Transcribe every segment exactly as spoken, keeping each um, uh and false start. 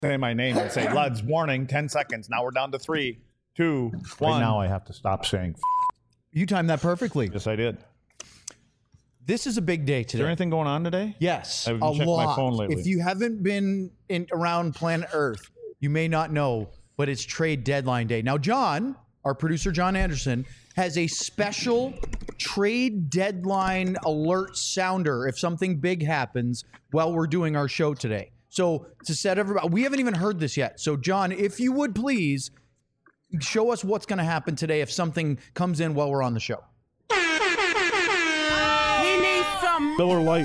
say my name and say, Luds, warning, ten seconds. Now we're down to three, two, one. Right now I have to stop saying f- You timed that perfectly. Yes, I did. This is a big day today. Is there anything going on today? Yes, I a haven't checked lot. my phone lately. If you haven't been in around planet Earth, you may not know, but it's trade deadline day. Now, John, our producer, John Anderson, has a special trade deadline alert sounder if something big happens while we're doing our show today. So to set everybody, we haven't even heard this yet. So John, if you would please show us what's going to happen today if something comes in while we're on the show. He needs some Miller Lite.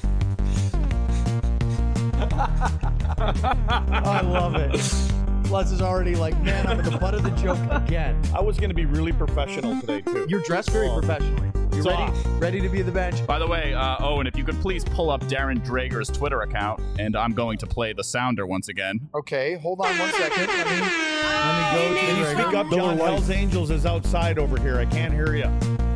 I love it. Lutz is already like, man, I'm at the butt of the joke again. I was going to be really professional today, too. You're dressed very professionally. You So, ready? uh, Ready to be the bench? By the way, uh, Owen, if you could please pull up Darren Drager's Twitter account, and I'm going to play the sounder once again. Okay, hold on one second. Let me, let me go to Can you the speak up, Miller John? Lite. Hell's Angels is outside over here. I can't hear you.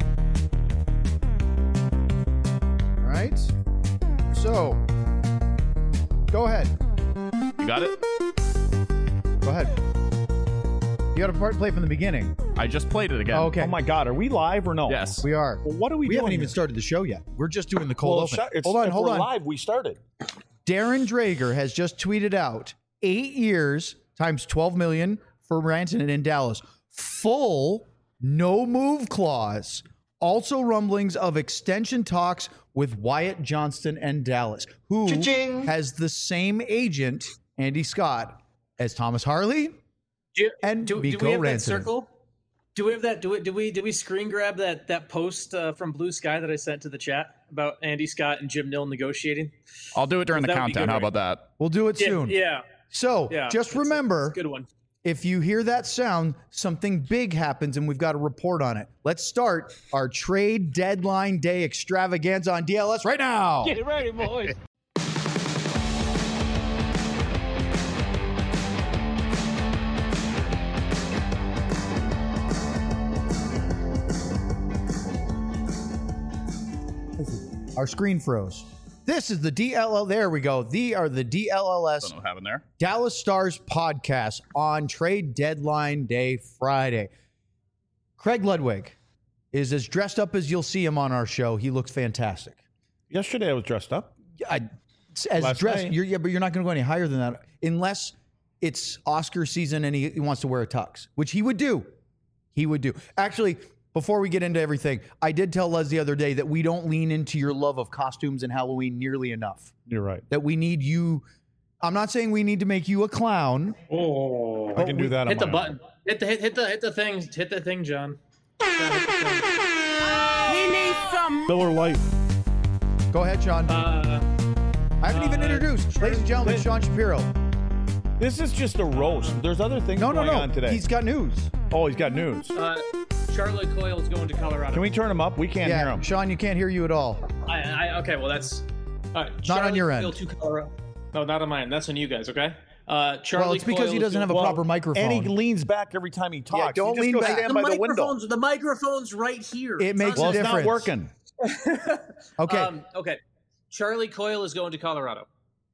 All right. So, go ahead. You got it? Go ahead. You got to part play from the beginning. I just played it again. Oh, okay. Oh, my God. Are we live or no? Yes. We are. Well, what are we, We doing haven't even here? started the show yet. We're just doing the cold Well, open. shut- it's- hold on, if hold we're on. live. We started. Darren Drager has just tweeted out eight years times twelve million for Rantanen in Dallas. Full no move clause. Also rumblings of extension talks with Wyatt Johnston and Dallas, who Cha-ching. has the same agent, Andy Scott, as Thomas Harley Do, and do, do Mikko we have Rantanen. that circle? Do we have that? Do we? Do we? Did we screen grab that that post uh, from Blue Sky that I sent to the chat about Andy Scott and Jim Nill negotiating? I'll do it during the That would be countdown. good, How right? about that? We'll do it Yeah, soon. yeah, So yeah. just It's a- remember, it's a good one. if you hear that sound, something big happens and we've got a report on it. Let's start our trade deadline day extravaganza on D L S right now. Get ready, boys. Our screen froze. This is the D L L. There we go. The are the D L L S Don't know what happened there. Dallas Stars podcast on trade deadline day Friday. Craig Ludwig is as dressed up as you'll see him on our show. He looks fantastic. Yesterday I was dressed up. I, as Last dressed, night. you're, yeah, but you're not going to go any higher than that unless it's Oscar season and he, he wants to wear a tux, which he would do. He would do. Actually, before we get into everything, I did tell Les the other day that we don't lean into your love of costumes and Halloween nearly enough. You're right. That we need you. I'm not saying we need to make you a clown. Oh, I can do that. hit on the my button. Hit the hit, hit the hit the thing. Hit the thing, John. John, hit the thing. He needs some own. Miller Lite. Go ahead, Sean. Uh, I haven't even uh, introduced, ladies and gentlemen, Sean Shapiro. This is just a roast. There's other things No, no, going no. on today. He's got news. oh, he's got news. uh, Charlotte Coyle is going to Colorado. Can we turn him up? We can't hear Yeah, him. Sean, you can't hear you at all. I, I, okay, well that's all right. Not on your Coyle end. To Colorado. No, not on mine. That's on you guys. Okay. Uh, Charlie Well, it's because Coyle he is doesn't going- have a Well, proper microphone. And he leans back every time he talks. don't you just lean go back. stand the by the window. microphone's the microphone's right here. It makes Well, a it's difference. not working. Okay. Um, okay. Charlie Coyle is going to Colorado.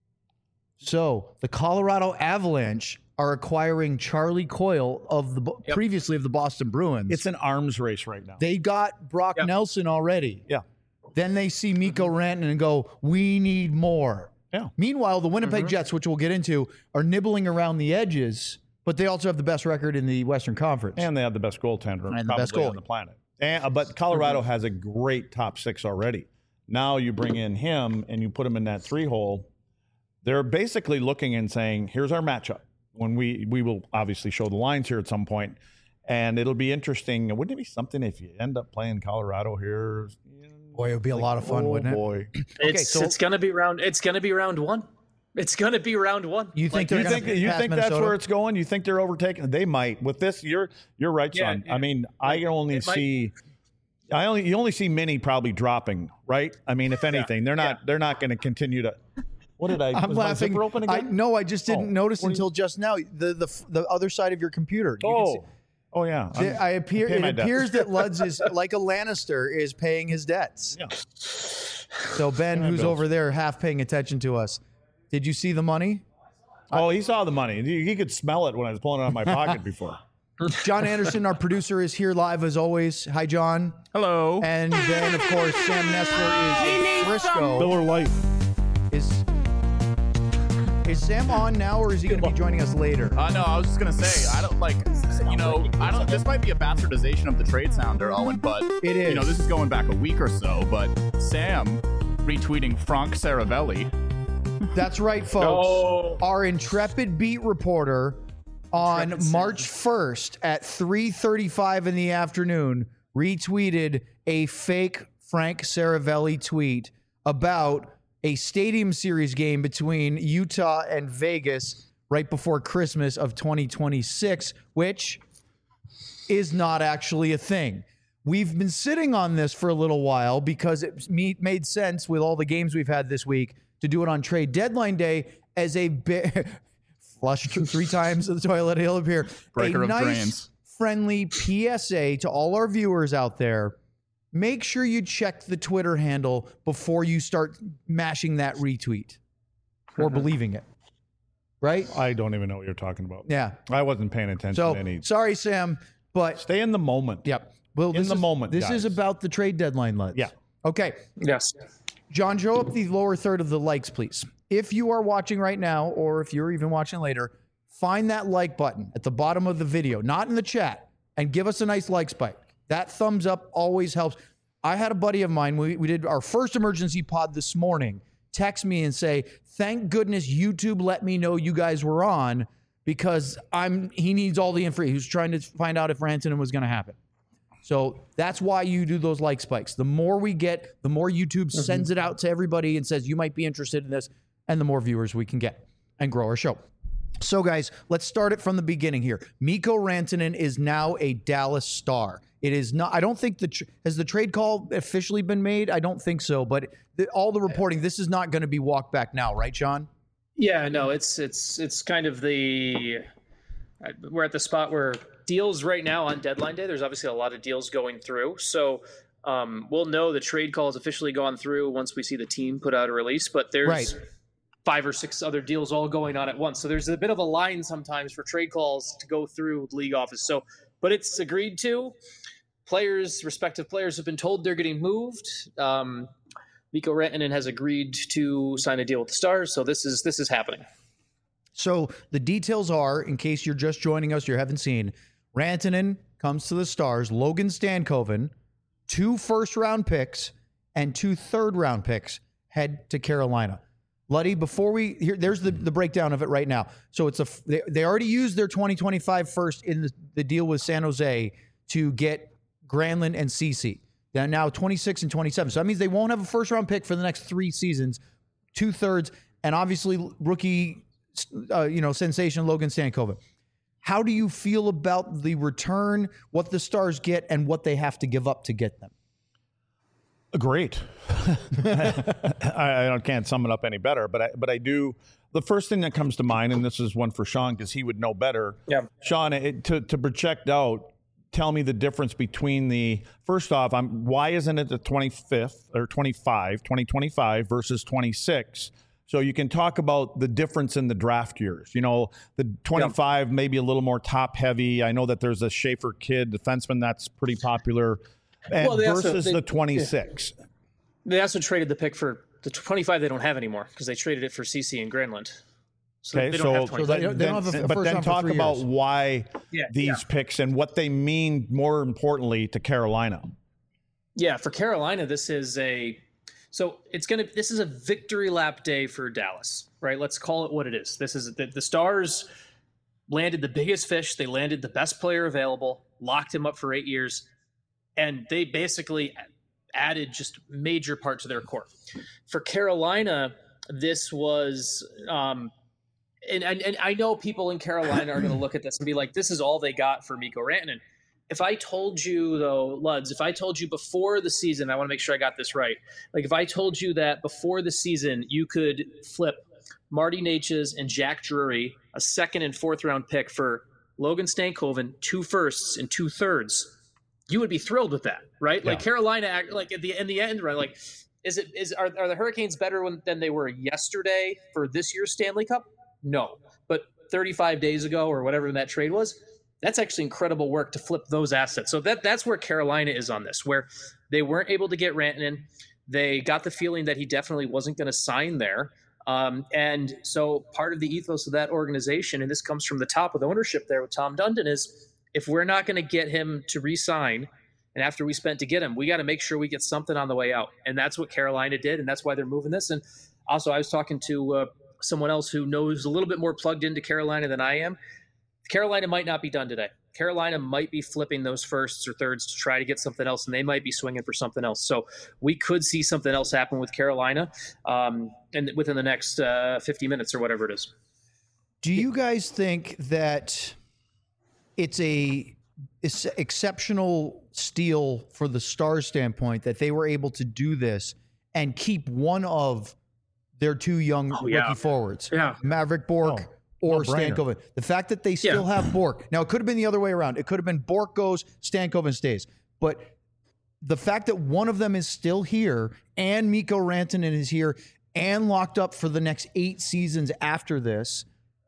So the Colorado Avalanche are acquiring Charlie Coyle of the Yep. previously of the Boston Bruins. It's an arms race right now. they got Brock Yep. Nelson already. yeah. Then they see Mikko Rantanen and go, "We need more." Yeah. Meanwhile, the Winnipeg Mm-hmm. Jets, which we'll get into, are nibbling around the edges, but they also have the best record in the Western Conference. And they have the best goaltender And the probably best on goalie. the planet. And, uh, but Colorado has a great top six already. Now you bring in him and you put him in that three hole. They're basically looking and saying, here's our matchup. When we we will obviously show the lines here at some point, and it'll be interesting. Wouldn't it be something if you end up playing Colorado here? Boy, it would be a lot of fun, oh, wouldn't it? boy. It's so- it's gonna be round. It's gonna be round one. It's gonna be round one. You think Like, they're You gonna think you pass think that's Minnesota? where it's going? You think they're overtaking? They might. With this, you're you're right, Yeah, son. yeah. I mean, I only It might- see. I only you only see Minnie probably dropping, right? I mean, if anything, they're not they're not going to continue to. What did I? I'm was my laughing. zipper open I, again? no, I just didn't Oh, notice what do you- until just now. The the the other side of your computer. You can see- Oh, oh yeah. The- I'm- I appear. pay It my debts. appears that Luds is like a Lannister is paying his debts. Yeah. So Ben, my who's bills. over there, half paying attention to us, did you see the money? Oh, he saw the money. He, he could smell it when I was pulling it out of my pocket before. John Anderson, our producer, is here live as always. Hi, John. Hello. And then, of course, Sam Nessler is in Frisco. Miller Lite. Is is Sam on now, or is he going to be joining us later? Uh, no, I was just gonna say I don't like you know I don't. This might be a bastardization of the trade sounder, Owen, but It is. You know, this is going back a week or so. But Sam retweeting Frank Saravelli. That's right, folks. No. Our intrepid beat reporter on Intrepid March first at three thirty-five in the afternoon retweeted a fake Frank Saravelli tweet about a Stadium Series game between Utah and Vegas right before Christmas of twenty twenty-six, which is not actually a thing. We've been sitting on this for a little while because it made sense with all the games we've had this week to do it on trade deadline day as a bit flushed three times the toilet hill appear. Breaker a of nice, drains. friendly P S A to all our viewers out there. Make sure you check the Twitter handle before you start mashing that retweet or believing it. Right? I don't even know what you're talking about. Yeah. I wasn't paying attention So to any. sorry, Sam, but Stay in the moment. yep. Well, In this the is, moment, This is guys. about the trade deadline, lads. Yeah. Okay. Yes. John, show up the lower third of the likes, please. If you are watching right now, or if you're even watching later, find that like button at the bottom of the video, not in the chat, and give us a nice like spike. That thumbs up always helps. I had a buddy of mine, we, we did our first emergency pod this morning, text me and say, thank goodness YouTube let me know you guys were on because I'm he needs all the information. He was trying to find out if Rantanen was going to happen. So that's why you do those like spikes. The more we get, the more YouTube Mm-hmm. sends it out to everybody and says, you might be interested in this, and the more viewers we can get and grow our show. So, guys, let's start it from the beginning here. Mikko Rantanen is now a Dallas Star. It is not, I don't think the, tr- has the trade call officially been made? I don't think so, but the, all the reporting, this is not going to be walked back now, right, Sean? Yeah, no, it's it's it's kind of the we're at the spot where deals right now on deadline day. There's obviously a lot of deals going through, so um, we'll know the trade call has officially gone through once we see the team put out a release. But there's Right. five or six other deals all going on at once, so there's a bit of a line sometimes for trade calls to go through the league office. So, but it's agreed to. Players, respective players, have been told they're getting moved. Um, Mikko Rantanen has agreed to sign a deal with the Stars, so this is this is happening. So the details are, in case you're just joining us, you haven't seen, Rantanen comes to the Stars, Logan Stankoven, two first-round picks and two third-round picks head to Carolina. Luddy, before we here, there's the, the breakdown of it right now. So it's a they, they already used their twenty twenty-five first in the, the deal with San Jose to get Granlund and Ceci. They're now twenty-six and twenty-seven. So that means they won't have a first-round pick for the next three seasons, two-thirds, and obviously rookie, uh, you know, sensation Logan Stankoven. How do you feel about the return, what the Stars get, and what they have to give up to get them? Great. I, I can't sum it up any better, but I, but I do. The first thing that comes to mind, and this is one for Sean because he would know better. Yeah. Sean, it, to to project out, tell me the difference between the first off. I'm why isn't it the twenty-fifth or twenty-five, twenty twenty-five versus twenty-six? So you can talk about the difference in the draft years. You know, the twenty-five maybe a little more top heavy. I know that there's a Schaefer kid defenseman that's pretty popular, and Well, they also- versus they- the twenty-six. They also traded the pick for the twenty-five. They don't have anymore because they traded it for Ceci and Granlund. So Okay, they don't so, have So twenty-five. they don't- they don't have a- a but first then round for talk three about years. why Yeah, these yeah. picks and what they mean. More importantly, to Carolina. Yeah, for Carolina, this is a so it's gonna this is a victory lap day for Dallas, right? Let's call it what it is. This is the, the Stars landed the biggest fish. They landed the best player available, locked him up for eight years, and they basically added just major part to their core. For Carolina, this was um, and, and and I know people in Carolina are going to look at this and be like, "This is all they got for Mikko Rantanen." If I told you, though, Luds, if I told you before the season, I want to make sure I got this right. Like, if I told you that before the season, you could flip Marty Necas and Jack Drury, a second and fourth round pick for Logan Stankoven, two firsts and two thirds, you would be thrilled with that, right? Like Yeah. Carolina, like at the in the end, right? Like, is it is are, are the Hurricanes better when, than they were yesterday for this year's Stanley Cup? No. thirty-five days ago or whatever that trade was, that's actually incredible work to flip those assets. So that that's where Carolina is on this, where they weren't able to get Rantanen. They got the feeling that he definitely wasn't going to sign there. Um, and so part of the ethos of that organization, and this comes from the top of the ownership there with Tom Dundon, is if we're not going to get him to re-sign, and after we spent to get him, we got to make sure we get something on the way out. And that's what Carolina did, and that's why they're moving this. And also, I was talking to uh, someone else who knows a little bit more plugged into Carolina than I am. Carolina might not be done today. Carolina might be flipping those firsts or thirds to try to get something else, and they might be swinging for something else. So we could see something else happen with Carolina um, and within the next uh, fifty minutes or whatever it is. Do you guys think that it's a it's exceptional steal for the Stars standpoint that they were able to do this and keep one of their two young Oh, yeah. rookie forwards, Yeah. Maverick Bork Oh, or no-brainer. Stankoven? The fact that they still Yeah. have Bork. Now, it could have been the other way around. It could have been Bork goes, Stankoven stays. But the fact that one of them is still here and Mikko Rantanen is here and locked up for the next eight seasons after this,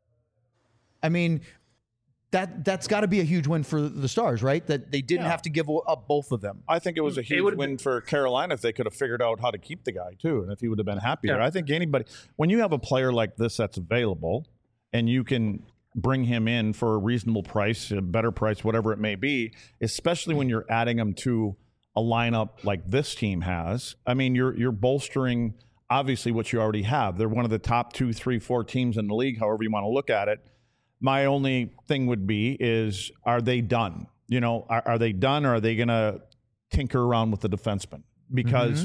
I mean, that, that's got to be a huge win for the Stars, right? That they didn't Yeah. have to give up both of them. I think it was a It huge would've win for Carolina if they could have figured out how to keep the guy too, and if he would have been happier. Yeah. I think anybody, when you have a player like this that's available, and you can bring him in for a reasonable price, a better price, whatever it may be, especially when you're adding him to a lineup like this team has. I mean, you're you're bolstering obviously what you already have. They're one of the top two, three, four teams in the league, however you want to look at it. My only thing would be is, are they done? You know, are, are they done, or are they going to tinker around with the defenseman? Because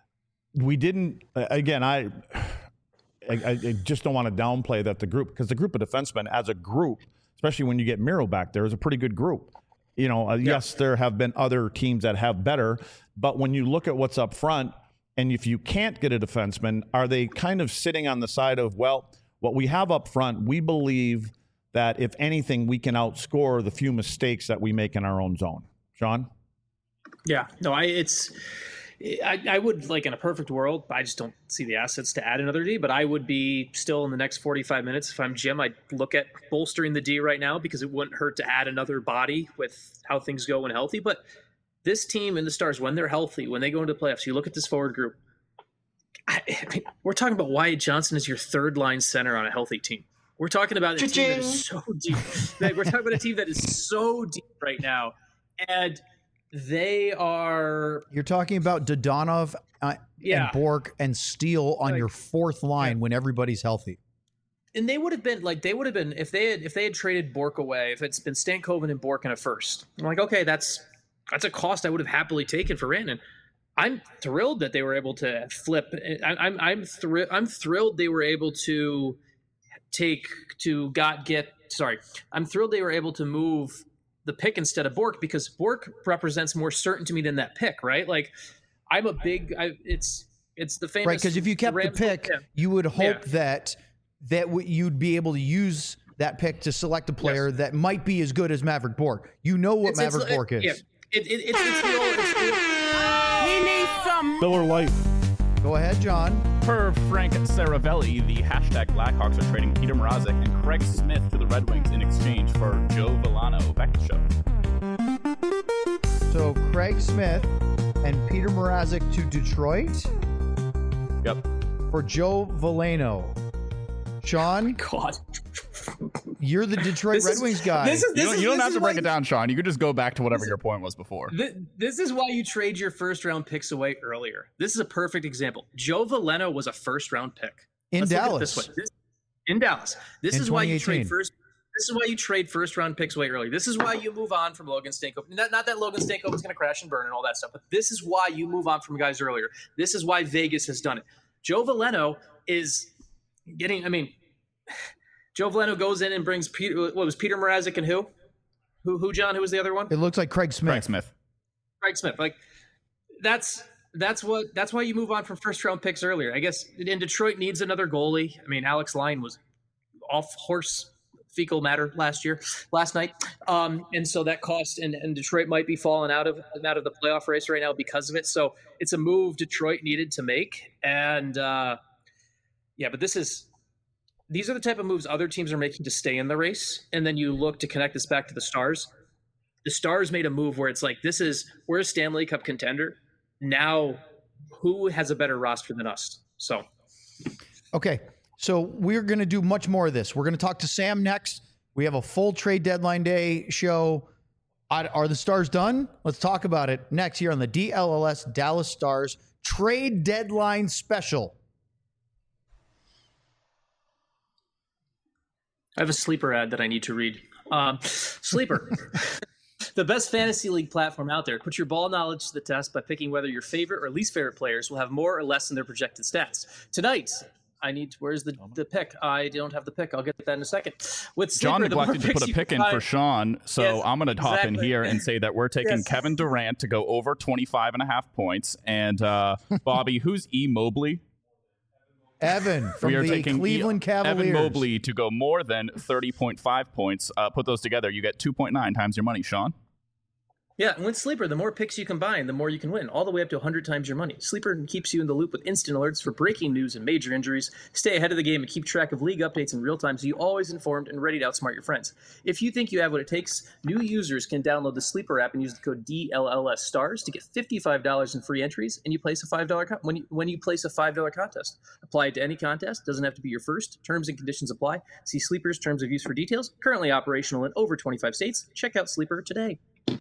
we didn't, again, I, I, I just don't want to downplay that the group, because the group of defensemen as a group, especially when you get Miro back there, is a pretty good group. You know, uh, yes, there have been other teams that have better, but when you look at what's up front, and if you can't get a defenseman, are they kind of sitting on the side of, well, what we have up front, we believe that if anything, we can outscore the few mistakes that we make in our own zone. Sean? Yeah, no, I it's I, I would, like, in a perfect world, I just don't see the assets to add another D, but I would be still in the next forty-five minutes. If I'm Jim, I'd look at bolstering the D right now, because it wouldn't hurt to add another body with how things go when healthy. But this team and the Stars, when they're healthy, when they go into the playoffs, you look at this forward group. I, I mean, we're talking about Wyatt Johnson as your third line center on a healthy team. We're talking about a team that is so deep. Like, we're talking about a team that is so deep right now, and they are. You're talking about Dodonov uh, Yeah. and Bork and Steele on Like, your fourth line yeah. when everybody's healthy. And they would have been like they would have been if they had if they had traded Bork away, if it's been Stankoven and Bork in a first. I'm like, okay, that's that's a cost I would have happily taken for Rantanen. I'm thrilled that they were able to flip. I, I'm I'm thrilled. I'm thrilled they were able to take to got get. Sorry, I'm thrilled they were able to move the pick instead of Bork, because Bork represents more certain to me than that pick. Right? Like, I'm a big. I, it's it's the famous Right, because if you kept the Rams- pick, yeah. you would hope Yeah. that that w- you'd be able to use that pick to select a player that might be as good as Maverick Bork. You know what It's- it's- Maverick Bork is. Yeah, it, it, it's, it's the old. It's the old He needs some. Miller Lite. Go ahead, John. Per Frank Saravelli, the hashtag Blackhawks are trading Peter Mrazek and Craig Smith to the Red Wings in exchange for Joe Villano. Back to the show. So Craig Smith and Peter Mrazek to Detroit Yep. for Joe Veleno. Sean, God. you're the Detroit This Red is- Wings guy. This is, You this don't, is, you don't this have is to break why it down, Sean. You could just go back to whatever your point was before. Th- This is why you trade your first round picks away earlier. This is a perfect example. Joe Veleno was a first round pick In Let's look at it Dallas. this way. This- in Dallas. This In is why you twenty eighteen. trade first. This is why you trade first round picks away early. This is why you move on from Logan Stankoven. Not, not that Logan Stankoven is going to crash and burn and all that stuff, but this is why you move on from guys earlier. This is why Vegas has done it. Joe Veleno is getting. I mean, Joe Veleno goes in and brings Peter. What was Peter Mrazek and who? Who? Who? John? Who was the other one? It looks like Craig Smith. Craig Smith. Craig Smith. Like, that's that's what that's why you move on from first round picks earlier. I guess. And Detroit needs another goalie. I mean, Alex Lyon was off horse fecal matter last year, last night, um, and so that cost. And, and Detroit might be falling out of out of the playoff race right now because of it. So it's a move Detroit needed to make. And uh, yeah, but this is these are the type of moves other teams are making to stay in the race. And then you look to connect this back to the Stars. The Stars made a move where it's like, this is, we're a Stanley Cup contender. Now, who has a better roster than us? So, okay. So we're going to do much more of this. We're going to talk to Sam next. We have a full trade deadline day show. Are the Stars done? Let's talk about it next here on the D L L S Dallas Stars trade deadline special. I have a sleeper ad that I need to read. Um, sleeper. The best fantasy league platform out there. Put your ball knowledge to the test by picking whether your favorite or least favorite players will have more or less in their projected stats. Tonight, I need to, where's the, the pick? I don't have the pick. I'll get that in a second. With Sleeper, John neglected to put a pick in for Sean, so yes, I'm going to hop exactly. in here and say that we're taking Yes. Kevin Durant to go over twenty-five and a half points. And uh, Bobby, who's E. Mobley? Evan from we are the taking Cleveland e- Cavaliers. Evan Mobley to go more than thirty point five points. Uh, put those together, you get two point nine times your money, Sean. Yeah, and with Sleeper, the more picks you combine, the more you can win, all the way up to one hundred times your money. Sleeper keeps you in the loop with instant alerts for breaking news and major injuries. Stay ahead of the game and keep track of league updates in real time so you're always informed and ready to outsmart your friends. If you think you have what it takes, new users can download the Sleeper app and use the code D L L S STARS to get fifty-five dollars in free entries, and you place a five dollars con- when you when you place a five dollars contest. Apply it to any contest, doesn't have to be your first. Terms and conditions apply. See Sleeper's terms of use for details. Currently operational in over twenty-five states. Check out Sleeper today.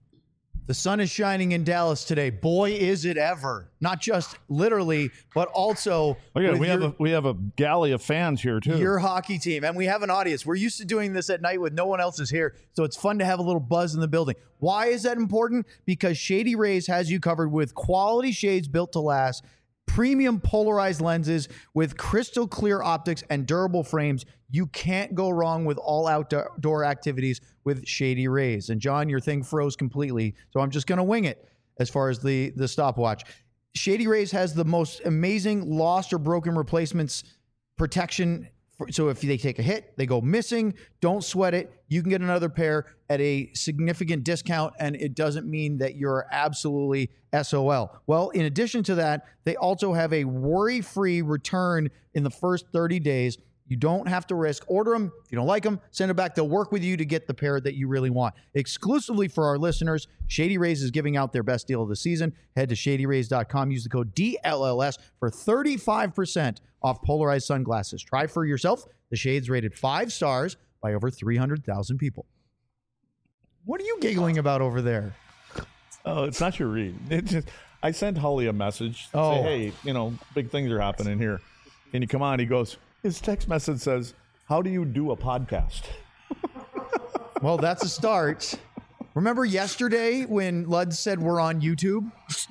The sun is shining in Dallas today. Boy, is it ever. Not just literally, but also Oh yeah, with we your, have a we have a galley of fans here too. your hockey team. And we have an audience. We're used to doing this at night with no one else is here. So it's fun to have a little buzz in the building. Why is that important? Because Shady Rays has you covered with quality shades built to last, premium polarized lenses with crystal clear optics and durable frames. You can't go wrong with all outdoor activities with Shady Rays. And John, your thing froze completely, so I'm just going to wing it as far as the, the stopwatch. Shady Rays has the most amazing lost or broken replacements protection. So if they take a hit, they go missing, don't sweat it. You can get another pair at a significant discount, and it doesn't mean that you're absolutely S O L. Well, in addition to that, they also have a worry-free return in the first thirty days. You don't have to risk. Order them. If you don't like them, send them back. They'll work with you to get the pair that you really want. Exclusively for our listeners, Shady Rays is giving out their best deal of the season. Head to shady rays dot com. Use the code D L L S for thirty-five percent off polarized sunglasses. Try for yourself. The shades rated five stars by over three hundred thousand people. What are you giggling about over there? Oh, it's not your read. It just I sent Holly a message. Oh. Say, hey, you know, big things are happening here. Can you come on? He goes, his text message says, how do you do a podcast? Well, that's a start. Remember yesterday when Lud said we're on YouTube?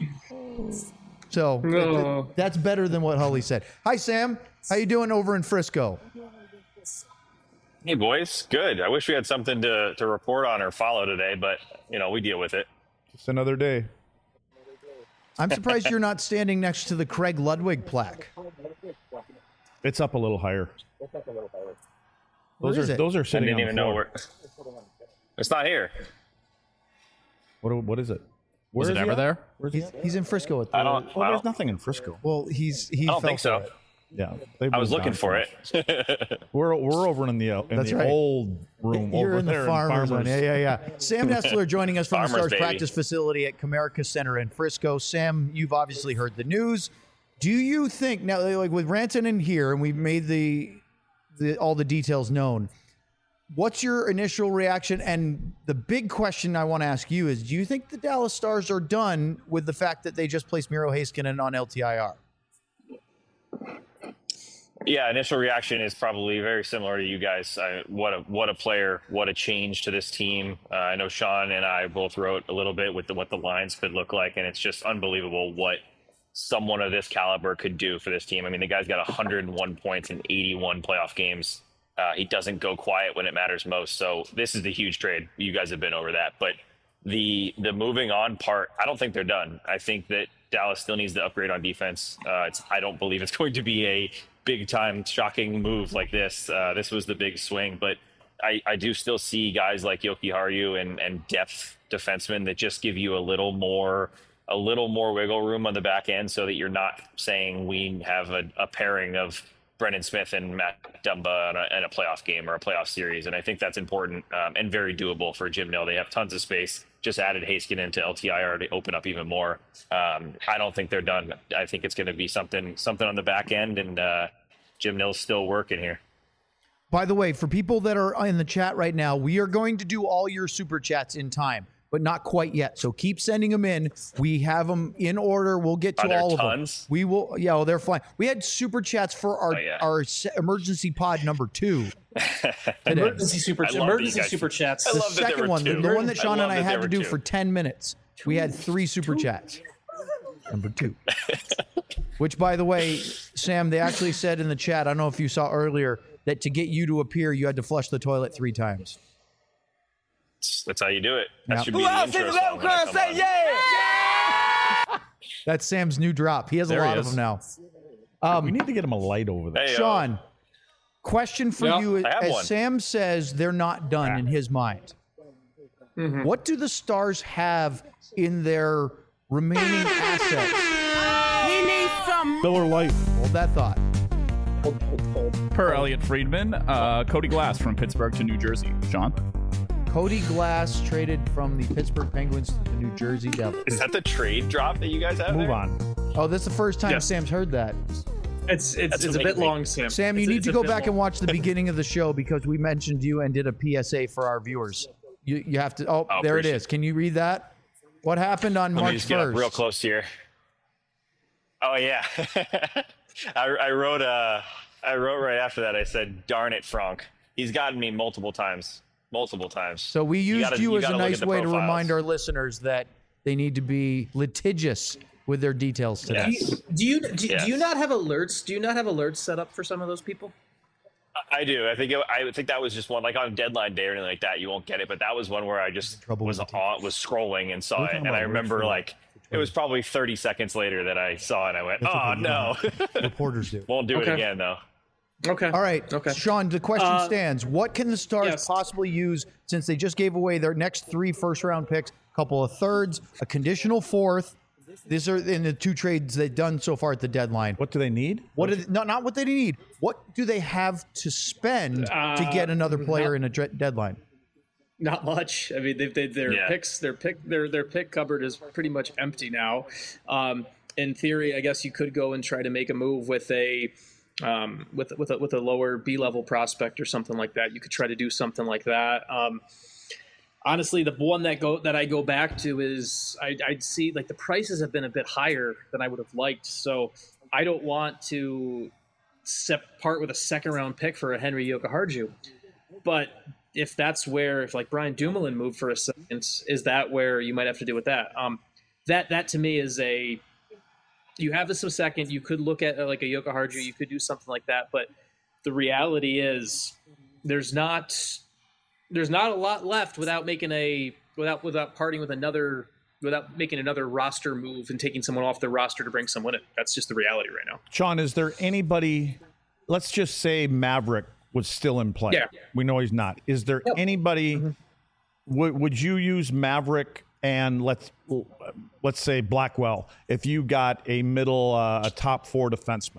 So No. th- that's better than what Holly said. Hi, Sam. How you doing over in Frisco? Hey, boys. Good. I wish we had something to, to report on or follow today, but, you know, we deal with it. Just another day. I'm surprised you're not standing next to the Craig Ludwig plaque. It's up a little higher. Where Those is are it? those are I sitting didn't on even the know floor. where. It's not here. What what is it? Was Where it is he ever at? there? Where's he He's, at? he's in Frisco. At the, I don't. Well, I there's don't, nothing in Frisco. well, he's he I don't fell think for so. it. Yeah, they I was moved looking on for so much. it. We're we're over in the uh, in That's the right. old room You're over in the there farmers, in one. Farmers. Yeah, yeah, yeah. Sam Nestler joining us from the Farmers, Stars baby. practice facility at Comerica Center in Frisco. Sam, you've obviously heard the news. Do you think now, like with Rantanen in here, and we've made the, the all the details known? What's your initial reaction? And the big question I want to ask you is: do you think the Dallas Stars are done with the fact that they just placed Miro Heiskanen on L T I R? Yeah, initial reaction is probably very similar to you guys. I, what a what a player! What a change to this team. Uh, I know Sean and I both wrote a little bit with the, what the lines could look like, and it's just unbelievable what someone of this caliber could do for this team. I mean, the guy's got one hundred one points in eighty-one playoff games. Uh, he doesn't go quiet when it matters most. So this is the huge trade. You guys have been over that, but the the moving on part, I don't think they're done. I think that Dallas still needs to upgrade on defense. Uh, it's I don't believe it's going to be a big time shocking move like this. Uh, this was the big swing, but I, I do still see guys like Yoki Haru and, and depth defensemen that just give you a little more a little more wiggle room on the back end so that you're not saying we have a, a pairing of Brendan Smith and Matt Dumba in a, in a playoff game or a playoff series. And I think that's important um, and very doable for Jim Nill. They have tons of space. Just added Heiskanen to L T I R to open up even more. Um, I don't think they're done. I think it's going to be something something on the back end, and uh, Jim Nill's still working here. By the way, for people that are in the chat right now, we are going to do all your super chats in time, but not quite yet. So keep sending them in. We have them in order. We'll get to Are there all tons? of them. We will. Yeah, well, they're fine. We had super chats for our Oh, yeah. our se- emergency pod number two. Today. Emergency super I love that you emergency guys- super chats. I The love that there second were one, the, two. the one that I Sean love and I that had there to were do two. for ten minutes. We had three super chats. Number two. Which, by the way, Sam, they actually said in the chat, I don't know if you saw earlier, that to get you to appear, you had to flush the toilet three times. That's how you do it. That Yeah. should be the intro song when I come on. That's Sam's new drop. He has There a he lot of is. them now. we need to get him a light over there. Hey, yo. Sean, question for Yeah, you. I have As one. Sam says, they're not done in his mind. Mm-hmm. What do the Stars have in their remaining assets? He needs some. Miller Lite. Hold that thought. Hold, hold, hold. Per Elliot Friedman, uh, Cody Glass from Pittsburgh to New Jersey. Sean? Cody Glass traded from the Pittsburgh Penguins to the New Jersey Devils. Is that the trade drop that you guys have? Move there? on. Oh, this is the first time Yes. Sam's heard that. It's it's, That's it's a bit amazing. long, Sam. Sam, you It's a- need it's to a go bit back long. and watch the beginning of the show because we mentioned you and did a P S A for our viewers. You you have to. Oh, Oh, there it appreciate is. Can you read that? What happened on Let me March just get up first? real close here. Oh yeah, I, I wrote uh, I wrote right after that. I said, "Darn it, Frank. He's gotten me multiple times, multiple times." So we used you, gotta- you as a gotta look nice at the way to profiles. remind our listeners that they need to be litigious with their details today. Yes. Do you do, Yes. do you not have alerts? Do you not have alerts set up for some of those people? I do. I think it, I think that was just one like on deadline day or anything like that. You won't get it, but that was one where I just Trouble was with the on, was scrolling and saw We're it, talking and I about remember Rich like it was probably thirty seconds later that I saw it. and I went, "Oh no, Reporters do. won't do it Okay. again though." Okay. All right, Okay. Sean, the question Uh, stands. What can the Stars yes. possibly use since they just gave away their next three first round picks, a couple of thirds, a conditional fourth? These are in the two trades they've done so far at the deadline. What do they need? What do they, no, not what they need. What do they have to spend to get another player in a dre- deadline? Not much. I mean, they, they, their Yeah. picks, their pick, their their pick cupboard is pretty much empty now. Um, in theory, I guess you could go and try to make a move with a um, with with a, with a lower B level prospect or something like that. You could try to do something like that. Um, honestly, the one that go that I go back to is I, I'd see like the prices have been a bit higher than I would have liked. So I don't want to sep- part with a second round pick for a Henry Jokiharju. But if that's where, if like Brian Dumoulin moved for a second, is that where you might have to do with that? Um, that that to me is a you have this a second. You could look at uh, like a Jokiharju. You could do something like that. But the reality is, there's not there's not a lot left without making a without without parting with another without making another roster move and taking someone off the roster to bring someone in. That's just the reality right now. Sean, is there anybody, let's just say Maverick was still in play. Yeah. We know he's not. Is there Yep. anybody, would would you use Maverick and let's let's say Blackwell if you got a middle, uh, a top four defenseman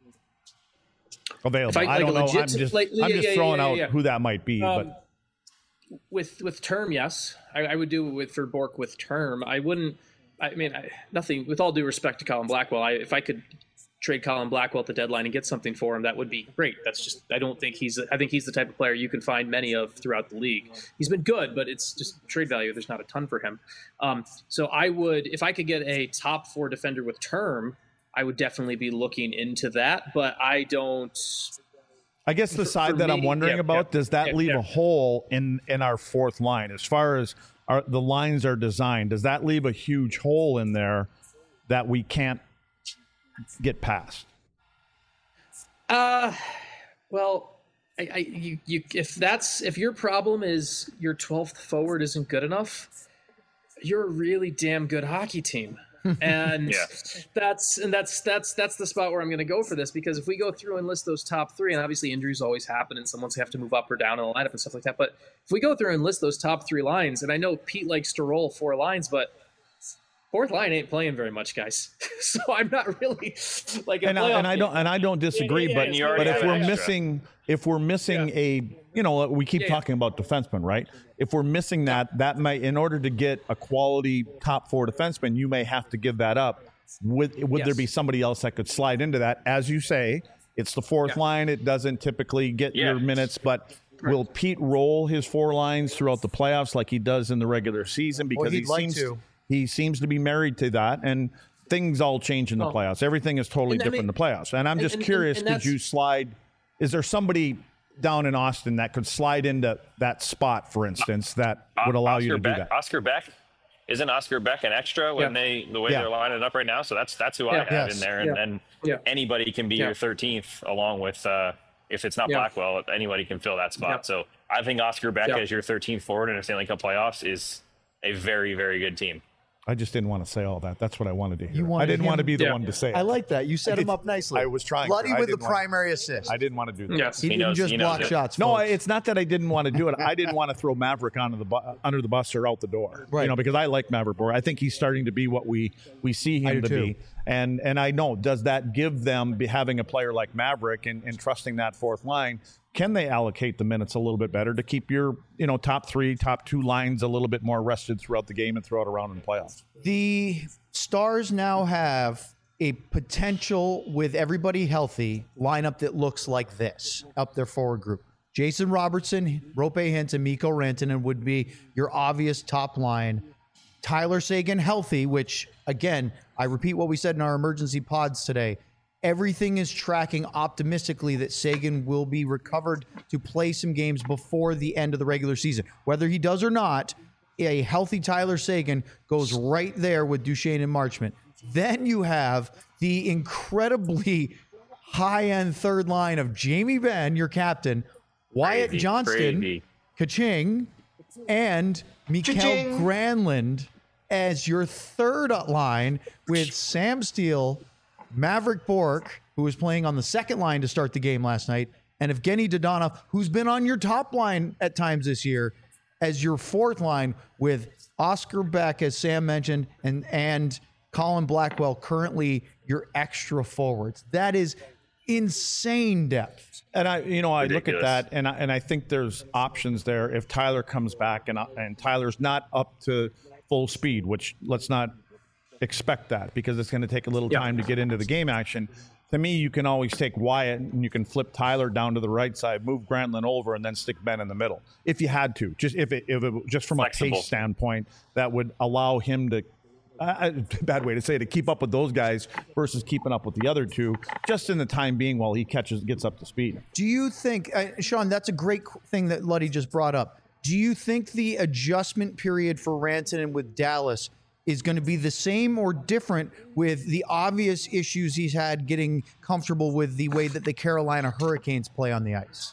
available? If I- I, like don't a know. legit- I'm just, like- I'm yeah, just yeah, throwing yeah, out yeah. who that might be. Um, but with with term, yes, I, I would do it with for Bork with term. I wouldn't. I mean, I, nothing. With all due respect to Colin Blackwell, I, if I could trade Colin Blackwell at the deadline and get something for him, that would be great. That's just. I don't think he's. I think he's the type of player you can find many of throughout the league. He's been good, but it's just trade value. There's not a ton for him. Um, so I would, if I could get a top four defender with term, I would definitely be looking into that. But I don't. I guess the For- side for that I'm me, wondering yeah, about, yeah, does that yeah, leave yeah. a hole in, in our fourth line as far as our, the lines are designed? Does that leave a huge hole in there that we can't get past? Uh, well, I, I you, you if that's if your problem is your twelfth forward isn't good enough, you're a really damn good hockey team. And Yeah. that's and that's that's that's the spot where I'm going to go for this, because if we go through and list those top three, and obviously injuries always happen and someone's have to move up or down in the lineup and stuff like that, but if we go through and list those top three lines, and I know Pete likes to roll four lines, but fourth line ain't playing very much, guys. So I'm not really like a and, I, and I playoff don't game. and I don't disagree, Yeah, yeah, but yeah, but yeah, if yeah, we're yeah. missing if we're missing Yeah. a you know we keep Yeah, yeah. talking about defensemen, right? If we're missing that, that might in order to get a quality top four defenseman, you may have to give that up. Would would Yes. there be somebody else that could slide into that? As you say, it's the fourth Yeah. line. It doesn't typically get Yeah. your minutes, but. Will Pete roll his four lines throughout the playoffs like he does in the regular season? Because he'd he like seems to. he seems to be married to that, and things all change in the Well, playoffs. Everything is totally and I different in mean- the playoffs. And I'm and- just and- and- curious, and could that's- you slide? Is there somebody down in Austin that could slide into that spot, for instance, that would allow Oscar you to Beck, do that? Oscar Beck, isn't Oscar Beck an extra when Yeah. they the way Yeah. they're lining up right now? So that's that's who Yeah. I have Yes. in there, and Yeah. then Yeah. anybody can be Yeah. your thirteenth, along with uh, if it's not Yeah. Blackwell, anybody can fill that spot. Yeah. So I think Oscar Beck Yeah. as your thirteenth forward in a Stanley Cup playoffs is a very very good team. I just didn't want to say all that. That's what I wanted to hear. You wanted I didn't him- want to be the Yeah. one to say it. I like that. You set I him did- up nicely. I was trying Luddy to. I with the didn't want- primary assist. I didn't want to do that. Yes. He, He didn't knows- just he knows block it. shots. No, folks. it's not that I didn't want to do it. I didn't want to throw Maverick onto the bu- under the bus or out the door. Right. You know, because I like Maverick Bohr. I think he's starting to be what we we see I him do to too. be. And and I know, does that give them be having a player like Maverick and, and trusting that fourth line? Can they allocate the minutes a little bit better to keep your you know top three, top two lines a little bit more rested throughout the game and throughout around in the playoffs? The Stars now have a potential, with everybody healthy, lineup that looks like this up their forward group. Jason Robertson, Rope Hintz, and Mikko Rantanen would be your obvious top line. Tyler Seguin healthy, which, again, I repeat what we said in our emergency pods today. Everything is tracking optimistically that Seguin will be recovered to play some games before the end of the regular season. Whether he does or not, a healthy Tyler Seguin goes right there with Duchesne and Marchment. Then you have the incredibly high-end third line of Jamie Benn, your captain, Wyatt Crazy, Johnston, crazy. Kaching, and Mikael Cha-ching. Granlund as your third line with Sam Steele, Maverick Bork, who was playing on the second line to start the game last night, and Evgeny Dodonov, who's been on your top line at times this year, as your fourth line with Oscar Beck, as Sam mentioned, and and Colin Blackwell currently your extra forwards. That is insane depth. And I, you know, I look at Ridiculous. that, and I, and I think there's options there if Tyler comes back and and Tyler's not up to full speed, which let's not expect that because it's going to take a little Yeah. time to get into the game action. To me, you can always take Wyatt and you can flip Tyler down to the right side, move Granlund over, and then stick Ben in the middle if you had to. Just if it, if it just from Flexible. a pace standpoint, that would allow him to. Uh, bad way to say it, to keep up with those guys versus keeping up with the other two, just in the time being while he catches gets up to speed. Do you think, uh, Sean, that's a great qu- thing that Luddy just brought up. Do you think the adjustment period for Rantanen with Dallas is going to be the same or different with the obvious issues he's had getting comfortable with the way that the Carolina Hurricanes play on the ice?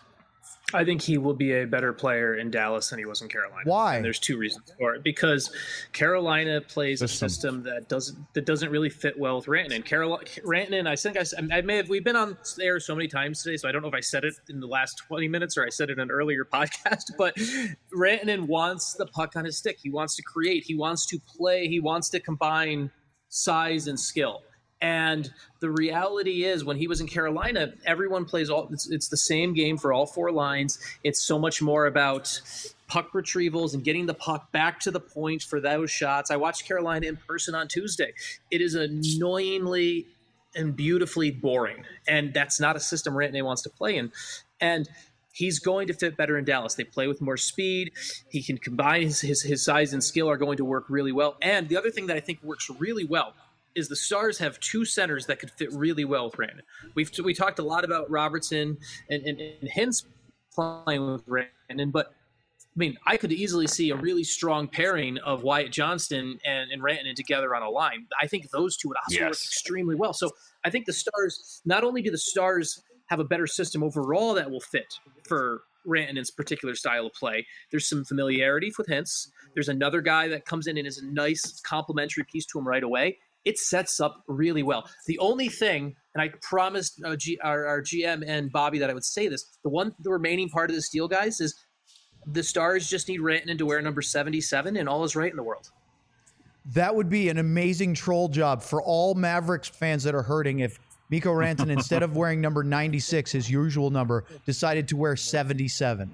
I think he will be a better player in Dallas than he was in Carolina. Why? And there's two reasons for it. Because Carolina plays System. a system that doesn't that doesn't really fit well with Rantanen. Carolina, Rantanen, I think I, s- I may have. We've been on air so many times today, so I don't know if I said it in the last twenty minutes or I said it in an earlier podcast. But Rantanen wants the puck on his stick. He wants to create. He wants to play. He wants to combine size and skill. And the reality is, when he was in Carolina, everyone plays all. It's, it's the same game for all four lines. It's so much more about puck retrievals and getting the puck back to the point for those shots. I watched Carolina in person on Tuesday. It is annoyingly and beautifully boring, and that's not a system Rantanen wants to play in. And he's going to fit better in Dallas. They play with more speed. He can combine his, his his size and skill are going to work really well. And the other thing that I think works really well is the Stars have two centers that could fit really well with Rantanen. We've we talked a lot about Robertson and, and, and Hintz playing with Rantanen, but I mean, I could easily see a really strong pairing of Wyatt Johnston and, and Rantanen together on a line. I think those two would also work Yes. extremely well. So I think the Stars, not only do the Stars have a better system overall that will fit for Rantanen's particular style of play, there's some familiarity with Hintz. There's another guy that comes in and is a nice complementary piece to him right away. It sets up really well. The only thing, and I promised uh, G, our, our G M and Bobby that I would say this, the one, the remaining part of this deal, guys, is the Stars just need Rantanen to wear number seventy-seven, and all is right in the world. that would be an amazing troll job for all Mavericks fans that are hurting if Mikko Rantanen, instead of wearing number ninety-six, his usual number, decided to wear seventy-seven.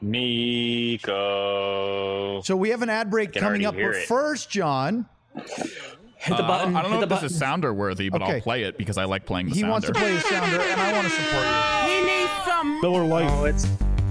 Mikko. So we have an ad break coming up. But it. first, John. Hit the button. Uh, I don't know hit if the this button. is sounder worthy, but Okay. I'll play it because I like playing the He sounder. wants to play the sounder, and I want to support you. He needs some. Miller Lite. Oh, it's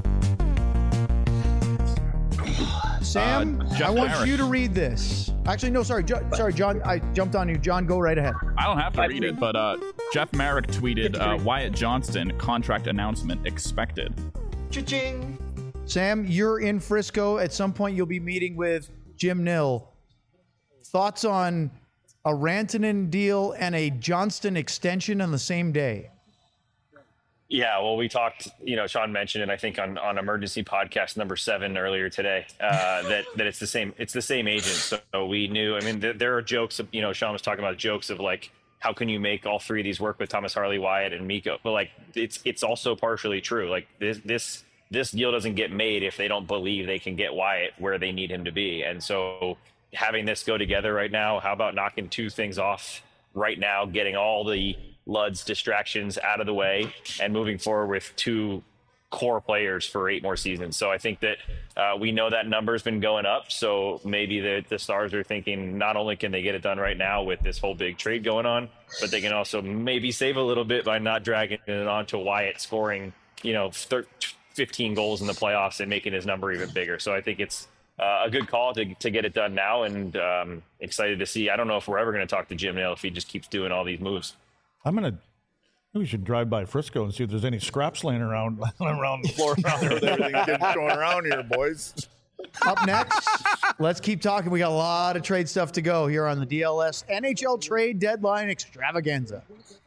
Sam, Uh, Jeff I want Merrick. you to read this. Actually, no, sorry. Jo- sorry, John. I jumped on you. John, go right ahead. I don't have to read it, but uh, Jeff Merrick tweeted uh, Wyatt Johnston contract announcement expected. Cha-ching. Sam, you're in Frisco. At some point, you'll be meeting with Jim Nill. Thoughts on a Rantanen deal and a Johnston extension on the same day? Yeah, well, we talked, you know, Sean mentioned it, I think on, on emergency podcast number seven earlier today, uh, that, that it's the same, it's the same agent. So we knew, I mean, there, there are jokes of, you know, Sean was talking about jokes of like, how can you make all three of these work with Thomas Harley, Wyatt, and Mikko? But like, it's, it's also partially true. Like this, this, this deal doesn't get made if they don't believe they can get Wyatt where they need him to be. And so having this go together right now, how about knocking two things off right now, getting all the Lud's distractions out of the way and moving forward with two core players for eight more seasons. So I think that uh, we know that number's been going up. So maybe the, the Stars are thinking not only can they get it done right now with this whole big trade going on, but they can also maybe save a little bit by not dragging it on to Wyatt scoring, you know, fifteen goals in the playoffs and making his number even bigger. So I think it's uh, a good call to, to get it done now, and um, excited to see. I don't know if we're ever going to talk to Jim Nill if he just keeps doing all these moves. I'm gonna. We should drive by Frisco and see if there's any scraps laying around around the floor around there with everything getting going around here, boys. Up next, let's keep talking. We got a lot of trade stuff to go here on the D L S N H L trade deadline extravaganza.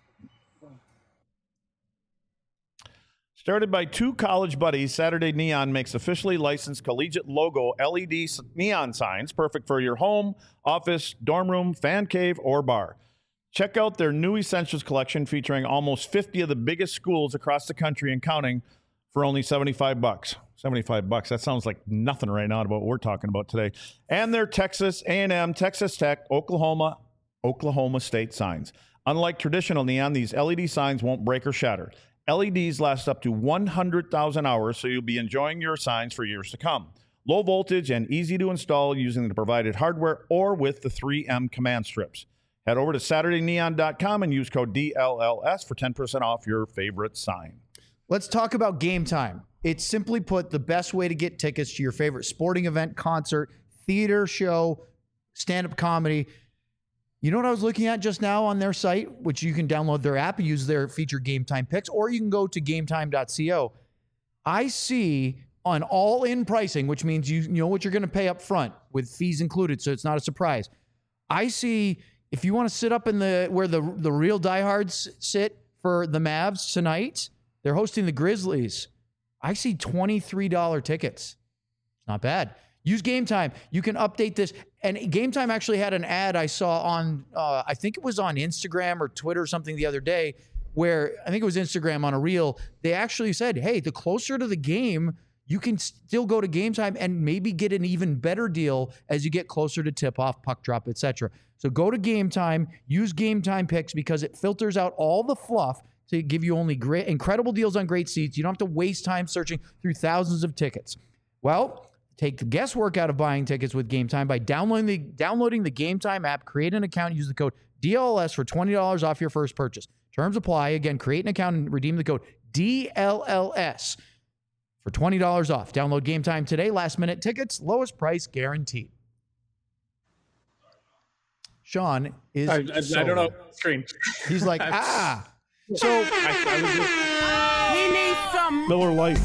Started by two college buddies, Saturday Neon makes officially licensed collegiate logo L E D neon signs, perfect for your home, office, dorm room, fan cave, or bar. Check out their new Essentials collection featuring almost fifty of the biggest schools across the country and counting for only seventy-five bucks. seventy-five bucks. That sounds like nothing right now about what we're talking about today. And their Texas A and M, Texas Tech, Oklahoma, Oklahoma State signs. Unlike traditional neon, these L E D signs won't break or shatter. L E Ds last up to one hundred thousand hours, so you'll be enjoying your signs for years to come. Low voltage and easy to install using the provided hardware or with the three M command strips. Head over to Saturday Neon dot com and use code D L L S for ten percent off your favorite sign. Let's talk about Game Time. It's simply put the best way to get tickets to your favorite sporting event, concert, theater show, stand-up comedy. You know what I was looking at just now on their site, which you can download their app and use their featured Game Time picks, or you can go to game time dot co. I see on all-in pricing, which means you, you know what you're going to pay up front with fees included, so it's not a surprise. I see if you want to sit up in the where the the real diehards sit for the Mavs tonight, they're hosting the Grizzlies. I see twenty-three dollars tickets. Not bad. Use Game Time. You can update this. And Game Time actually had an ad I saw on, uh, I think it was on Instagram or Twitter or something the other day, where I think it was Instagram on a reel. They actually said, hey, the closer to the game, you can still go to Game Time and maybe get an even better deal as you get closer to tip-off, puck drop, et cetera. So go to Game Time, use Game Time picks because it filters out all the fluff to give you only great, incredible deals on great seats. You don't have to waste time searching through thousands of tickets. Well, take the guesswork out of buying tickets with Game Time by downloading the, downloading the Game Time app, create an account, use the code D L L S for twenty dollars off your first purchase. Terms apply. Again, create an account and redeem the code D L L S for twenty dollars off. Download Game Time today. Last minute tickets, lowest price guaranteed. Sean is. I, I, so, I don't know. Screen. He's like, ah. So I, I was just, He needs some. Miller Lite.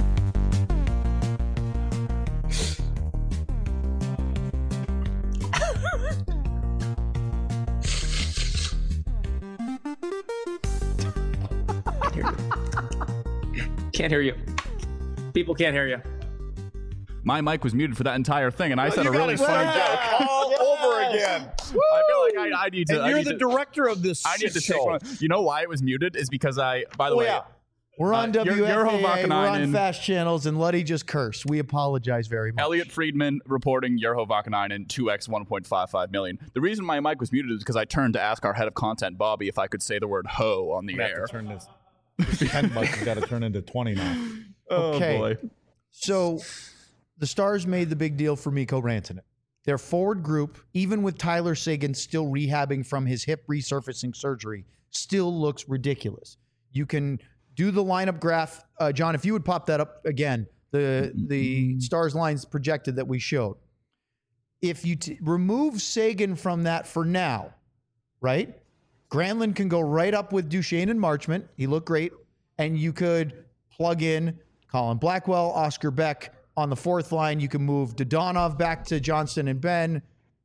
can't hear you. People can't hear you. My mic was muted for that entire thing, and I said You a got really it funny right. joke. All over again. I feel like I, I need to. And I you're need the to, director of this I need to show. take one. You know why it was muted? Is because I, by the Oh, way, yeah. We're on Uh, Yer- W F A A, Urho we're on Vakanainen. fast channels, and Luddy just cursed. We apologize very much. Elliot Friedman reporting Urho Vakanainen two x one point five five million. The reason my mic was muted is because I turned to ask our head of content, Bobby, if I could say the word ho on the We have air. to turn this, this ten bucks has got to turn into twenty now. Okay. Oh, boy. So the Stars made the big deal for Mikko Rantanen. Their forward group, even with Tyler Seguin still rehabbing from his hip resurfacing surgery, still looks ridiculous. You can do the lineup graph. Uh, John, if you would pop that up again, the, the Stars lines projected that we showed. If you t- remove Seguin from that for now, right? Granlund can go right up with Duchesne and Marchment. He looked great. And you could plug in Colin Blackwell, Oscar Beck on the fourth line. You can move Dodonov back to Johnston and Ben.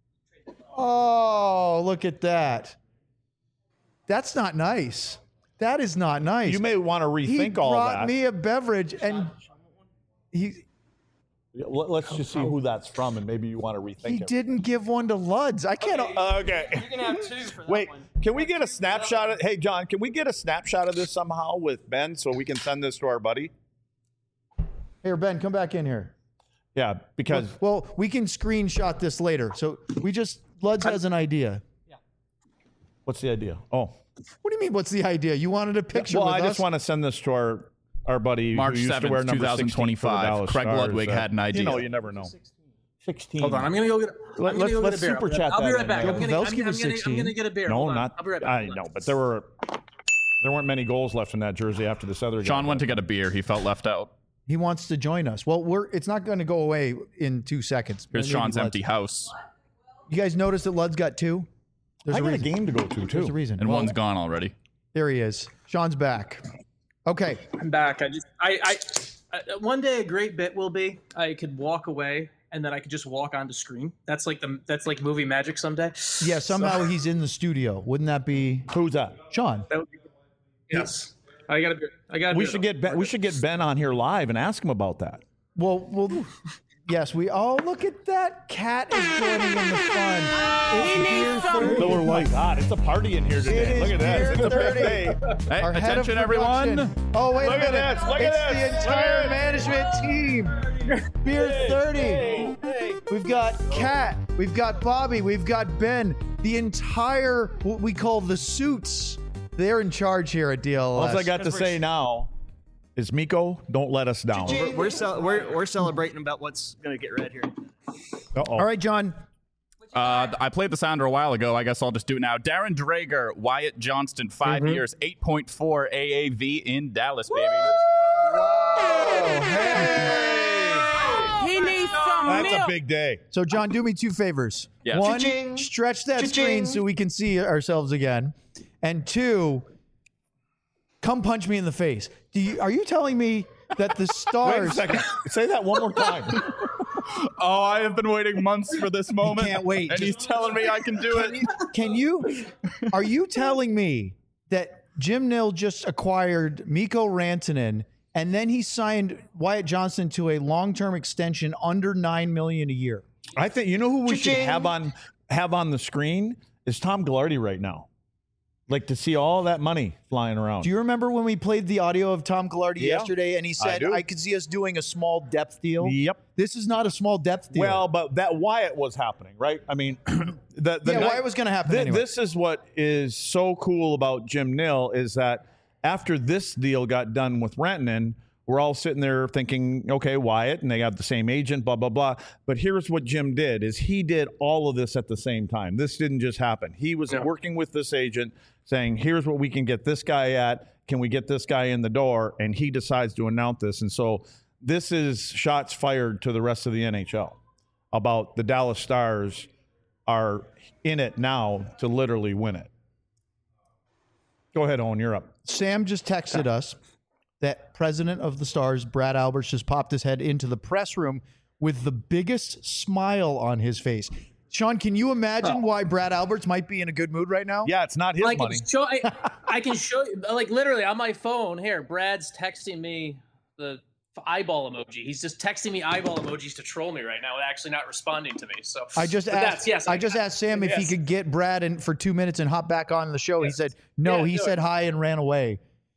Oh, look at that. That's not nice. That is not nice. You may want to he rethink all brought that. me a beverage and he Let- Let's just see who that's from, and maybe you want to rethink he it. didn't give one to Luds. I can't. Uh, okay. You can have two for that Wait, one. can we get a snapshot of? Hey, John, can we get a snapshot of this somehow with Ben so we can send this to our buddy? Here, Ben, come back in here. Yeah, because Well, we can screenshot this later. So we just Luds has an idea. what's the idea? Oh, What do you mean? What's the idea? You wanted a picture well, with I us? just want to send this to our our buddy March who used to wear seventh, number twenty sixteen for the twenty-five. Dallas Craig Stars, Ludwig uh, had an idea. You know, you never know. sixteen. Hold on, I'm gonna go get. I'm Let- gonna let's- go let's get a beer. super chat I'll be that right in back. there. I'm gonna, I'm, Pavelski I'm, was gonna, I'm sixteen. gonna get a beer. No, Hold on. not. I'll be right back. I Hold know, on. but there were there weren't many goals left in that jersey after this other guy. Sean went to get a beer. He felt left out. He wants to join us. Well, we're it's not going to go away in two seconds. Here's Maybe Sean's Luds. empty house, You guys notice that Lud's got two? There's I a got a reason. game to go to There's too. a reason. and Well, one's gone already. there he is. Sean's back. Okay. I'm back. I just, I, I, I, one day a great bit will be I could walk away and then I could just walk onto screen. That's like the, that's like movie magic someday. Yeah, somehow he's in the studio. Wouldn't that be Who's that? Sean? That would be, yes. I got a beer. I got. A We beer, should though. get Ben, we should get Ben on here live and ask him about that. Well, well, yes, we. Oh, look at that cat is joining in the fun. It's beer thirty. Oh my God, it's a party in here It today. is Look at beer this. It's a big thirty. day. Hey, Our head of attention, everyone. production. Oh, wait Look a at minute. this, look at it's this. the entire Look at management team. Beer thirty. We've got Kat. We've got Bobby. We've got Ben. The entire, what we call the suits. They're in charge here at D L S. All I got to say now is Mikko, don't let us down. We're we're, cel- we're we're celebrating about what's gonna get read here. Uh-oh. All right, John. Uh, I played the sounder a while ago. I guess I'll just do it now. Darren Drager, Wyatt Johnston, 5 Mm-hmm. years, eight point four A A V in Dallas, baby. He needs some That's milk. a big day. So, John, do me two favors. Yes. One, Cha-ching. stretch that Cha-ching. screen so we can see ourselves again. And two, come punch me in the face. Do you, are you telling me that the Wait a Stars second. Say that one more time. Oh, I have been waiting months for this moment. can't wait. And he's telling me I can do it. can you are you telling me that Jim Nill just acquired Mikko Rantanen and then he signed Wyatt Johnston to a long-term extension under nine million dollars a year? I think you know who we should Cha-ching. have on have on the screen is Tom Gillardy right now. Like to see all that money flying around. Do you remember when we played the audio of Tom Gillardy Yeah, yesterday and he said do. I, could see us doing a small depth deal? Yep. This is not a small depth deal. Well, but that Wyatt was happening, right? I mean, the, the yeah, night- Wyatt was going to happen Thi- anyway. This is what is so cool about Jim Nill is that after this deal got done with Rantanen, we're all sitting there thinking, okay, Wyatt, and they got the same agent, blah, blah, blah. But here's what Jim did is he did all of this at the same time. This didn't just happen. He was working with this agent saying, here's what we can get this guy at. Can we get this guy in the door? And he decides to announce this. And so this is shots fired to the rest of the N H L about the Dallas Stars are in it now to literally win it. Go ahead, Owen, you're up. Sam just texted us that president of the Stars, Brad Alberts, just popped his head into the press room with the biggest smile on his face. Sean, can you imagine why Brad Alberts might be in a good mood right now? Yeah, it's not his I can money. show. I, I can show you, like literally on my phone here. Brad's texting me the eyeball emoji. He's just texting me eyeball emojis to troll me right now, and actually not responding to me. So I just but asked. that's- yes, I just asked Sam if he yes. could get Brad in for two minutes and hop back on the show. He Yes. said no. Yeah, he do said it. hi and ran away.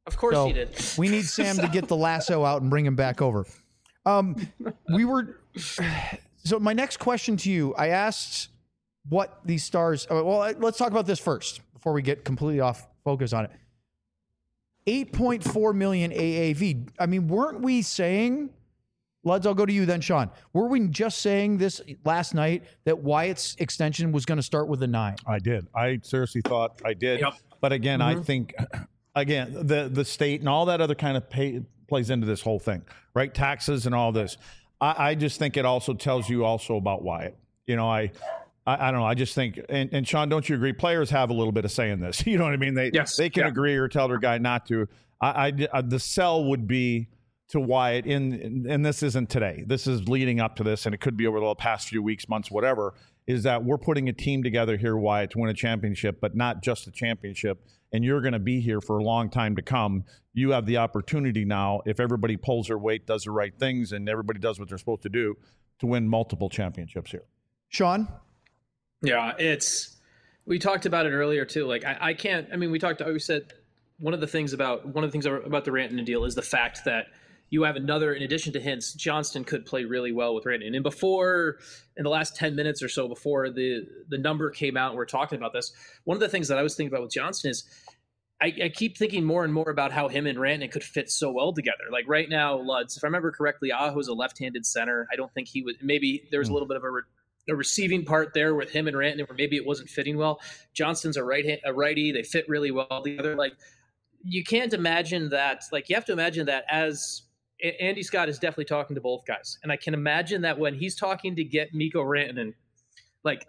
Of course So he did. we need Sam to get the lasso out and bring him back over. Um, we were. So my next question to you, I asked what these stars. Well, let's talk about this first before we get completely off focus on it. eight point four million A A V. I mean, weren't we saying, Luds, I'll go to you then, Sean. Were we just saying this last night that Wyatt's extension was going to start with a nine? I did. I seriously thought I did. Yep. But again, I think, again, the the state and all that other kind of pay plays into this whole thing, right? Taxes and all this. I, I just think it also tells you also about Wyatt. You know, I. I, I don't know. I just think, and, and Sean, don't you agree? Players have a little bit of say in this. You know what I mean? They Yes. they can Yeah. agree or tell their guy not to. I, I the sell would be to Wyatt in, and this isn't today. This is leading up to this, and it could be over the past few weeks, months, whatever. Is that we're putting a team together here, Wyatt, to win a championship, but not just a championship. And you're going to be here for a long time to come. You have the opportunity now, if everybody pulls their weight, does the right things, and everybody does what they're supposed to do, to win multiple championships here. Sean? Yeah, it's we talked about it earlier too. Like I, I can't. I mean, we talked. We said one of the things about one of the things about the Rantanen deal is the fact that you have another. In addition to Hintz, Johnston could play really well with Rantanen. And before, in the last ten minutes or so before the the number came out, and we're talking about this. One of the things that I was thinking about with Johnston is. I, I keep thinking more and more about how him and Rantanen could fit so well together. Like right now, Luds, if I remember correctly, Aho's a left-handed center. I don't think he would. Maybe there was a little bit of a. Re- a receiving part there with him and Rantanen where maybe it wasn't fitting well. Johnston's a right a righty. They fit really well together. Like you can't imagine that. Like you have to imagine that as Andy Scott is definitely talking to both guys. And I can imagine that when he's talking to get Mikko Rantanen, like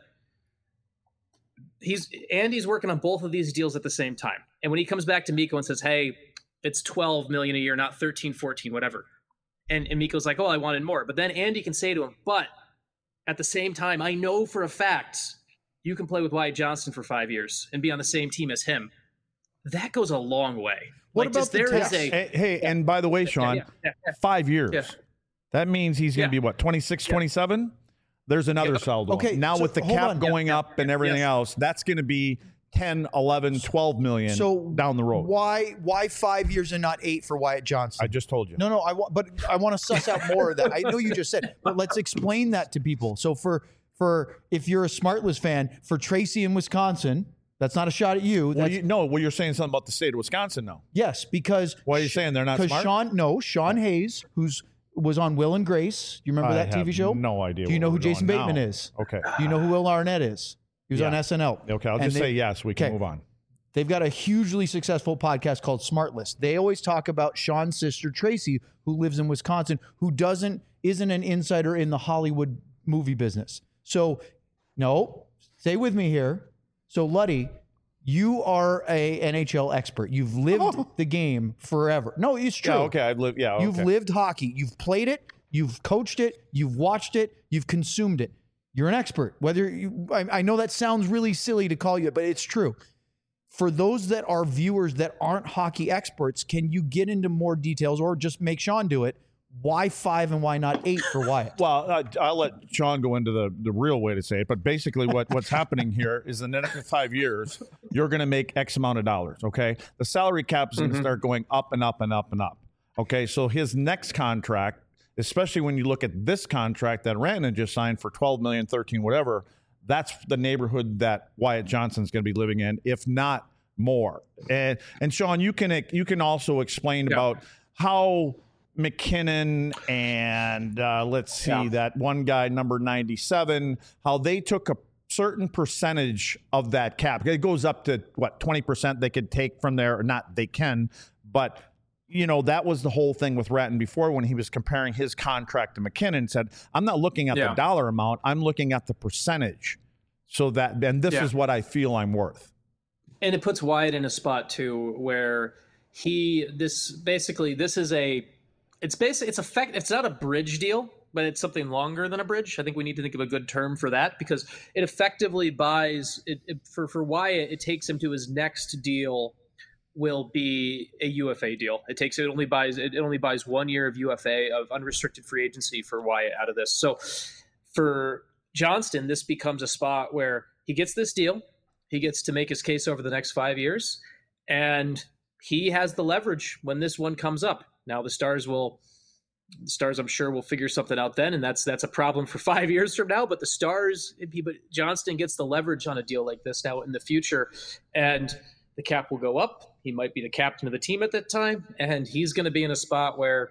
he's Andy's working on both of these deals at the same time. And when he comes back to Mikko and says, hey, it's twelve million a year, not thirteen, fourteen, whatever. And, and Mikko's like, oh, I wanted more. But then Andy can say to him, but at the same time, I know for a fact you can play with Wyatt Johnston for five years and be on the same team as him. That goes a long way. What like, about just, the there tax? is a Hey, hey and by the way, Sean, yeah, yeah, yeah. five years. Yeah. That means he's going to Yeah. be, what, twenty-six, twenty-seven? There's another Yeah. saldo. Okay, Now so with the hold cap on. going Yeah, up yeah, and everything yes. else, that's going to be ten, eleven, twelve million So down the road. Why why five years and not eight for Wyatt Johnston? I just told you. No, no, I want, but I want to suss out more of that. I know you just said, but let's explain that to people. So for for if you're a Smartless fan, for Tracy in Wisconsin, that's not a shot at you. Well, That's, you no, well, you're saying something about the state of Wisconsin now. yes, because Why are you saying they're not because smart? Sean, no, Sean Hayes, who's was on Will and Grace. You remember I that T V have show? no idea Do you what know who we're doing Jason Bateman now. is? Okay. Do you know who Will Arnett is? He was Yeah. on S N L. Okay, I'll And just they- say yes. We can okay. move on. They've got a hugely successful podcast called Smartless. They always talk about Sean's sister Tracy, who lives in Wisconsin, who doesn't isn't an insider in the Hollywood movie business. So, no, stay with me here. So, Luddy, you are a N H L expert. You've lived the game forever. No, it's true. Yeah, okay. I've lived. Yeah, You've okay. lived hockey. You've played it. You've coached it. You've watched it. You've consumed it. You're an expert. Whether you, I, I know that sounds really silly to call you, but it's true. For those that are viewers that aren't hockey experts, can you get into more details or just make Sean do it? Why five and why not eight for Wyatt? Well, uh, I'll let Sean go into the, the real way to say it, but basically what, what's happening here is in the next five years, you're going to make X amount of dollars, okay? The salary cap is going to start going up and up and up and up, okay? So his next contract, especially when you look at this contract that Rantanen just signed for twelve million, thirteen, whatever, that's the neighborhood that Wyatt Johnston's going to be living in, if not more. And and Sean, you can you can also explain Yeah. about how McKinnon and uh, let's see Yeah. that one guy number ninety-seven, how they took a certain percentage of that cap. It goes up to what twenty percent they could take from there, or not they can, but you know, that was the whole thing with Ratton before when he was comparing his contract to McKinnon, said, I'm not looking at Yeah. the dollar amount, I'm looking at the percentage. So that, and this Yeah. is what I feel I'm worth. And it puts Wyatt in a spot too where he this basically this is a it's basically it's effect it's not a bridge deal, but it's something longer than a bridge. I think we need to think of a good term for that because it effectively buys it, it for for Wyatt. It takes him to his next deal will be a U F A deal. It takes it only buys it only buys one year of U F A of unrestricted free agency for Wyatt out of this. So for Johnston, this becomes a spot where he gets this deal. He gets to make his case over the next five years. And he has the leverage when this one comes up. Now the Stars will, the Stars I'm sure will figure something out then, and that's that's a problem for five years from now. But the Stars, but Johnston gets the leverage on a deal like this now in the future, and the cap will go up. He might be the captain of the team at that time, and he's going to be in a spot where,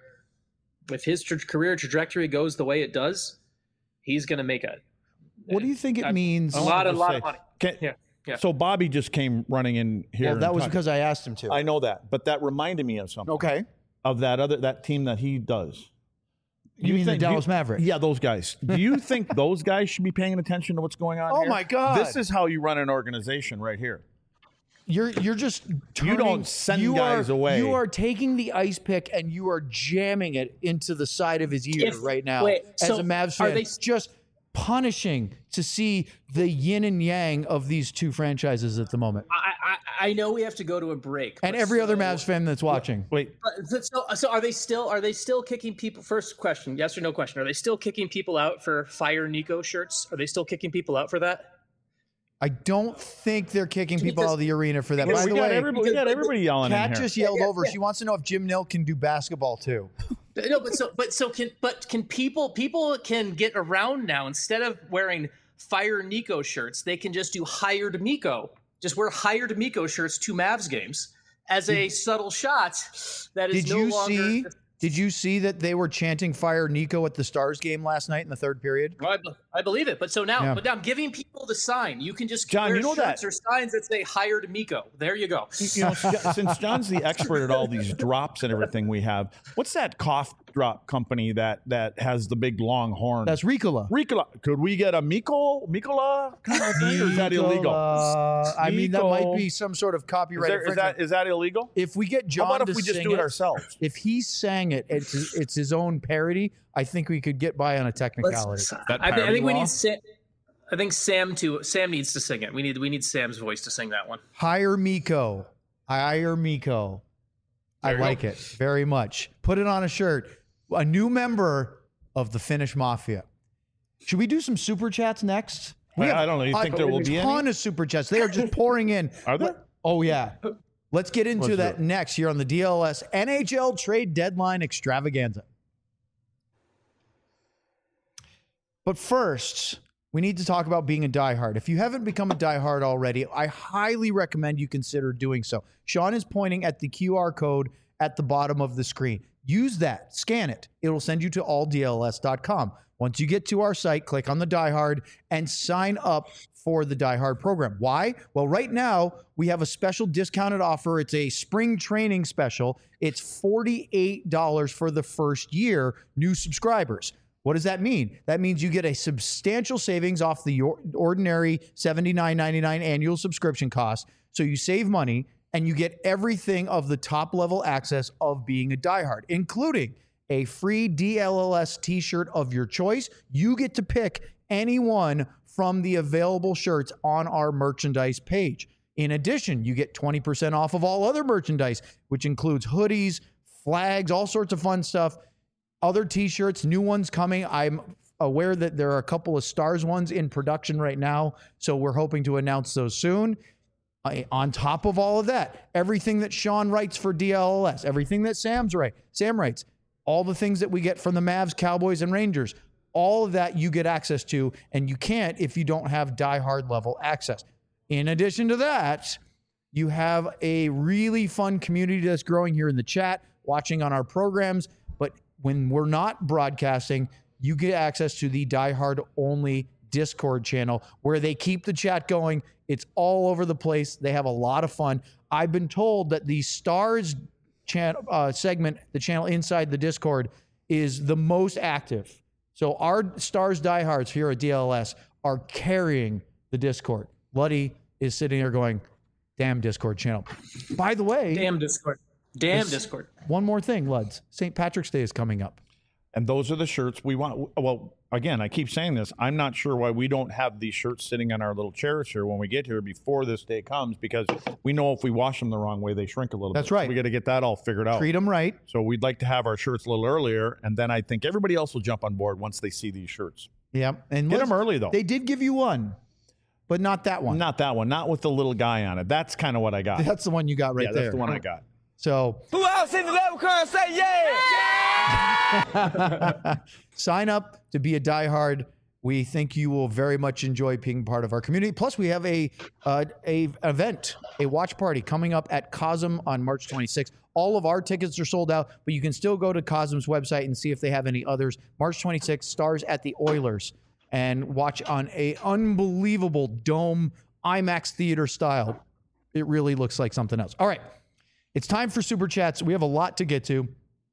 if his tra- career trajectory goes the way it does, he's going to make a. What do you think it a, means? A lot, a lot say, of money. Can, Yeah. Yeah. So Bobby just came running in here. Well, that and was talked- because I asked him to. I know that, but that reminded me of something. Okay. Of that other that team that he does. You mean the think- do Dallas Mavericks? Yeah, those guys. Do you think those guys should be paying attention to what's going on Oh, here? my God. This is how you run an organization right here. You're you're just turning, You don't send you guys are, away. You are taking the ice pick and you are jamming it into the side of his ear If- right now. wait, as so a Mavs are fan, they- just punishing to see the yin and yang of these two franchises at the moment, I, I I know we have to go to a break, and but every other so- Mavs fan that's watching. Wait, But so, so are they still are they still kicking people? First question, yes or no question. Are they still kicking people out for Fire Nico shirts? Are they still kicking people out for that? I don't think they're kicking people Because- out of the arena for that. we By the got way, everybody, we got everybody yelling in Kat here. just yelled over. She wants to know if Jim Nill can do basketball too. No, but so but so can but can people people can get around now instead of wearing Fire Nico shirts, they can just do Hired Miko. Just wear Hired Miko shirts to Mavs games as a subtle shot that is Did no you longer. see? Did you see that they were chanting "Fire Nico" at the Stars game last night in the third period? Well, I, be- I believe it, but so now, Yeah. but now I'm giving people the sign. You can just John, wear you know shirts that- or signs that say "Hired Miko." There you go. You know, since John's the expert at all these drops and everything we have, what's that cough drop company that that has the big long horn? That's Ricola. Ricola. Could we get a Miko Mikola kind of thing, or is that illegal? Uh, I mean, that Nico. might be some sort of Is, copyright there, is infringement. that is that illegal? If we get John How about to if we just sing do it ourselves? If he sang it, it's, it's his own parody. I think we could get by on a technicality. Let's, That I, thi- I parody think we law? need Sam. I think Sam too. Sam needs to sing it. We need we need Sam's voice to sing that one. Hire Miko. Hire Miko. I There you like go. it very much. Put it on a shirt. A new member of the Finnish Mafia. Should we do some super chats next? I- I don't know. You think there will be a any? ton of super chats. They are just pouring in. Are there? Oh yeah. Let's get into Let's do that it. next here on the D L S N H L trade deadline extravaganza. But first, we need to talk about being a diehard. If you haven't become a diehard already, I highly recommend you consider doing so. Sean is pointing at the Q R code at the bottom of the screen. Use that, scan it. It'll send you to all D L S dot com. Once you get to our site, click on the diehard and sign up for the diehard program. Why? Well, right now we have a special discounted offer. It's a spring training special. It's forty-eight dollars for the first year, new subscribers. What does that mean? That means you get a substantial savings off the or- ordinary seventy-nine ninety-nine annual subscription cost. So you save money and you get everything of the top level access of being a diehard, including a free D L L S t-shirt of your choice. You get to pick any one from the available shirts on our merchandise page. In addition, you get twenty percent off of all other merchandise, which includes hoodies, flags, all sorts of fun stuff. Other t-shirts, new ones coming. I'm aware that there are a couple of Stars ones in production right now, so we're hoping to announce those soon. Uh, on top of all of that, everything that Sean writes for D L L S, everything that Sam's write, Sam writes, all the things that we get from the Mavs, Cowboys, and Rangers, all of that you get access to, and you can't if you don't have diehard level access. In addition to that, you have a really fun community that's growing here in the chat, watching on our programs. But when we're not broadcasting, you get access to the diehard only Discord channel where they keep the chat going. It's all over the place. They have a lot of fun. I've been told that the Stars channel uh, segment, the channel inside the Discord, is the most active. So our Stars diehards here at D L S are carrying the Discord. Luddy is sitting there going, damn Discord channel. By the way, Damn Discord. Damn This- Discord. one more thing, Luds. Saint Patrick's Day is coming up. And those are the shirts we want. Well, again, I keep saying this. I'm not sure why we don't have these shirts sitting on our little chairs here when we get here before this day comes, because we know if we wash them the wrong way, they shrink a little That's bit. right. So we got to get that all figured out. Treat them right. So we'd like to have our shirts a little earlier, and then I think everybody else will jump on board once they see these shirts. Yeah. And Get let's- them early, though. They did give you one, but not that one. Not that one. Not with the little guy on it. That's kind of what I got. That's the one you got right yeah, there. that's the one I got. So Who else in the level current say yeah? sign up to be a diehard. We think you will very much enjoy being part of our community. Plus, we have a uh, a event, a watch party coming up at Cosm on March twenty-sixth. All of our tickets are sold out, but you can still go to Cosm's website and see if they have any others. March twenty-sixth, Stars at the Oilers, and watch on a unbelievable dome IMAX theater style. It really looks like something else. All right, it's time for Super Chats. We have a lot to get to.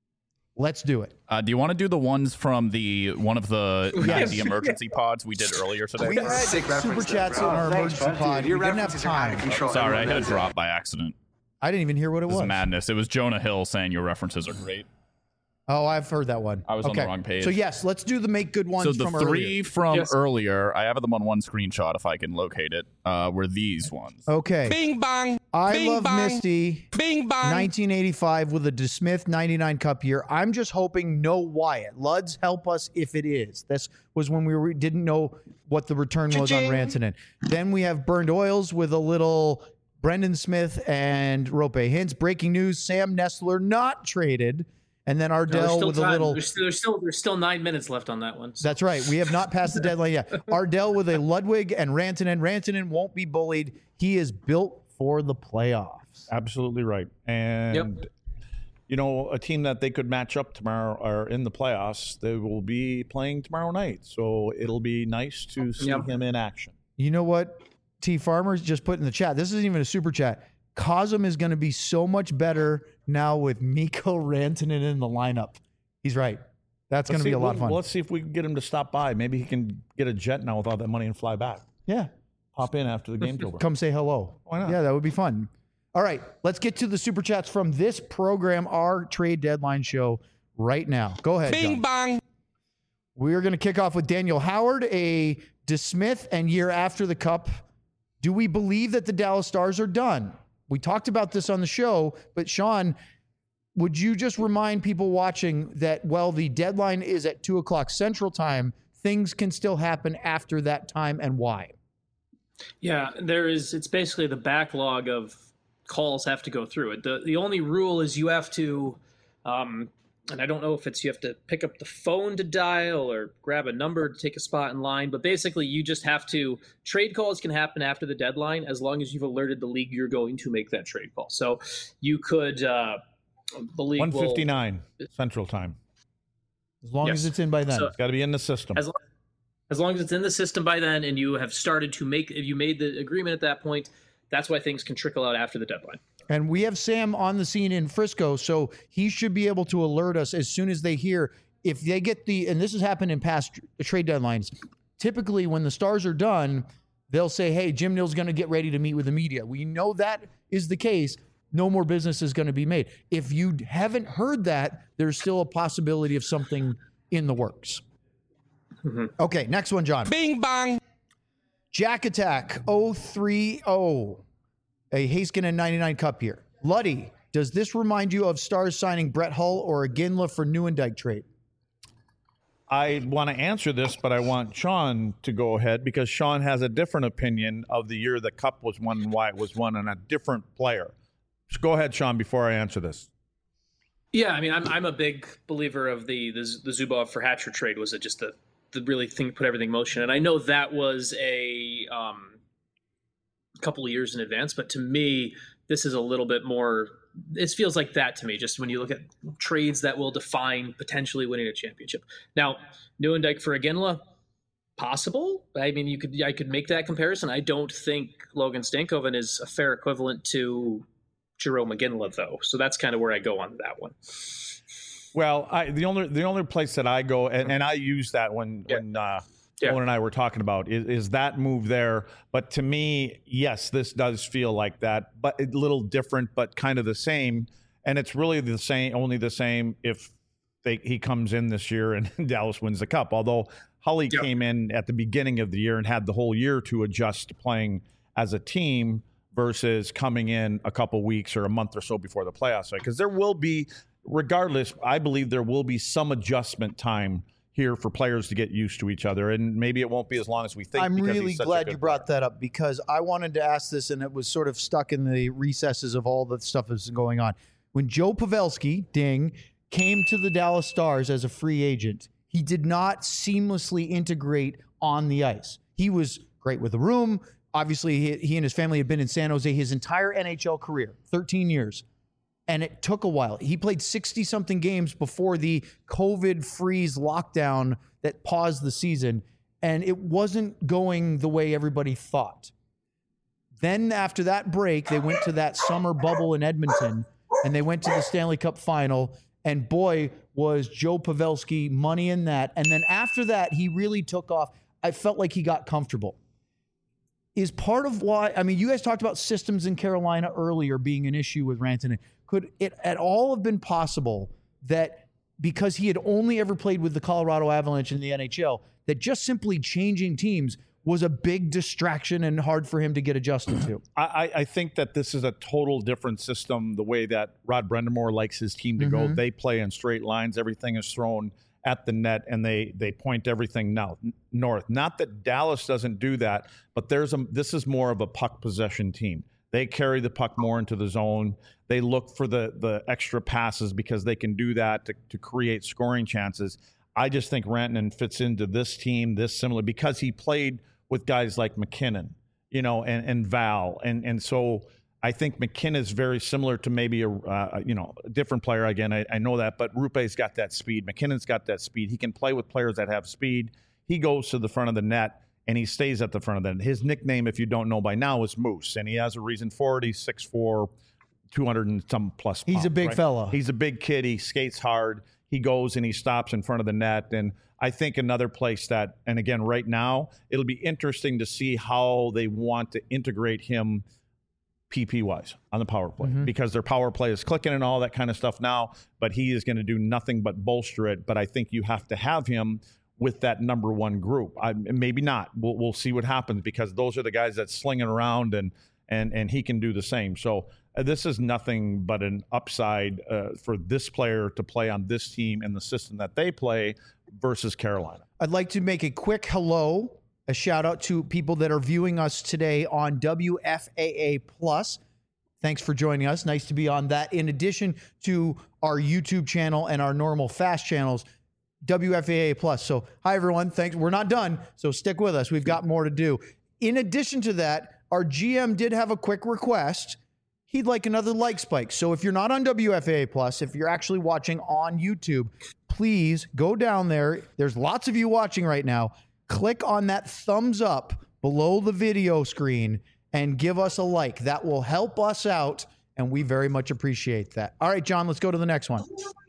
Let's do it. Uh, do you want to do the ones from the one of the Yes. the emergency pods we did earlier today? We had Super Chats in our emergency pod. We didn't have time. Sorry, I hit a drop by accident. I didn't even hear what it This was. is madness. It was Jonah Hill saying your references are great. Oh, I've heard that one. I was on the wrong page. So yes, let's do the make good ones So the from three earlier. from Yes. earlier, I have them on one screenshot if I can locate it, uh, were these ones. Okay. Bing bong. I Bing love bong. Misty. Bing bong. nineteen eighty-five with a DeSmith ninety-nine Cup year. I'm just hoping no Wyatt. Luds, help us if it is. This was when we were, didn't know what the return was on Rantanen. Then we have Burned Oils with a little Brendan Smith and Rope Hintz. Breaking news, Sam Nestler not traded. And then No, there's Ardell still with time. a little... There's still, there's still there's still nine minutes left on that one. So. That's right. We have not passed the deadline yet. Ardell with a Ludwig and Rantanen. Rantanen won't be bullied. He is built for the playoffs. Absolutely right. And, Yep. you know, a team that they could match up tomorrow or in the playoffs, they will be playing tomorrow night. So it'll be nice to see Yep. him in action. You know what? T Farmers just put in the chat. This isn't even a super chat. Cosm is going to be so much better now with Mikko Rantanen in the lineup. He's right. That's going Let's to be see- a lot of we'll- fun. Let's see if we can get him to stop by. Maybe he can get a jet now with all that money and fly back. Yeah. Pop in after the game's over. Come say hello. Why not? Yeah, that would be fun. All right. Let's get to the super chats from this program, our trade deadline show right now. Go ahead, Bing John. bong. We're going to kick off with Daniel Howard, a DeSmith, and year after the Cup. Do we believe that the Dallas Stars are done? We talked about this on the show, but Sean, would you just remind people watching that while the deadline is at two o'clock Central Time, things can still happen after that time, and why? Yeah, there is. It's basically the backlog of calls have to go through it. The the only rule is you have to, um, and I don't know if it's you have to pick up the phone to dial or grab a number to take a spot in line, but basically you just have to. Trade calls can happen after the deadline as long as you've alerted the league you're going to make that trade call. So you could, uh, the league one will- fifty-nine Central Time. As long Yes. as it's in by then. So- It's got to be in the system. As long, as long as it's in the system by then and you have started to make, if you made the agreement at that point, that's why things can trickle out after the deadline. And we have Sam on the scene in Frisco, so he should be able to alert us as soon as they hear. If they get the, and this has happened in past trade deadlines, typically when the Stars are done, they'll say, hey, Jim Nill's going to get ready to meet with the media. We know that is the case. No more business is going to be made. If you haven't heard that, there's still a possibility of something in the works. Mm-hmm. Okay, next one, John. Bing bong. Jack Attack oh three oh, a Haskinen ninety-nine Cup here. Luddy, does this remind you of Stars signing Brett Hull or a Ginla for Newendijk trade? I want to answer this, but I want Sean to go ahead because Sean has a different opinion of the year the Cup was won and why it was won and a different player. So go ahead, Sean, before I answer this. Yeah, I mean, I'm I'm a big believer of the the, the Zubov for Hatcher trade. Was it just the the really thing put everything in motion? And I know that was a um, couple of years in advance, but to me, this is a little bit more. This feels like that to me. Just when you look at trades that will define potentially winning a championship. Now, Newendijk for Iginla, possible. I mean, you could I could make that comparison. I don't think Logan Stankoven is a fair equivalent to Jerome Iginla, though. So that's kind of where I go on that one. Well, I, the only the only place that I go, and, and I use that when Yeah. when uh, Yeah. Owen and I were talking about is, is that move there. But to me, yes, this does feel like that, but a little different, but kind of the same. And it's really the same, only the same if they, he comes in this year and Dallas wins the Cup. Although Hully Yep. came in at the beginning of the year and had the whole year to adjust to playing as a team versus coming in a couple weeks or a month or so before the playoffs. Because there will be, regardless, I believe there will be some adjustment time here for players to get used to each other, and maybe it won't be as long as we think. I'm because really he's such a glad good you brought player. that up because I wanted to ask this and it was sort of stuck in the recesses of all the stuff that's going on. when Joe Pavelski, ding, came to the Dallas Stars as a free agent, he did not seamlessly integrate on the ice. He was great with the room. Obviously, he, he and his family had been in San Jose his entire N H L career, thirteen years. And it took a while. He played sixty-something games before the COVID freeze lockdown that paused the season, and it wasn't going the way everybody thought. Then after that break, they went to that summer bubble in Edmonton, and they went to the Stanley Cup final, and boy, was Joe Pavelski money in that. And then after that, he really took off. I felt like he got comfortable. Is part of why, I mean, you guys talked about systems in Carolina earlier being an issue with Rantanen. Could it at all have been possible that because he had only ever played with the Colorado Avalanche in the N H L, that just simply changing teams was a big distraction and hard for him to get adjusted to? I, I think that this is a total different system, the way that Rod Brind'Amour likes his team to Mm-hmm. go. They play in straight lines. Everything is thrown at the net, and they they point everything now north. Not that Dallas doesn't do that, but there's a this is more of a puck possession team. They carry the puck more into the zone. They look for the the extra passes because they can do that to, to create scoring chances. I just think Rantanen fits into this team this similar because he played with guys like McKinnon, you know, and, and Val. And and so I think McKinnon is very similar to maybe a, uh, you know, a different player. Again, I, I know that, but Rupe's got that speed. McKinnon's got that speed. He can play with players that have speed. He goes to the front of the net, and he stays at the front of the net. His nickname, if you don't know by now, is Moose, and he has a reason for it. He's six foot four, two hundred and some plus pounds. He's a big right? fella. He's a big kid. He skates hard. He goes and he stops in front of the net. And I think another place that, and again, right now, it'll be interesting to see how they want to integrate him P P-wise on the power play, Mm-hmm. because their power play is clicking and all that kind of stuff now, but he is going to do nothing but bolster it. But I think you have to have him with that number one group. I, maybe not. We'll, we'll see what happens, because those are the guys that slinging around, and and and he can do the same. So uh, this is nothing but an upside uh, for this player to play on this team and the system that they play versus Carolina. I'd like to make a quick hello, a shout out to people that are viewing us today on W F A A Plus. Thanks for joining us. Nice to be on that. In addition to our YouTube channel and our normal fast channels, W F A A Plus. So, hi everyone. Thanks. We're not done, so stick with us. We've got more to do. In addition to that, our G M did have a quick request. He'd like another like spike. So if you're not on W F A A Plus, if you're actually watching on YouTube, please go down there. There's lots of you watching right now. Click on that thumbs up below the video screen and give us a like. That will help us out, and we very much appreciate that. All right, John, let's go to the next one.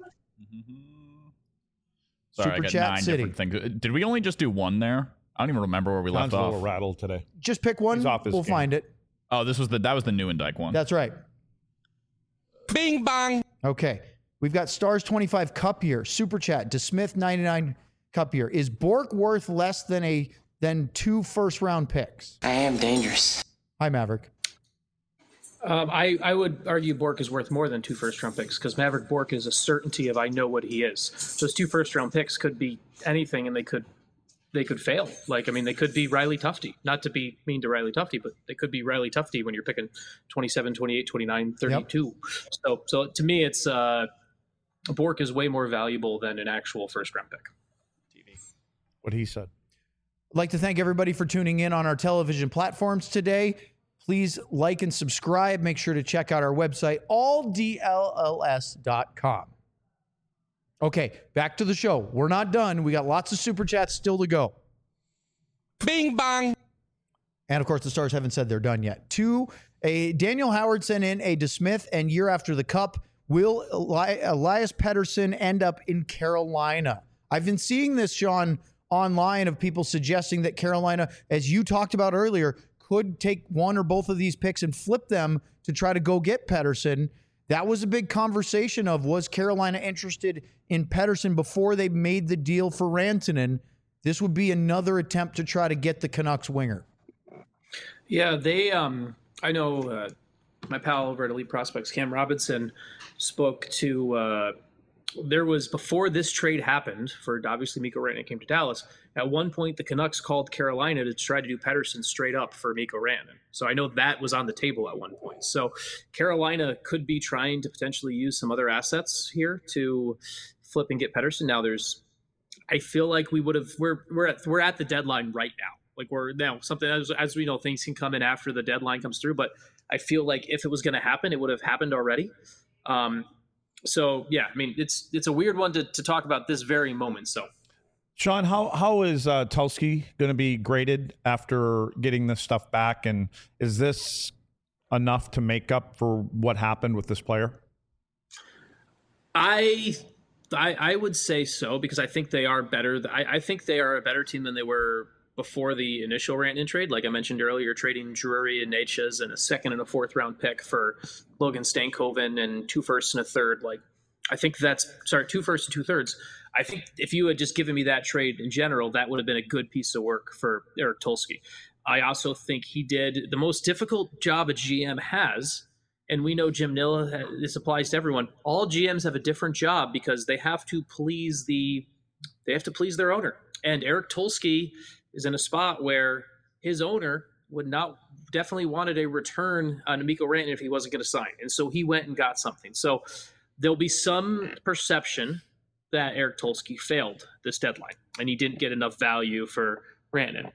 Sorry, Super I got Chat nine City. different things. Did we only just do one there? I don't even remember where we John's left a off. little rattled today. Just pick one. He's off his We'll game. find it. Oh, this was the that was the Newendike one. That's right. Bing bong. Okay. We've got Stars twenty-five Cup year, Super Chat, DeSmith ninety-nine Cup year. Is Bork worth less than a than two first round picks? I am dangerous. Hi, Maverick. Um, I, I would argue Bork is worth more than two first round picks, because Maverick Bork is a certainty of I know what he is. Those two first round picks could be anything, and they could they could fail. Like, I mean, they could be Riley Tufte. Not to be mean to Riley Tufte, but they could be Riley Tufte when you're picking twenty-seven, twenty-eight, twenty-nine, thirty-two. Yep. So so to me, it's uh, Bork is way more valuable than an actual first round pick. T V. What he said. I'd like to thank everybody for tuning in on our television platforms today. Please like and subscribe. Make sure to check out our website, all D L L S dot com. Okay, back to the show. We're not done. We got lots of Super Chats still to go. Bing bong. And of course, the Stars haven't said they're done yet. Two, a Daniel Howard sent in a DeSmith, and year after the Cup, will Eli- Elias Pettersson end up in Carolina? I've been seeing this, Sean, online of people suggesting that Carolina, as you talked about earlier, could take one or both of these picks and flip them to try to go get Pettersson. That was a big conversation of, was Carolina interested in Pettersson before they made the deal for Rantanen? This would be another attempt to try to get the Canucks winger. Yeah, they. Um, I know uh, my pal over at Elite Prospects, Cam Robinson, spoke to uh, there was, before this trade happened for obviously Mikko Rantanen came to Dallas, at one point the Canucks called Carolina to try to do Pettersson straight up for Mikko Rantanen. So I know that was on the table at one point. So Carolina could be trying to potentially use some other assets here to flip and get Pettersson. Now there's, I feel like we would have, we're, we're at, we're at the deadline right now. Like we're now something as, as we know, things can come in after the deadline comes through, but I feel like if it was going to happen, it would have happened already. Um, So yeah, I mean it's it's a weird one to, to talk about this very moment. So, Sean, how how is uh, Tulsky going to be graded after getting this stuff back, and is this enough to make up for what happened with this player? I I, I would say so because I think they are better. I, I think they are a better team than they were before the initial Rantanen trade. Like I mentioned earlier, trading Drury and Natchez and a second and a fourth round pick for Logan Stankoven and two firsts and a third. Like I think that's sorry, two firsts and two thirds. I think if you had just given me that trade in general, that would have been a good piece of work for Eric Tulsky. I also think he did the most difficult job a G M has. And we know Jim Nill, this applies to everyone. All G Ms have a different job because they have to please the, they have to please their owner. And Eric Tulsky is in a spot where his owner would not definitely wanted a return on Mikko Rantanen if he wasn't going to sign. And so he went and got something. So there'll be some perception that Eric Tulsky failed this deadline and he didn't get enough value for Rantanen.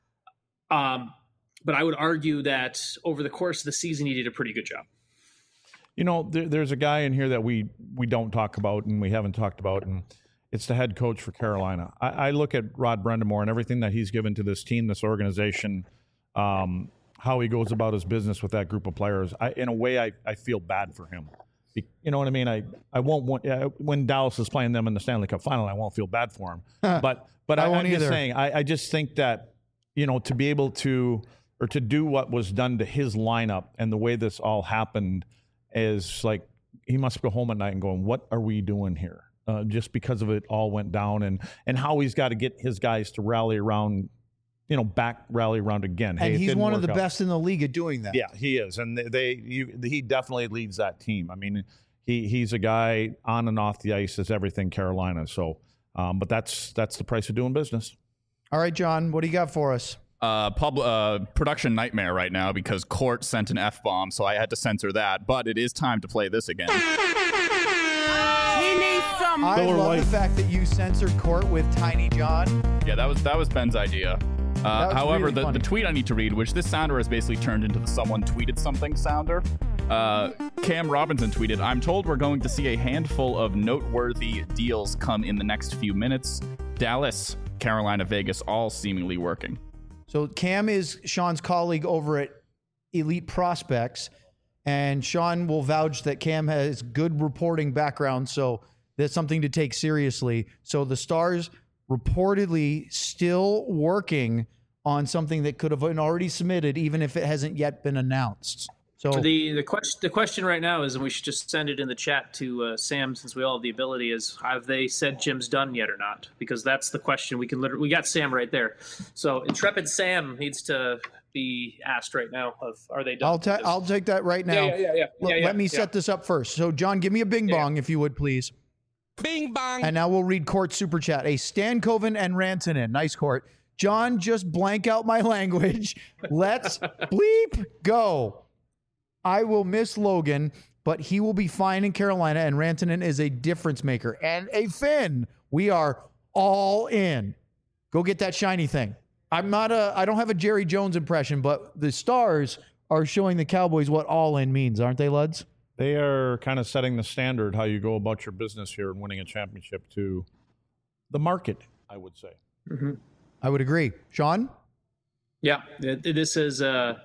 Um, but I would argue that over the course of the season, he did a pretty good job. You know, there, there's a guy in here that we, we don't talk about and we haven't talked about, and it's the head coach for Carolina. I, I look at Rod Brind'Amour and everything that he's given to this team, this organization, um, how he goes about his business with that group of players. I, in a way, I, I feel bad for him. You know what I mean? I, I won't want uh, when Dallas is playing them in the Stanley Cup final, I won't feel bad for him. But but I, I won't I'm just either. saying, I, I just think that, you know, to be able to or to do what was done to his lineup and the way this all happened is like he must go home at night and going, what are we doing here? Uh, just because of it all went down and and how he's got to get his guys to rally around, you know, back rally around again. And hey, it he's didn't one of work the out. best in the league at doing that. Yeah, he is, and they, they you, he definitely leads that team. I mean, he he's a guy on and off the ice is everything Carolina. So, um, but that's that's the price of doing business. All right, John, what do you got for us? Uh, pub, uh, production nightmare right now because Court sent an F-bomb, so I had to censor that. But it is time to play this again. We need some. I Miller love Lite. the fact that you censored Court with Tiny John. Yeah, that was that was Ben's idea. Uh, was however, really the, funny. the tweet I need to read, which this sounder has basically turned into the someone tweeted something sounder. Uh, Cam Robinson tweeted, I'm told we're going to see a handful of noteworthy deals come in the next few minutes. Dallas, Carolina, Vegas, all seemingly working. So Cam is Sean's colleague over at Elite Prospects, and Sean will vouch that Cam has good reporting background, so that's something to take seriously. So the Stars reportedly still working on something that could have been already submitted, even if it hasn't yet been announced. So The the question the question right now is, and we should just send it in the chat to uh, Sam since we all have the ability, is have they said Jim's done yet or not? Because that's the question. We can literally we got Sam right there. So intrepid Sam needs to be asked right now of are they done? I'll ta- I'll take that right now. Yeah, yeah, yeah, yeah. Let, yeah, yeah, let me yeah. set this up first. So John, give me a bing Yeah. bong if you would, please. Bing bong. And now we'll read Court Super Chat. A Stankoven and Rantanen. Nice, Court. John, just blank out my language. Let's bleep go. I will miss Logan, but he will be fine in Carolina, and Rantanen is a difference maker. And a Finn. We are all in. Go get that shiny thing. I'm not a, I don't have a Jerry Jones impression, but the Stars are showing the Cowboys what all in means, aren't they, Luds? They are kind of setting the standard how you go about your business here and winning a championship to the market, I would say. Mm-hmm. I would agree. Sean? Yeah, th- this is uh,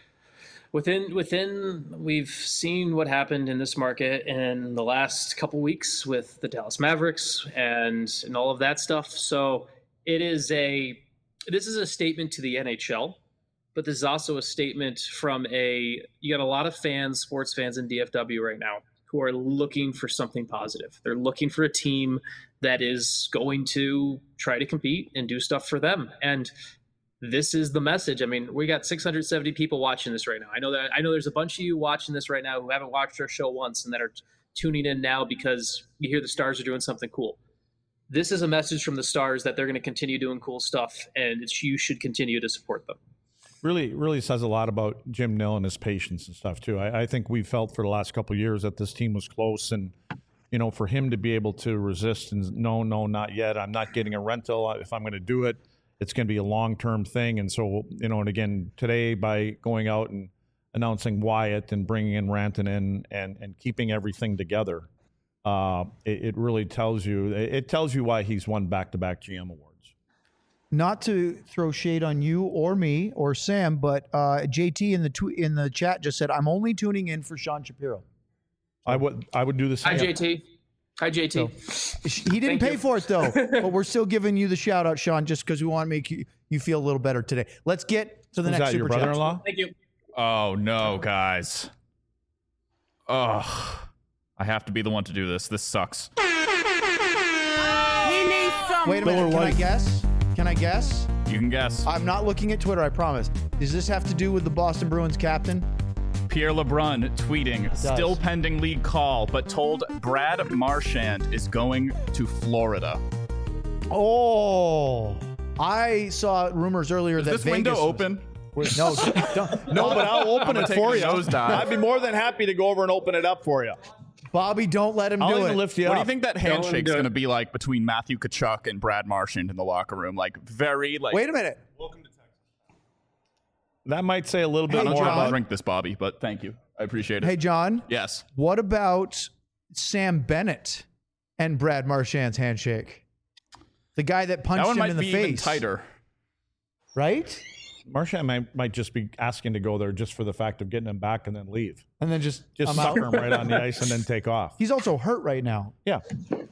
within within. We've seen what happened in this market in the last couple weeks with the Dallas Mavericks and and all of that stuff. So it is a this is a statement to the N H L, but this is also a statement from a you got a lot of fans, sports fans in D F W right now who are looking for something positive. They're looking for a team that is going to try to compete and do stuff for them. And this is the message. I mean, we got six hundred seventy people watching this right now. I know that I know there's a bunch of you watching this right now who haven't watched our show once and that are tuning in now because you hear the Stars are doing something cool. This is a message from the Stars that they're going to continue doing cool stuff, and it's, you should continue to support them. Really, really says a lot about Jim Nill and his patience and stuff too. I, I think we felt for the last couple of years that this team was close, and you know, for him to be able to resist and no, no, not yet. I'm not getting a rental. If I'm going to do it, it's going to be a long-term thing. And so, you know, and again today by going out and announcing Wyatt and bringing in Rantanen in and and keeping everything together. Uh, it, it really tells you, it tells you why he's won back-to-back G M awards. Not to throw shade on you or me or Sam, but uh, J T in the tw- in the chat just said, I'm only tuning in for Sean Shapiro. I would, I would do the same. Hi, J T. Hi, J T. So, he didn't Thank pay you. for it though, but we're still giving you the shout out, Sean, just because we want to make you, you feel a little better today. Let's get to the Was next that your super chat. brother-in-law? Thank you. Oh no, guys. Ugh. I have to be the one to do this. This sucks. He needs some. Wait a minute. Can I guess? Can I guess? You can guess. I'm not looking at Twitter, I promise. Does this have to do with the Boston Bruins captain? Pierre LeBrun tweeting, still pending league call, but told Brad Marchand is going to Florida. Oh, I saw rumors earlier Is that this Vegas window was- open? Wait, no, don't, No, but I'll open I'm it gonna for take you. a nosedive. I'd be more than happy to go over and open it up for you. Bobby, don't let him I'll do even it. lift you What up. do you think that Go and handshake's do it. going to be like between Matthew Tkachuk and Brad Marchand in the locker room? Like very like. Wait a minute. That might say a little bit Hey, I'm more trying John. about to drink this, Bobby, but thank you. I appreciate it. Hey, John, Yes. what about Sam Bennett and Brad Marchand's handshake? The guy that punched That one him might in the be even face. tighter. Right? Marchand might, might just be asking to go there just for the fact of getting him back and then leave. And then just, Just I'm out. sucker him right on the ice and then take off. He's also hurt right now. Yeah.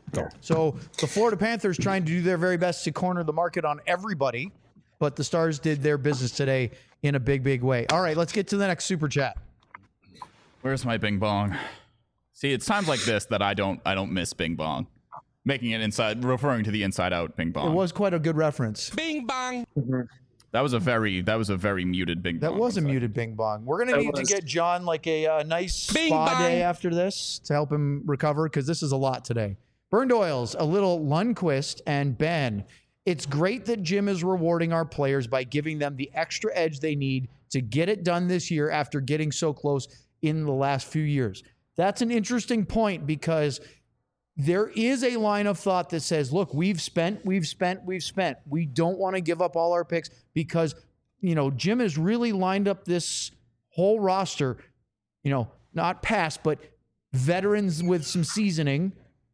So the Florida Panthers trying to do their very best to corner the market on everybody, but the Stars did their business today in a big, big way. All right, let's get to the next super chat. Where's my Bing Bong? See, it's times like this that I don't I don't miss Bing Bong. Making it inside, referring to the Inside Out Bing Bong. It was quite a good reference. Bing bong. That was a very that was a very muted Bing That Bong. was a muted Bing Bong. We're going to That need was. to get John like a uh, nice Bing spa bong. day after this to help him recover because this is a lot today. Burned Oils, a little Lundqvist and Ben. It's great that Jim is rewarding our players by giving them the extra edge they need to get it done this year after getting so close in the last few years. That's an interesting point because there is a line of thought that says, look, we've spent, we've spent, we've spent. We don't want to give up all our picks because, you know, Jim has really lined up this whole roster, you know, not past, but veterans with some seasoning,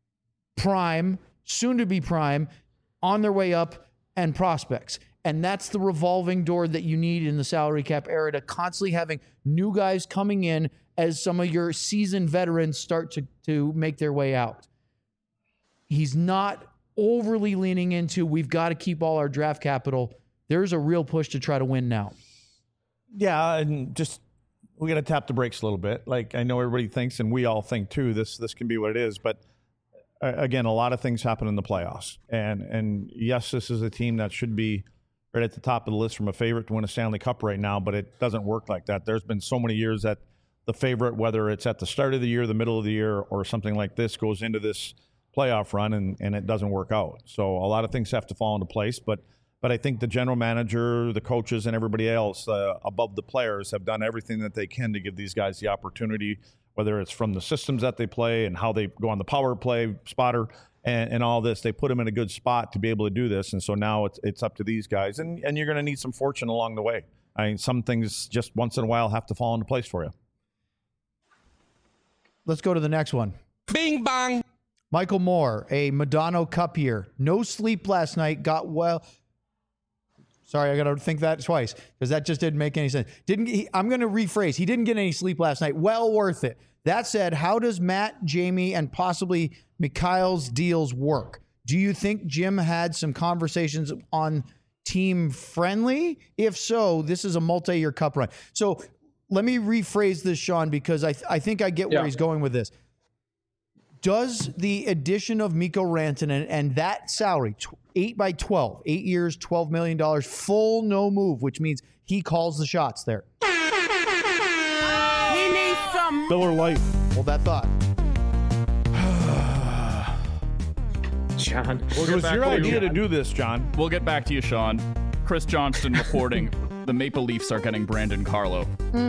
prime, soon to be prime, on their way up, and prospects. And that's the revolving door that you need in the salary cap era to constantly having new guys coming in as some of your seasoned veterans start to, to make their way out. He's not overly leaning into, we've got to keep all our draft capital. There's a real push to try to win now. Yeah, and just we got to tap the brakes a little bit. Like I know everybody thinks, and we all think too. This this can be what it is, but uh, again, a lot of things happen in the playoffs, and and yes, this is a team that should be right at the top of the list from a favorite to win a Stanley Cup right now, but it doesn't work like that. There's been so many years that the favorite, whether it's at the start of the year, the middle of the year, or something like this, goes into this playoff run and, and it doesn't work out. So a lot of things have to fall into place, but but I think the general manager, the coaches, and everybody else uh, above the players have done everything that they can to give these guys the opportunity, whether it's from the systems that they play and how they go on the power play, spotter, and, and all this. They put them in a good spot to be able to do this, and so now it's it's up to these guys, and, and you're going to need some fortune along the way. I mean, some things just once in a while have to fall into place for you. Let's go to the next one. Bing bong. Michael Moore, a Madonna Cup year. No sleep last night. Got well. Sorry, I got to think that twice because that just didn't make any sense. Didn't he, I'm going to rephrase. He didn't get any sleep last night. Well worth it. That said, how does Matt, Jamie, and possibly Mikhail's deals work? Do you think Jim had some conversations on team friendly? If so, this is a multi-year cup run. So let me rephrase this, Sean, because I th- I think I get where Yeah. he's going with this. Does the addition of Mikko Rantanen and that salary, tw- eight by twelve, eight years, twelve million dollars, full no move, which means he calls the shots there. He needs some. Miller Lite. Hold that thought. John. We'll It get was back your to you. idea to do this, John. We'll get back to you, Sean. Chris Johnston reporting the Maple Leafs are getting Brandon Carlo.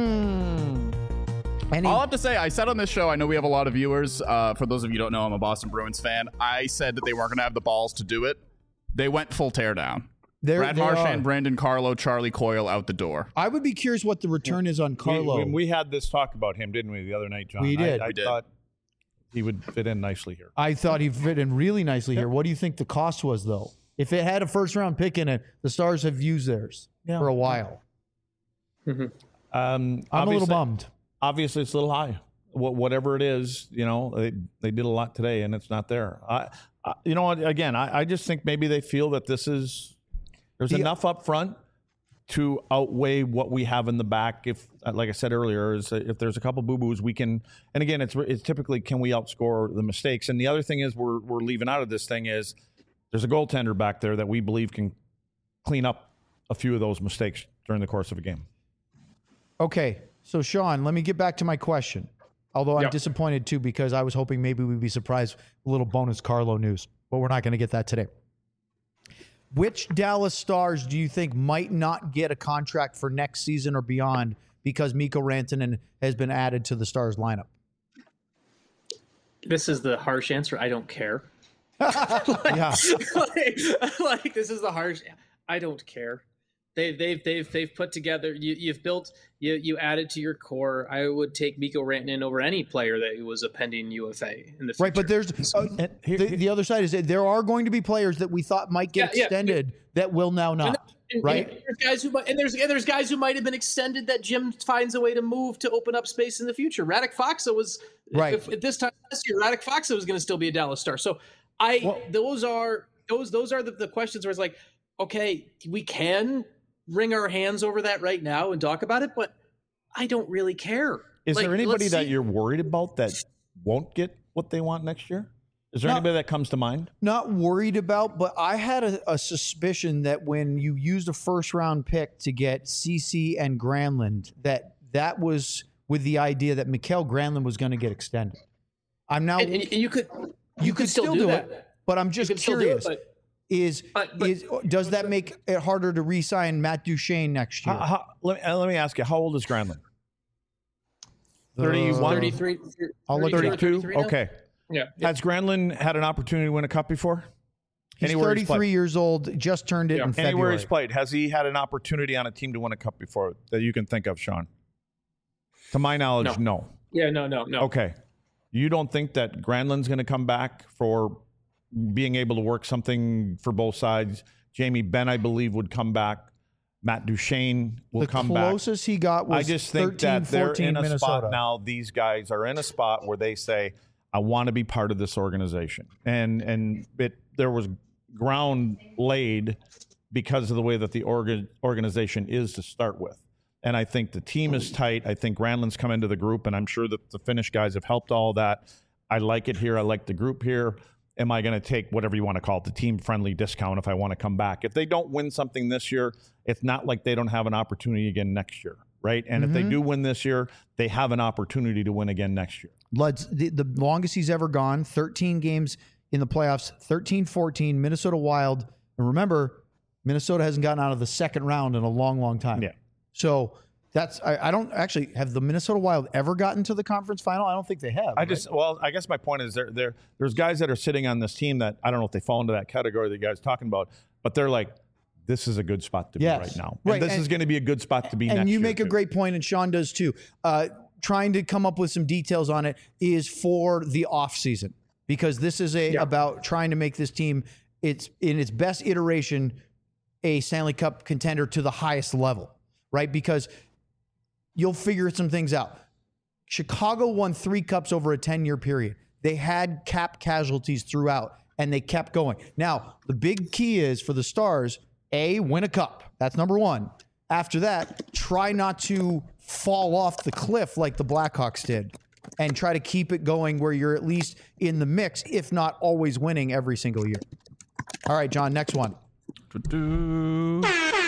Any, All I have to say, I said on this show, I know we have a lot of viewers. Uh, for those of you who don't know, I'm a Boston Bruins fan. I said that they weren't going to have the balls to do it. They went full teardown. They're- Brad they Marchand, are. Brandon Carlo, Charlie Coyle out the door. I would be curious what the return is on We, Carlo. we, we had this talk about him, didn't we, the other night, John? We did. I, I We did. thought he would fit in nicely here. I thought he fit in really nicely here. What do you think the cost was, though? If it had a first round pick in it, the Stars have used theirs Yeah. for a while. Um, I'm a little obviously- bummed. Obviously, it's a little high. Wh- Whatever it is, you know, they, they did a lot today, and it's not there. I, I you know what? Again, I, I just think maybe they feel that this is there's The- enough up front to outweigh what we have in the back. If, like I said earlier, is if there's a couple boo boos, we can. And again, it's it's typically can we outscore the mistakes? And the other thing is we're we're leaving out of this thing is there's a goaltender back there that we believe can clean up a few of those mistakes during the course of a game. Okay, so Sean, let me get back to my question. Although I'm Yep. disappointed too because I was hoping maybe we'd be surprised with a little bonus Carlo news, but we're not going to get that today. Which Dallas Stars do you think might not get a contract for next season or beyond because Mikko Rantanen has been added to the Stars lineup? This is the harsh answer. I don't care. Yeah. like, like, this is the harsh. I don't care. They've they've they've they've put together. You you've built you you added to your core. I would take Mikko Rantanen over any player that was a pending U F A in the future. Right, but there's uh, And here- the, the other side is that there are going to be players that we thought might get Yeah, yeah. extended that will now not. And- right? and there's guys who might, and there's and there's guys who might have been extended that Jim finds a way to move to open up space in the future. Radek Foxa was Right. if, at this time last year. Radek Foxa was going to still be a Dallas Star. So I Well- those are those those are the, the questions where it's like, okay, we can wring our hands over that right now and talk about it, but I don't really care. Is Like, there anybody let's that see- you're worried about that won't get what they want next year? Is there No. anybody that comes to mind? Not worried about, but I had a, a suspicion that when you used a first round pick to get Cece and Granlund, that that was with the idea that Mikael Granlund was going to get extended. I'm now and, and you could you, could, still, do, that. it, but I'm just You could still do it, curious. but- is But- but- is does that make it harder to re-sign Matt Duchene next year? How, how, let, me, uh, let me ask you, how old is Granlund? thirty-one? thirty-three, I'll look it up. thirty-two? thirty-three now? Okay. Yeah. Has Granlund had an opportunity to win a cup before? He's Anywhere he's thirty-three played. years old, just turned it Yeah. in Anywhere February. he's played, has he had an opportunity on a team to win a cup before that you can think of, Sean? To my knowledge, no. Yeah, no, no, no. Okay. You don't think that Granlund's going to come back for being able to work something for both sides? Jamie Benn, I believe, would come back. Matt Duchene will the come back. closest he got was I just think thirteen, that they're fourteen in a Minnesota. spot now. These guys are in a spot where they say, "I want to be part of this organization," and and it there was ground laid because of the way that the organ, organization is to start with. And I think the team is tight. I think Granlund's come into the group, and I'm sure that the Finnish guys have helped all that. I like it here. I like the group here. Am I going to take whatever you want to call it, the team-friendly discount if I want to come back? If they don't win something this year, it's not like they don't have an opportunity again next year, right? And if they do win this year, they have an opportunity to win again next year. Lud's the, the longest he's ever gone, thirteen games in the playoffs, thirteen fourteen, Minnesota Wild. And remember, Minnesota hasn't gotten out of the second round in a long, long time. Yeah. So that's, I, I don't actually, have the Minnesota Wild ever gotten to the conference final? I don't think they have. I right? just, well, I guess my point is there, there, there's guys that are sitting on this team that I don't know if they fall into that category that you guys are talking about, but they're like, this is a good spot to Yes. be right now. Right, And this and- is going to be a good spot to be and next you year, make a too. great point, and Sean does too. Uh, trying to come up with some details on it is for the offseason because this is a Yeah. about trying to make this team it's in its best iteration a Stanley Cup contender to the highest level, right? Because you'll figure some things out. Chicago won three cups over a ten-year period. They had cap casualties throughout, and they kept going. Now, the big key is for the Stars, A, win a cup. That's number one. After that, try not to fall off the cliff like the Blackhawks did and try to keep it going where you're at least in the mix, if not always winning every single year. All right, John, next one. Do-do.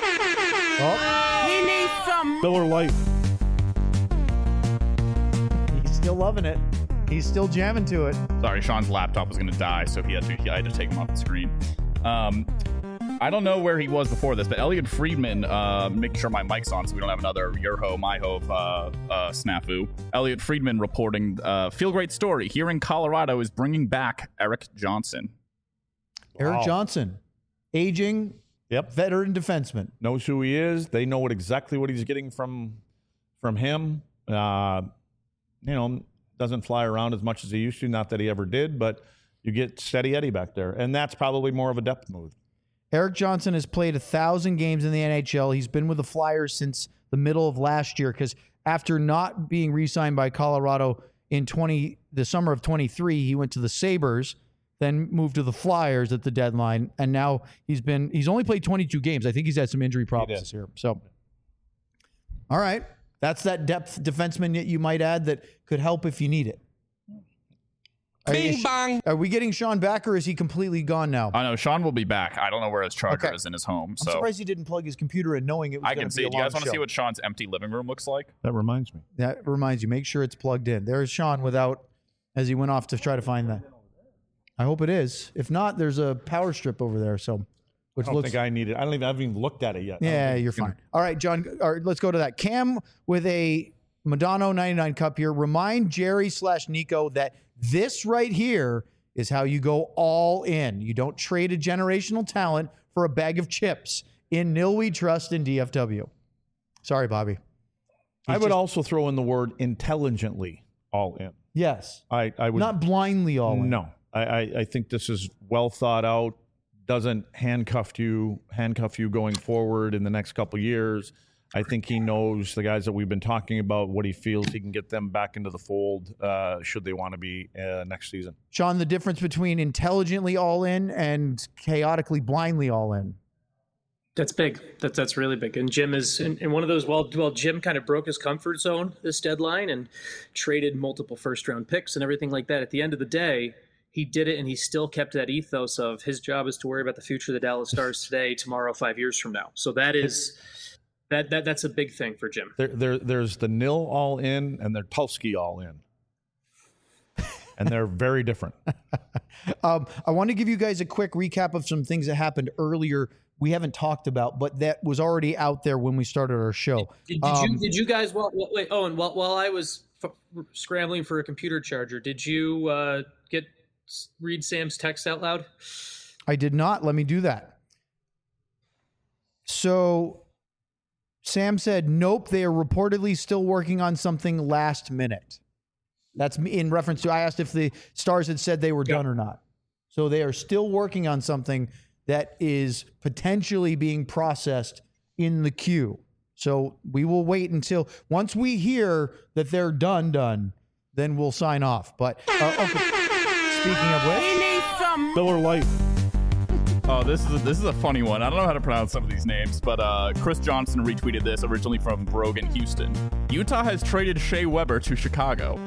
Oh, He needs some. Miller Lite. he's still loving it. He's still jamming to it. Sorry, Sean's laptop was going to die, so he had to, he, I had to take him off the screen. Um, I don't know where he was before this, but Elliot Friedman, uh, making sure my mic's on so we don't have another Yerho, Myho uh, uh, snafu. Elliot Friedman reporting, uh, feel great story. Here in Colorado is bringing back Eric Johnson. Eric Wow. Johnson, aging Yep. veteran defenseman. Knows who he is. They know what exactly what he's getting from from him. Uh, you know, doesn't fly around as much as he used to. Not that he ever did, but you get Steady Eddie back there, and that's probably more of a depth move. Eric Johnson has played a thousand games in the N H L. He's been with the Flyers since the middle of last year because after not being re-signed by Colorado in twenty the summer of twenty-three, he went to the Sabres, then moved to the Flyers at the deadline, and now he's been he's only played twenty-two games. I think he's had some injury problems this year. So, all right, that's that depth defenseman that you might add that could help if you need it. Are, Bing is- bang. are we getting Sean back, or is he completely gone now? I know Sean will be back. I don't know where his charger Okay. is in his home, I'm so surprised he didn't plug his computer in, knowing it was I going can to see be a it. Do you long guys want to show. see what Sean's empty living room looks like? That reminds me. That reminds you, make sure it's plugged in. There's Sean without, as he went off to try to find that. I hope it is. If not, there's a power strip over there. So, I which don't looks. think I need it. I don't even. I haven't even looked at it yet. I don't Yeah, think you're it's gonna- fine. All right, John. All right, let's go to that. Cam with a Madonna ninety-nine cup here. Remind Jerry slash Nico that this right here is how you go all in. You don't trade a generational talent for a bag of chips. In Nil we trust in D F W. Sorry, Bobby. I He's would just- also throw in the word intelligently all in. Yes. I, I would Not blindly all in. No, I, I, I think this is well thought out. Doesn't handcuff you, handcuff you going forward in the next couple years. I think he knows the guys that we've been talking about, what he feels he can get them back into the fold uh, should they want to be uh, next season. Sean, the difference between intelligently all in and chaotically blindly all in. That's big. That's that's really big. And Jim is in, in one of those. Well, well, Jim kind of broke his comfort zone this deadline and traded multiple first round picks and everything like that. At the end of the day, he did it, and he still kept that ethos of his job is to worry about the future of the Dallas Stars today, tomorrow, five years from now. So that is that that that's a big thing for Jim. There, there, there's the nil all in and there's Tulski all in, and they're very different. Um, I want to give you guys a quick recap of some things that happened earlier we haven't talked about, but that was already out there when we started our show. Did, did Um, you did you guys well, well, wait? Oh, and while while I was f- scrambling for a computer charger, did you uh, get read Sam's text out loud? I did not. Let me do that. So Sam said, nope, they are reportedly still working on something last minute. That's me in reference to, I asked if the Stars had said they were Yeah. done or not. So they are still working on something that is potentially being processed in the queue. So we will wait until, once we hear that they're done, done, then we'll sign off. But, uh, okay. Speaking of which, We need some. Miller Lite. Oh, this is a, this is a funny one. I don't know how to pronounce some of these names, but uh, Chris Johnson retweeted this originally from Brogan, Houston. Utah has traded Shea Weber to Chicago.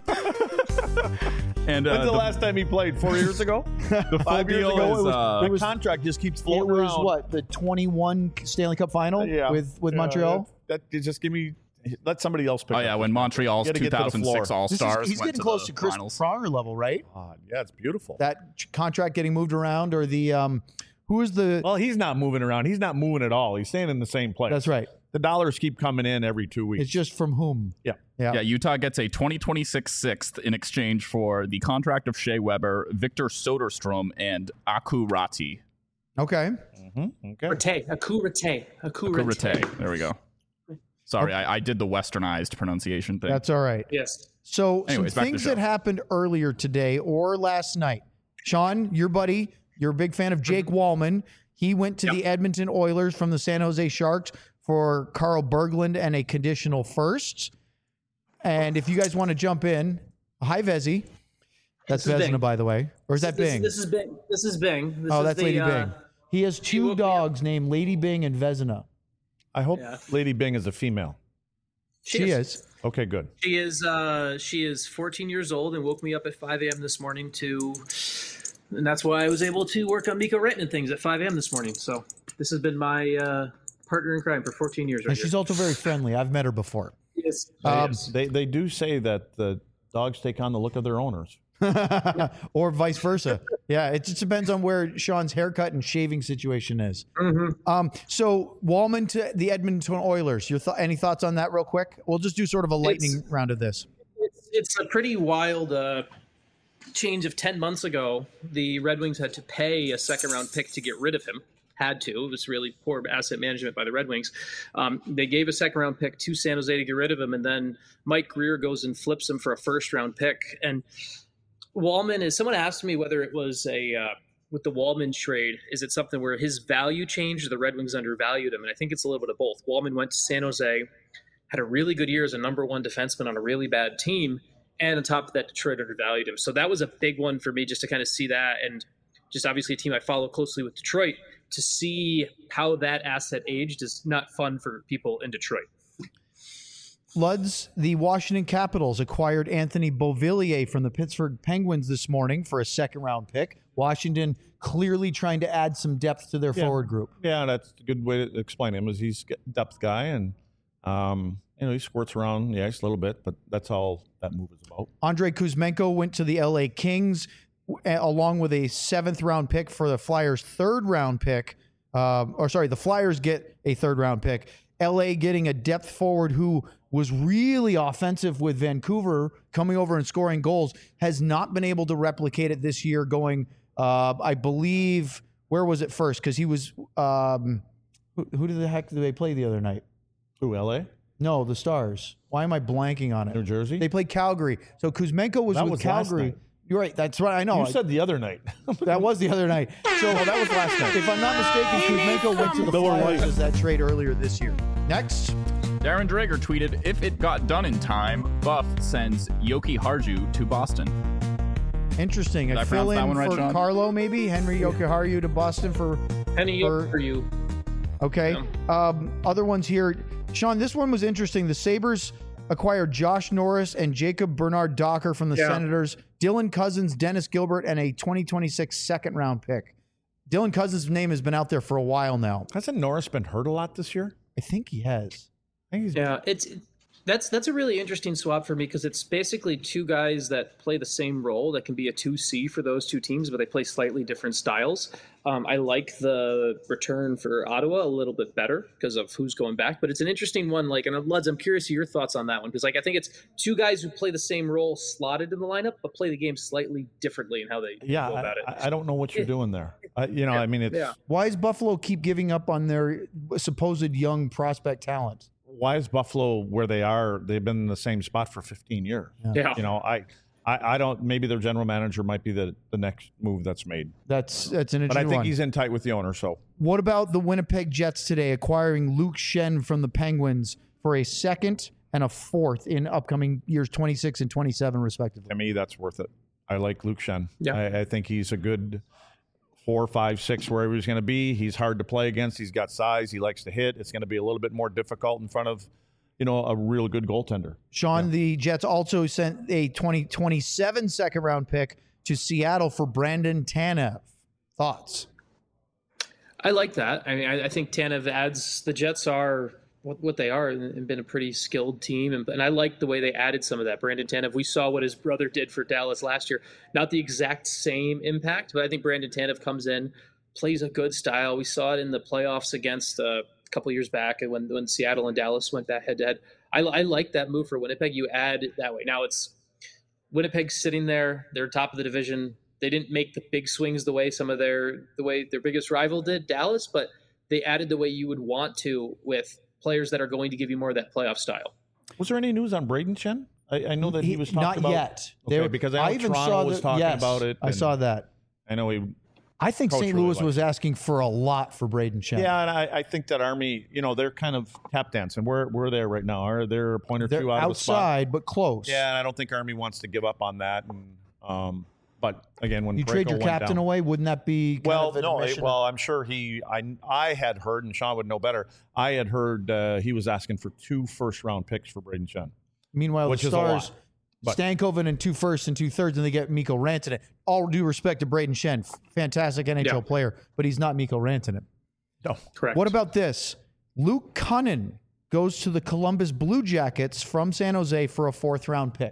and uh, When's the, the, last time he played? Four years ago? the full Five years deal ago? is it was, uh, the contract just keeps it floating was around. what, the twenty-one Stanley Cup final Yeah. with, with Yeah, Montreal? That, that just give me. Let somebody else pick. oh up yeah, this when one. Montreal's You gotta two get to the thousand six floor. All This is- Stars he's went getting to close the to Chris finals. Pronger level, right? God, yeah, it's beautiful. That ch- contract getting moved around, or the um, who is the? well, he's not moving around. He's not moving at all. He's staying in the same place. That's right. The dollars keep coming in every two weeks. It's just from whom? yeah. Yeah. Yeah, Utah gets a twenty twenty-six sixth in exchange for the contract of Shea Weber, Victor Soderstrom, and Aku Rati. Okay. Mm-hmm. Okay. Rate, Akurate, Akurate. Kurite. There we go. Sorry, I, I did the westernized pronunciation thing. That's all right. Yes. So Anyways, some back to the things show. that happened earlier today or last night. Sean, your buddy, you're a big fan of Jake Wallman. He went to the Edmonton Oilers from the San Jose Sharks for Carl Berglund and a conditional first. And if you guys want to jump in, hi Vezi. That's This is Vezina, Bing. by the way. Or is that This, Bing? this is Bing. This is Bing. This oh, is that's the, Lady uh, Bing. He has two woke me up. dogs named Lady Bing and Vezina. I hope Yeah. Lady Bing is a female. She is. Okay, good. She is. Uh, she is fourteen years old and woke me up at five a.m. this morning to, and that's why I was able to work on Miko Renton and things at five a.m. this morning. So this has been my uh, partner in crime for fourteen years. Right And she's also very friendly. I've met her before. here. Yes. Um, Yes. They they do say that the Dogs take on the look of their owners. Or vice versa. Yeah, it just depends on where Sean's haircut and shaving situation is. Mm-hmm. Um, so Wallman to the Edmonton Oilers. Your th- any thoughts on that, real quick? We'll just do sort of a lightning It's- round of this. It's, it's a pretty wild uh, change of ten months ago. The Red Wings had to pay a second round pick to get rid of him. Had to. It was really poor asset management by the Red Wings. Um, they gave a second round pick to San Jose to get rid of him, and then Mike Greer goes and flips him for a first round pick. And Wallman is. Someone asked me whether it was a uh, with the Wallman trade. Is it something where his value changed, or the Red Wings undervalued him? And I think it's a little bit of both. Wallman went to San Jose, had a really good year as a number one defenseman on a really bad team, and on top of that, Detroit undervalued him. So that was a big one for me, just to kind of see that, and just obviously a team I follow closely with Detroit. To see how that asset aged is not fun for people in Detroit. Luds, the Washington Capitals acquired Anthony Beauvillier from the Pittsburgh Penguins this morning for a second round pick. Washington clearly trying to add some depth to their Yeah. forward group. Yeah, that's a good way to explain him. Is he's a depth guy, and um, you know he squirts around the ice a little bit, but that's all that move is about. Andrei Kuzmenko went to the L A Kings a- along with a seventh round pick for the Flyers' third round pick. Um, or sorry, the Flyers get a third round pick. L A getting a depth forward who was really offensive with Vancouver, coming over and scoring goals, has not been able to replicate it this year. Going, uh, I believe, where was it first? Because he was. Um, who, who did the heck did they play the other night? Who, L A? No, the Stars. Why am I blanking on it? New Jersey? They played Calgary. So Kuzmenko was That with was last Calgary. night. You're right. That's right. I know. You said the other night. That was the other night. So Oh, that was last night. if I'm not mistaken, Kuzmenko went to the Miller Flyers Lite. as that trade earlier this year. Next. Darren Drager tweeted, if it got done in time, Buff sends Yoki Harju to Boston. Interesting. Did I A fill pronounce that in one right, for Sean? Carlo, maybe? Henry Yokiharu to Boston for. Penny For- for you. Okay. Um, other ones here. Sean, this one was interesting. The Sabres acquired Josh Norris and Jacob Bernard Docker from the Yeah. Senators, Dylan Cousins, Dennis Gilbert, and a twenty twenty-six second round pick. Dylan Cousins' name has been out there for a while now. Hasn't Norris been hurt a lot this year? I think he has. I think he's Yeah, it's that's that's a really interesting swap for me because it's basically two guys that play the same role that can be a two C for those two teams, but they play slightly different styles. Um, I like the return for Ottawa a little bit better because of who's going back, but it's an interesting one. Like, and Luds, I'm curious of your thoughts on that one because, like, I think it's two guys who play the same role slotted in the lineup, but play the game slightly differently in how they yeah. go I, about it. I- I don't know what you're doing there. I, you know, I mean, it's Yeah. Why does Buffalo keep giving up on their supposed young prospect talent? why is Buffalo where they are? They've been in the same spot for fifteen years. Yeah. You know, I, I, I don't. Maybe their general manager might be the, the next move that's made. That's that's an But I interesting think one. he's in tight with the owner. So What about the Winnipeg Jets today acquiring Luke Shen from the Penguins for a second and a fourth in upcoming years twenty-six and twenty-seven, respectively? to me, that's worth it. I like Luke Shen. Yeah. I, I think he's a good four, five, six, wherever he's going to be. He's hard to play against. He's got size. He likes to hit. It's going to be a little bit more difficult in front of, you know, a real good goaltender. Sean, the Jets also sent a twenty twenty-seven second round pick to Seattle for Brandon Tanev. Thoughts? I like that. I mean, I, I think Tanev adds the Jets are what, what they are and, and been a pretty skilled team. And, and I like the way they added some of that. Brandon Tanev, we saw what his brother did for Dallas last year. Not the exact same impact, but I think Brandon Tanev comes in, plays a good style. We saw it in the playoffs against uh, a couple years back when, when Seattle and Dallas went back head to head. I, I like that move for Winnipeg. You add it that way. Now it's Winnipeg sitting there. They're top of the division. They didn't make the big swings the way some of their the way their biggest rival did, Dallas, but they added the way you would want to with players that are going to give you more of that playoff style. Was there any news on Braden Shen? I, I know that he, was talking not about. yet. Okay, They were- because I know even Toronto saw was the- talking yes, about it. I and saw that. I know he. I think Coach Saint really Louis likes was asking for a lot for Braden Shen. Yeah, and I, I think that Army, you know, they're kind of tap dancing. Where where they're right now, are they're a point or They're two out of the spot? outside, but close. Yeah, and I don't think Army wants to give up on that. And um, but again, when You Parayko trade your went captain down, away, wouldn't that be kind Well, of an no, admission? well, I'm sure he. I I had heard, and Sean would know better. I had heard uh, he was asking for two first round picks for Braden Shen. Meanwhile, which the is a Stars, lot, but- Stankoven and two firsts and two thirds, and they get Mikko Rantanen. All due respect to Braden Shen, fantastic N H L Yeah. player, but he's not Mikko Rantanen. No, Correct. What about this? Luke Cunnin goes to the Columbus Blue Jackets from San Jose for a fourth round pick.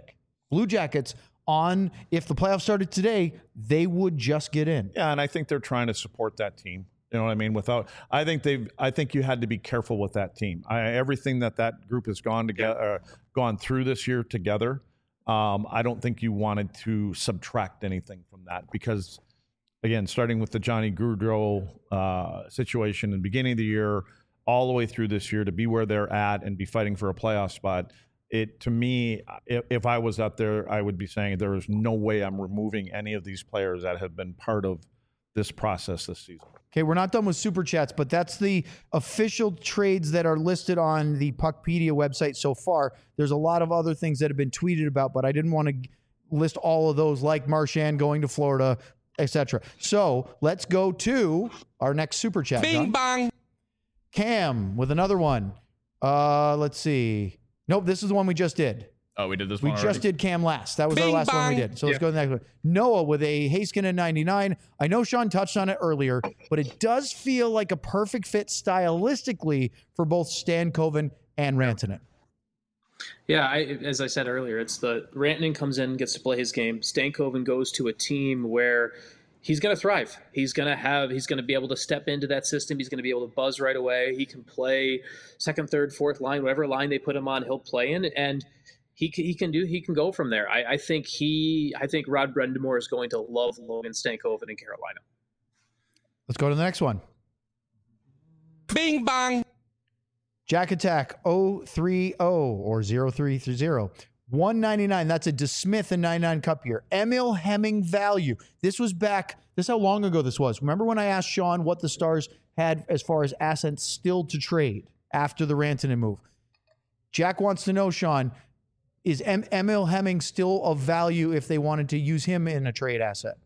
Blue Jackets on, if the playoffs started today, they would just get in. Yeah, and I think they're trying to support that team. You know what I mean? Without, I think they've. I think you had to be careful with that team. I, everything that that group has gone together, uh, gone through this year together. Um, I don't think you wanted to subtract anything from that because, again, starting with the Johnny Gaudreau uh, situation in the beginning of the year, all the way through this year, to be where they're at and be fighting for a playoff spot. It to me, if, if I was out there, I would be saying there is no way I'm removing any of these players that have been part of this process this season. Okay, we're not done with Super Chats, but that's the official trades that are listed on the Puckpedia website so far. There's a lot of other things that have been tweeted about, but I didn't want to list all of those, like Marchand going to Florida, et cetera. So let's go to our next Super Chat. Bing John. bang. Cam with another one. Uh, let's see. Nope, this is the one we just did. Oh, we did this We one just already? did Cam last. That was our Bing last one we bang. did. So let's go to the next one. Noah with a Haskinen ninety-nine. I know Sean touched on it earlier, but it does feel like a perfect fit stylistically for both Stankoven and Rantanen. Yeah, I, as I said earlier, it's the Rantanen comes in, gets to play his game. Stankoven goes to a team where he's going to thrive. He's going to have, he's going to be able to step into that system. He's going to be able to buzz right away. He can play second, third, fourth line, whatever line they put him on, he'll play in, and he can, he can do, he can go from there. I, I think he, I think Rod Brind'Amour is going to love Logan Stankoven in Carolina. Let's go to the next one. Bing bang. Jack Attack oh three oh or oh three three oh. one ninety-nine. That's a DeSmith and ninety-nine Cup year. Emil Hemming value. This was back. This is how long ago this was. Remember when I asked Sean what the Stars had as far as assets still to trade after the Rantanen move? Jack wants to know, Sean, is em- Emil Hemming still of value if they wanted to use him in a trade asset?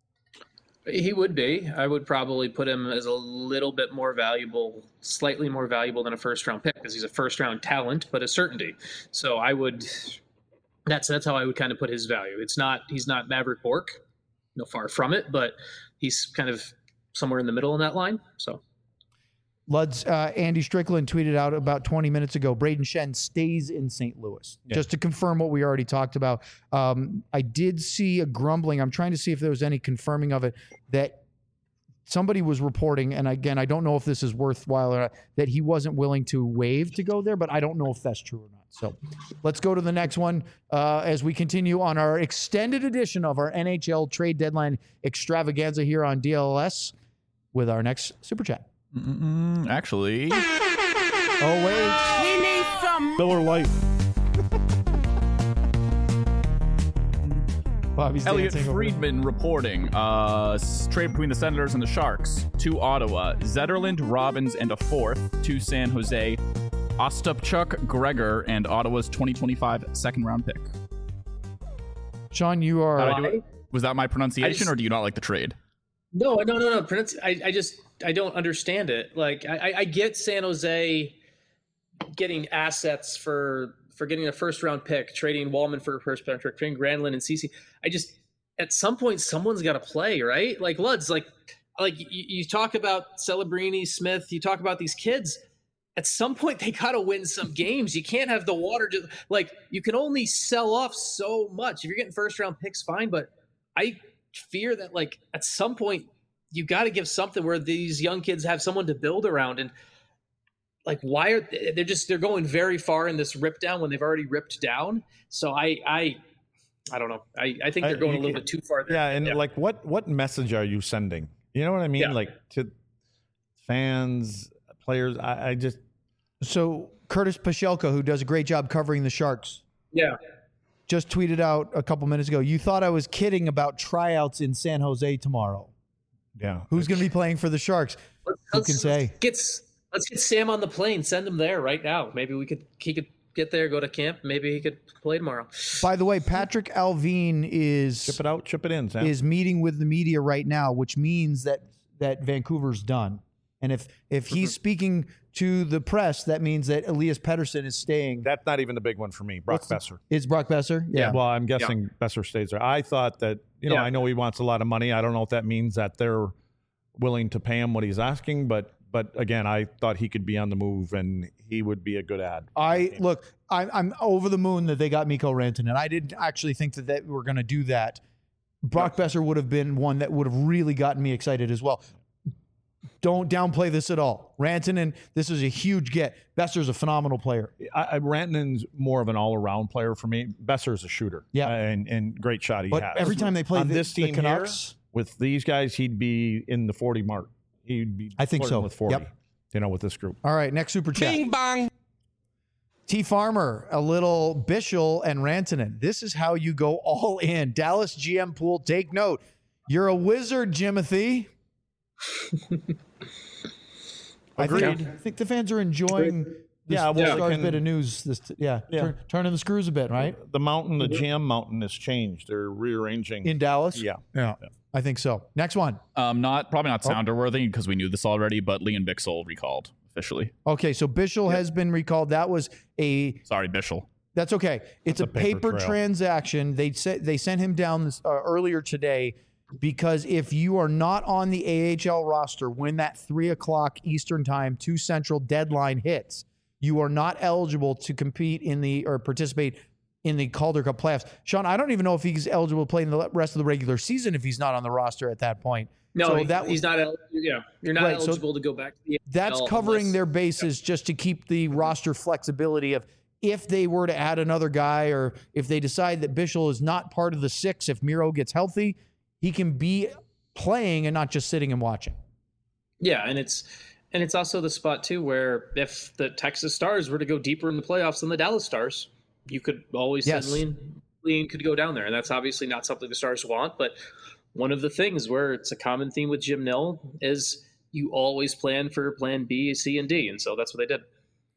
He would be. I would probably put him as a little bit more valuable, slightly more valuable than a first round pick because he's a first round talent, but a certainty. So I would, that's, that's how I would kind of put his value. It's not, he's not Maverick Bourque, no, far from it, but he's kind of somewhere in the middle in that line. So Lud's uh, Andy Strickland tweeted out about twenty minutes ago, Braden Shen stays in Saint Louis. Yeah. Just to confirm what we already talked about. Um, I did see a grumbling. I'm trying to see if there was any confirming of it that somebody was reporting, and again, I don't know if this is worthwhile or not, that he wasn't willing to waive to go there, but I don't know if that's true or not. So let's go to the next one uh, as we continue on our extended edition of our N H L trade deadline extravaganza here on D L S with our next Super Chat. Mm-mm, actually, Oh, wait. We need some. Miller Lite. Bobby's Elliot dancing over Friedman reporting uh, s- trade between the Senators and the Sharks to Ottawa. Zetterland, Robbins, and a fourth to San Jose. Ostapchuk, Gregor, and Ottawa's twenty twenty-five second round pick. Sean, you are. How'd I do it? Was that my pronunciation, just- or do you not like the trade? no, no, no, no. Pronunci- I, I just, I don't understand it. Like, I, I- I get San Jose getting assets for for getting a first round pick, trading Wallman for a first round pick, trading Granlund and Ceci. I just, at some point, someone's got to play, right? Like Luds, like, like you, you talk about Celebrini, Smith, you talk about these kids. At some point, they got to win some games. You can't have the water just like you can only sell off so much. If you're getting first round picks, fine, but I fear that like at some point you got to give something where these young kids have someone to build around. And like, why are they, they're just they're going very far in this rip down when they've already ripped down? So I I I don't know. I, I think they're going a little bit too far there. Yeah, and like, what what message are you sending? You know what I mean? Yeah. Like to fans, players. I, I just So Curtis Pashelka, who does a great job covering the Sharks, Yeah. just tweeted out a couple minutes ago, you thought I was kidding about tryouts in San Jose tomorrow. yeah. Who's going to be playing for the Sharks? Let's, Who let's- can say? Let's get, let's get Sam on the plane. Send him there right now. Maybe we could he could get there, go to camp. Maybe he could play tomorrow. By the way, Patrick Alvin is Chip it out, chip it in, Sam. is meeting with the media right now, which means that that Vancouver's done. And if if he's speaking to the press, that means that Elias Pettersson is staying. That's not even the big one for me. Brock What's the- Besser. Is Brock Besser? Yeah. Well, I'm guessing Besser stays there. I thought that, you know, Yeah. I know he wants a lot of money. I don't know if that means that they're willing to pay him what he's asking, but but again, I thought he could be on the move and he would be a good ad. I look, I'm, I'm over the moon that they got Mikko Rantanen. I didn't actually think that they were going to do that. Brock Besser would have been one that would have really gotten me excited as well. Don't downplay this at all. Rantanen, this is a huge get. Besser's a phenomenal player. I, I, Rantanen's more of an all-around player for me. Besser's a shooter. Yeah. And, and great shot he But has. every time they play on the, this the team Canucks, here, with these guys, he'd be in the forty mark. He'd be I think flirting so. with forty, Yep. you know, with this group. all right, next super chat. Bing bong. T Farmer, a little Bichel and Rantanen. This is how you go all in. Dallas G M pool, take note. You're a wizard, Jimothy. I think, Agreed. I think the fans are enjoying this, Yeah, this well, Stars can- bit of news. This, yeah, Yeah. Turn, turning the screws a bit, right? The mountain, the G M mountain has changed. They're rearranging. In Dallas? yeah. Yeah, I think so. Next one. Um, not probably Oh. not sounder worthy because we knew this already, but Leon Bixel recalled officially. Okay, so Bichel has been recalled. That was a Sorry, Bishel. That's okay. It's That's a, a paper paper, trail. transaction. They said they sent him down this, uh, earlier today because if you are not on the A H L roster when that three o'clock Eastern time, two Central deadline hits, you are not eligible to compete in the or participate in the Calder Cup playoffs. Sean, I don't even know if he's eligible to play in the rest of the regular season if he's not on the roster at that point. No, So he- that he's not. el- Yeah, you're not Right, so eligible to go back to the. That's N H L covering unless- their bases just to keep the roster flexibility of if they were to add another guy or if they decide that Bichel is not part of the six, if Miro gets healthy, he can be playing and not just sitting and watching. Yeah, and it's and it's also the spot too where if the Texas Stars were to go deeper in the playoffs than the Dallas Stars, you could always Yes. send Lean. Lean could go down there, and that's obviously not something the Stars want. But one of the things where it's a common theme with Jim Nill is you always plan for Plan B, C, and D, and so that's what they did.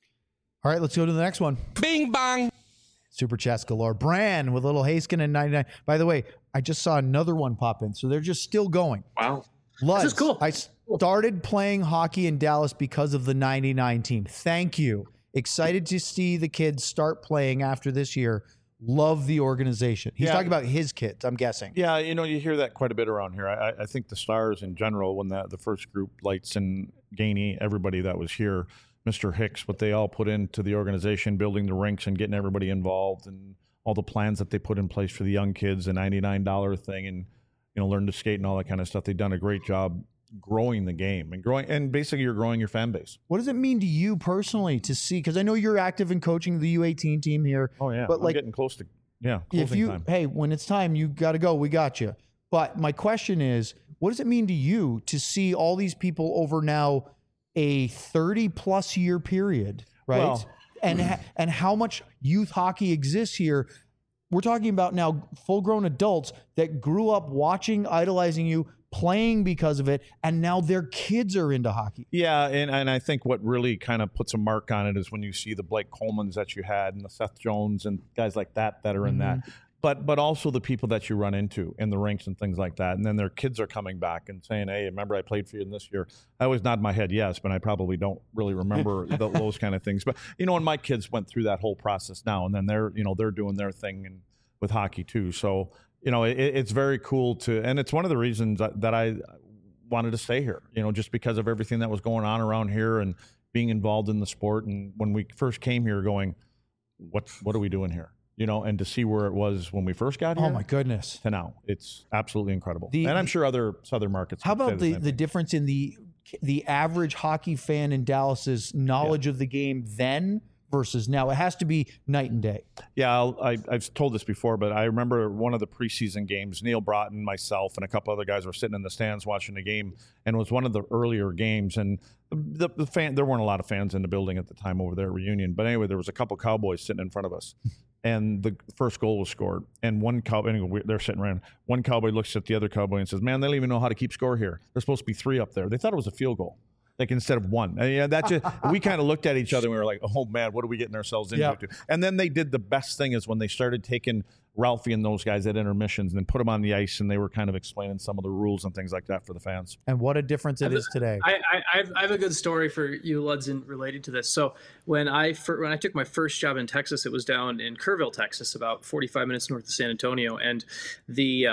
All right, let's go to the next one. Bing bong. Super chats galore. Bran with little Haskin and ninety-nine. By the way, I just saw another one pop in, so they're just still going. Wow, Luds, this is cool. I started playing hockey in Dallas because of the ninety-nine team. Thank you. Excited to see the kids start playing after this year. Love the organization. He's Yeah. talking about his kids, I'm guessing. Yeah, you know, you hear that quite a bit around here. I, I think the Stars in general, when that the first group, Lights and Gainey, everybody that was here, Mister Hicks, what they all put into the organization, building the rinks and getting everybody involved, and all the plans that they put in place for the young kids, the ninety-nine dollars thing, and you know, learn to skate and all that kind of stuff. They've done a great job growing the game and growing, and basically you're growing your fan base. What does it mean to you personally to see? Because I know you're active in coaching the U eighteen team here. Oh yeah, But I'm like, getting close to yeah. if closing you, time. hey, when it's time, you got to go. We got you. But my question is, what does it mean to you to see all these people over now a thirty plus year period, right? Well- and ha- and how much youth hockey exists here? We're talking about now full grown adults that grew up watching, idolizing you, playing because of it, and now their kids are into hockey. Yeah, and, and I think what really kind of puts a mark on it is when you see the Blake Colemans that you had and the Seth Jones and guys like that that are in that. But but also the people that you run into in the rinks and things like that. And then their kids are coming back and saying, hey, remember I played for you in this year? I always nod my head yes, but I probably don't really remember the, those kind of things. But, you know, and my kids went through that whole process now. And then they're, you know, they're doing their thing and with hockey too. So, you know, it, it's very cool to, and it's one of the reasons that, that I wanted to stay here, you know, just because of everything that was going on around here and being involved in the sport. And when we first came here going, what, what are we doing here? You know, and to see where it was when we first got here Oh my goodness. to now, it's absolutely incredible. The- and I'm sure other southern markets. How would say about the, same the thing. difference in the the average hockey fan in Dallas's knowledge of the game then versus now? It has to be night and day. Yeah, I'll, I, I've told this before, but I remember one of the preseason games. Neil Broughton, myself, and a couple other guys were sitting in the stands watching the game, and it was one of the earlier games. And the, the fan, there weren't a lot of fans in the building at the time over there at Reunion, but anyway, there was a couple Cowboys sitting in front of us, and the first goal was scored. And one cowboy, anyway, they're sitting around. One cowboy looks at the other cowboy and says, "Man, they don't even know how to keep score here. There's supposed to be three up there. They thought it was a field goal." Like instead of one, and, yeah, that just we kind of looked at each other and we were like, "Oh man, what are we getting ourselves into?" Yeah. And then they did the best thing is when they started taking Ralphie and those guys at intermissions and then put them on the ice and they were kind of explaining some of the rules and things like that for the fans. And what a difference it is today. I, I, I've, I have a good story for you, Ludson, related to this. So when I fir- when I took my first job in Texas, it was down in Kerrville, Texas, about forty-five minutes north of San Antonio, and the uh,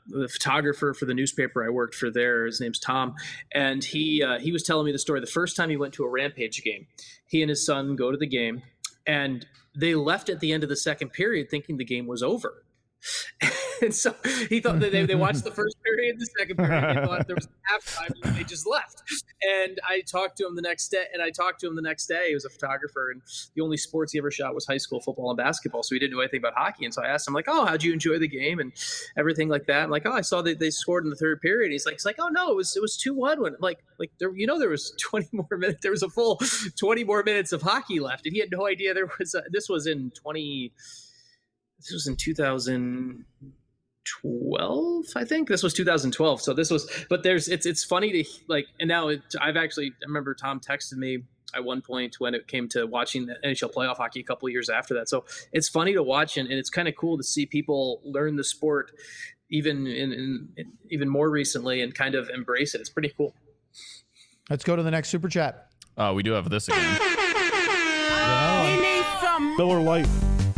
the photographer for the newspaper I worked for there. His name's Tom, and he uh, he was telling me the story. The first time he went to a Rampage game, he and his son go to the game, and they left at the end of the second period thinking the game was over. And so he thought that they, they watched the first period, the second period, they thought there was halftime, and they just left. And I talked to him the next day, and I talked to him the next day. He was a photographer, and the only sports he ever shot was high school football and basketball, so he didn't know anything about hockey. And so I asked him, like, oh, how'd you enjoy the game and everything like that? I'm like, oh, I saw that they scored in the third period. He's like, it's like, oh no, it was it was two one when like like there, you know, there was twenty more minutes, there was a full twenty more minutes of hockey left, and he had no idea there was. A, this was in twenty. This was in two thousand twelve, I think. This was two thousand twelve. So this was, but there's, it's it's funny to like, and now it, I've actually, I remember Tom texted me at one point when it came to watching the N H L playoff hockey a couple of years after that. So it's funny to watch, and, and it's kind of cool to see people learn the sport even in, in, in even more recently and kind of embrace it. It's pretty cool. Let's go to the next super chat. Oh, we do have this again. He needs some. Miller Lite.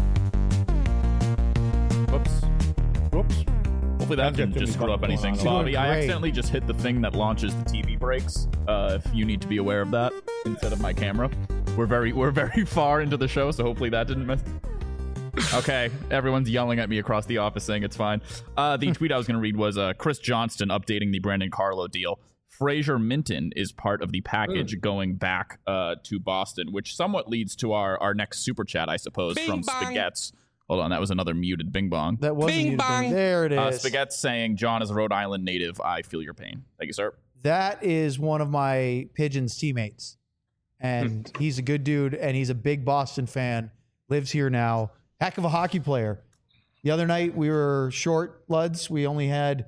Whoops. Whoops. Hopefully that didn't Jimmy just screw up Butler anything. going on. Bobby, I Great. accidentally just hit the thing that launches the T V breaks. Uh, if you need to be aware of that instead of my camera. We're very we're very far into the show, so hopefully that didn't miss. Okay, everyone's yelling at me across the office saying it's fine. Uh, the tweet I was going to read was uh, Chris Johnston updating the Brandon Carlo deal. Fraser Minton is part of the package mm. going back uh, to Boston, which somewhat leads to our, our next super chat, I suppose, Bing from bong. Spaghetts. Hold on, that was another muted bing bong. That was Bing bong. There it is. Uh, Spaghetts saying, John is a Rhode Island native. I feel your pain. Thank you, sir. That is one of my Pigeons teammates. And he's a good dude, and he's a big Boston fan, lives here now. Heck of a hockey player. The other night we were short, Luds. We only had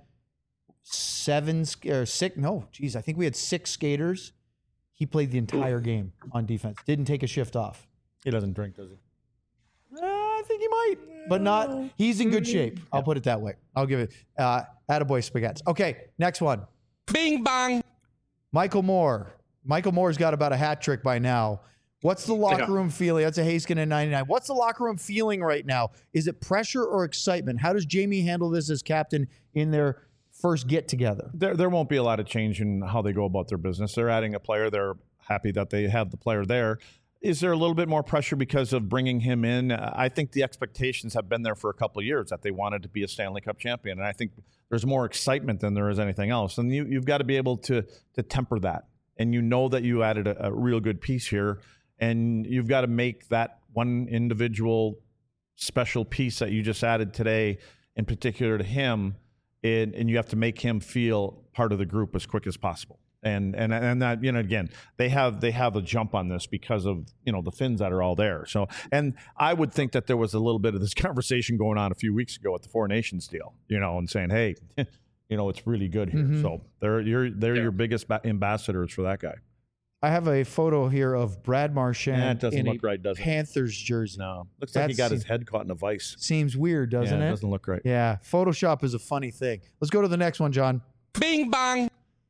seven or six. No, geez, I think we had six skaters. He played the entire game on defense. Didn't take a shift off. He doesn't drink, does he? Uh, I think he might, but not. He's in good shape. I'll put it that way. I'll give it. Uh, attaboy Spaghettis. Okay, next one. Bing bong. Michael Moore. Michael Moore's got about a hat trick by now. What's the locker room feeling? That's a Heiskanen ninety-nine. What's the locker room feeling right now? Is it pressure or excitement? How does Jamie handle this as captain in their first get together? There, there won't be a lot of change in how they go about their business. They're adding a player. They're happy that they have the player there. Is there a little bit more pressure because of bringing him in? I think the expectations have been there for a couple of years that they wanted to be a Stanley Cup champion. And I think there's more excitement than there is anything else. And you, you've got to be able to to temper that. And you know that you added a, a real good piece here. And you've got to make that one individual special piece that you just added today, in particular to him, and, and you have to make him feel part of the group as quick as possible. And and and that, you know, again, they have they have a jump on this because of, you know, the Finns that are all there. So, and I would think that there was a little bit of this conversation going on a few weeks ago at the Four Nations deal, you know, and saying, hey, you know, it's really good here. Mm-hmm. So they're you're they're yeah. your biggest ba- ambassadors for that guy. I have a photo here of Brad Marchand yeah, it doesn't in look a right, does it? Panthers jersey. No, looks like That he got seems, his head caught in a vice. Seems weird, doesn't yeah, it? It doesn't look right. Yeah, Photoshop is a funny thing. Let's go to the next one, John. Bing bong.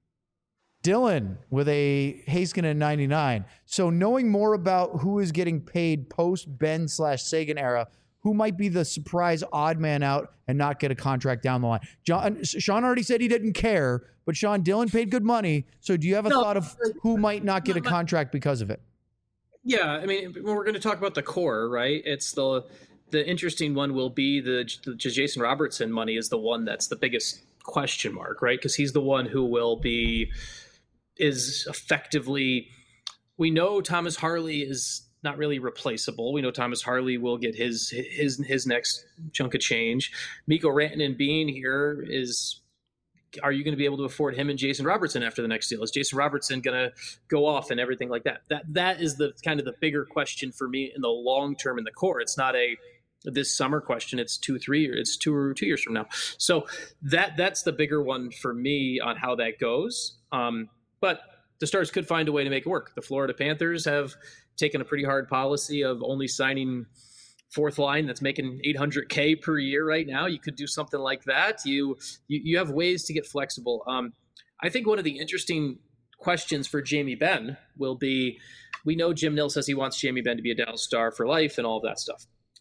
Dylan with a Heiskanen ninety-nine. So knowing more about who is getting paid post Ben slash Sagan era, who might be the surprise odd man out and not get a contract down the line? John, Sean already said he didn't care, but Sean, Dylan paid good money. So do you have a No, thought of who might not get a contract because of it? Yeah, I mean, when we're going to talk about the core, right? It's the the interesting one will be the, the Jason Robertson money is the one that's the biggest question mark, right? Because he's the one who will be is effectively. We know Thomas Harley is not really replaceable. We know Thomas Harley will get his his his next chunk of change. Mikko Rantanen being here is. Are you going to be able to afford him and Jason Robertson after the next deal? Is Jason Robertson going to go off and everything like that? That that is the kind of the bigger question for me in the long term in the core. It's not a this summer question. It's two, three years. It's two or two years from now. So that that's the bigger one for me on how that goes. Um, but the Stars could find a way to make it work. The Florida Panthers have taken a pretty hard policy of only signing fourth line that's making eight hundred K per year right now. You could do something like that. You you, you have ways to get flexible. Um, I think one of the interesting questions for Jamie Benn will be, we know Jim Nill says he wants Jamie Benn to be a Dallas Star for life and all of that stuff.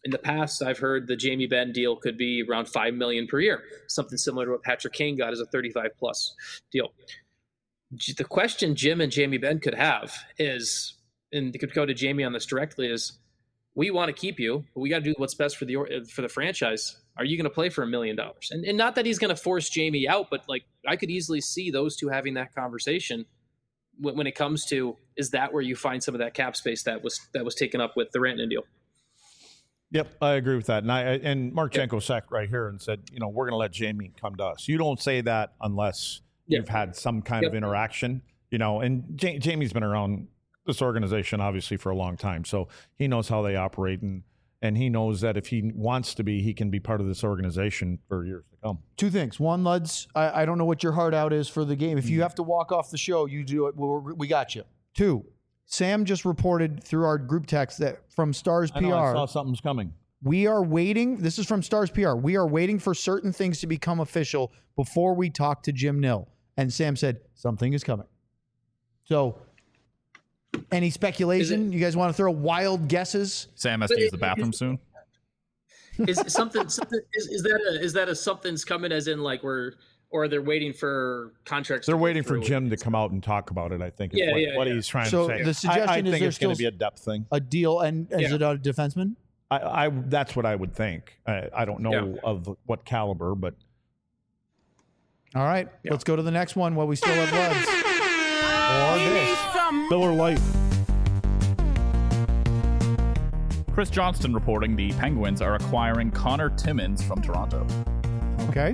in the past, I've heard the Jamie Benn deal could be around five million per year, something similar to what Patrick Kane got as a thirty-five plus deal. The question Jim and Jamie Benn could have is, and they could go to Jamie on this directly, is we want to keep you, but we got to do what's best for the for the franchise. Are you going to play for a million dollars? And and not that he's going to force Jamie out, but like I could easily see those two having that conversation when, when it comes to, is that where you find some of that cap space that was that was taken up with the Rantanen deal? Yep, I agree with that. And I and Marchenko yep. sat right here and said, you know, we're going to let Jamie come to us. You don't say that unless yep. you've had some kind yep. of interaction, you know. And J- Jamie's been around this organization obviously for a long time, so he knows how they operate, and and he knows that if he wants to be, he can be part of this organization for years to come. Two things. One, Luds, I, I don't know what your heart out is for the game. If you have to walk off the show, you do it. We're, we got you. Two, Sam just reported through our group text that from Stars I P R. know, I saw something's coming. We are waiting. This is from Stars P R. We are waiting for certain things to become official before we talk to Jim Nill. And Sam said, something is coming. So, any speculation? You guys want to throw wild guesses? Sam has to use the bathroom soon. Is something, something is, is that a, is that a something's coming as in like we're, or they're waiting for contracts? They're to waiting for through. Jim to come out and talk about it, I think. Is Yeah, what, yeah, what yeah. he's trying So to say. the suggestion I, I is think there's it's going to still be a depth thing. A deal, and is Yeah. it a defenseman? I, I that's what I would think. I, I don't know Yeah. of what caliber, but All right, Yeah. let's go to the next one while we still have Luds. Or He this. needs some Miller Lite. Chris Johnston reporting the Penguins are acquiring Connor Timmins from Toronto. Okay.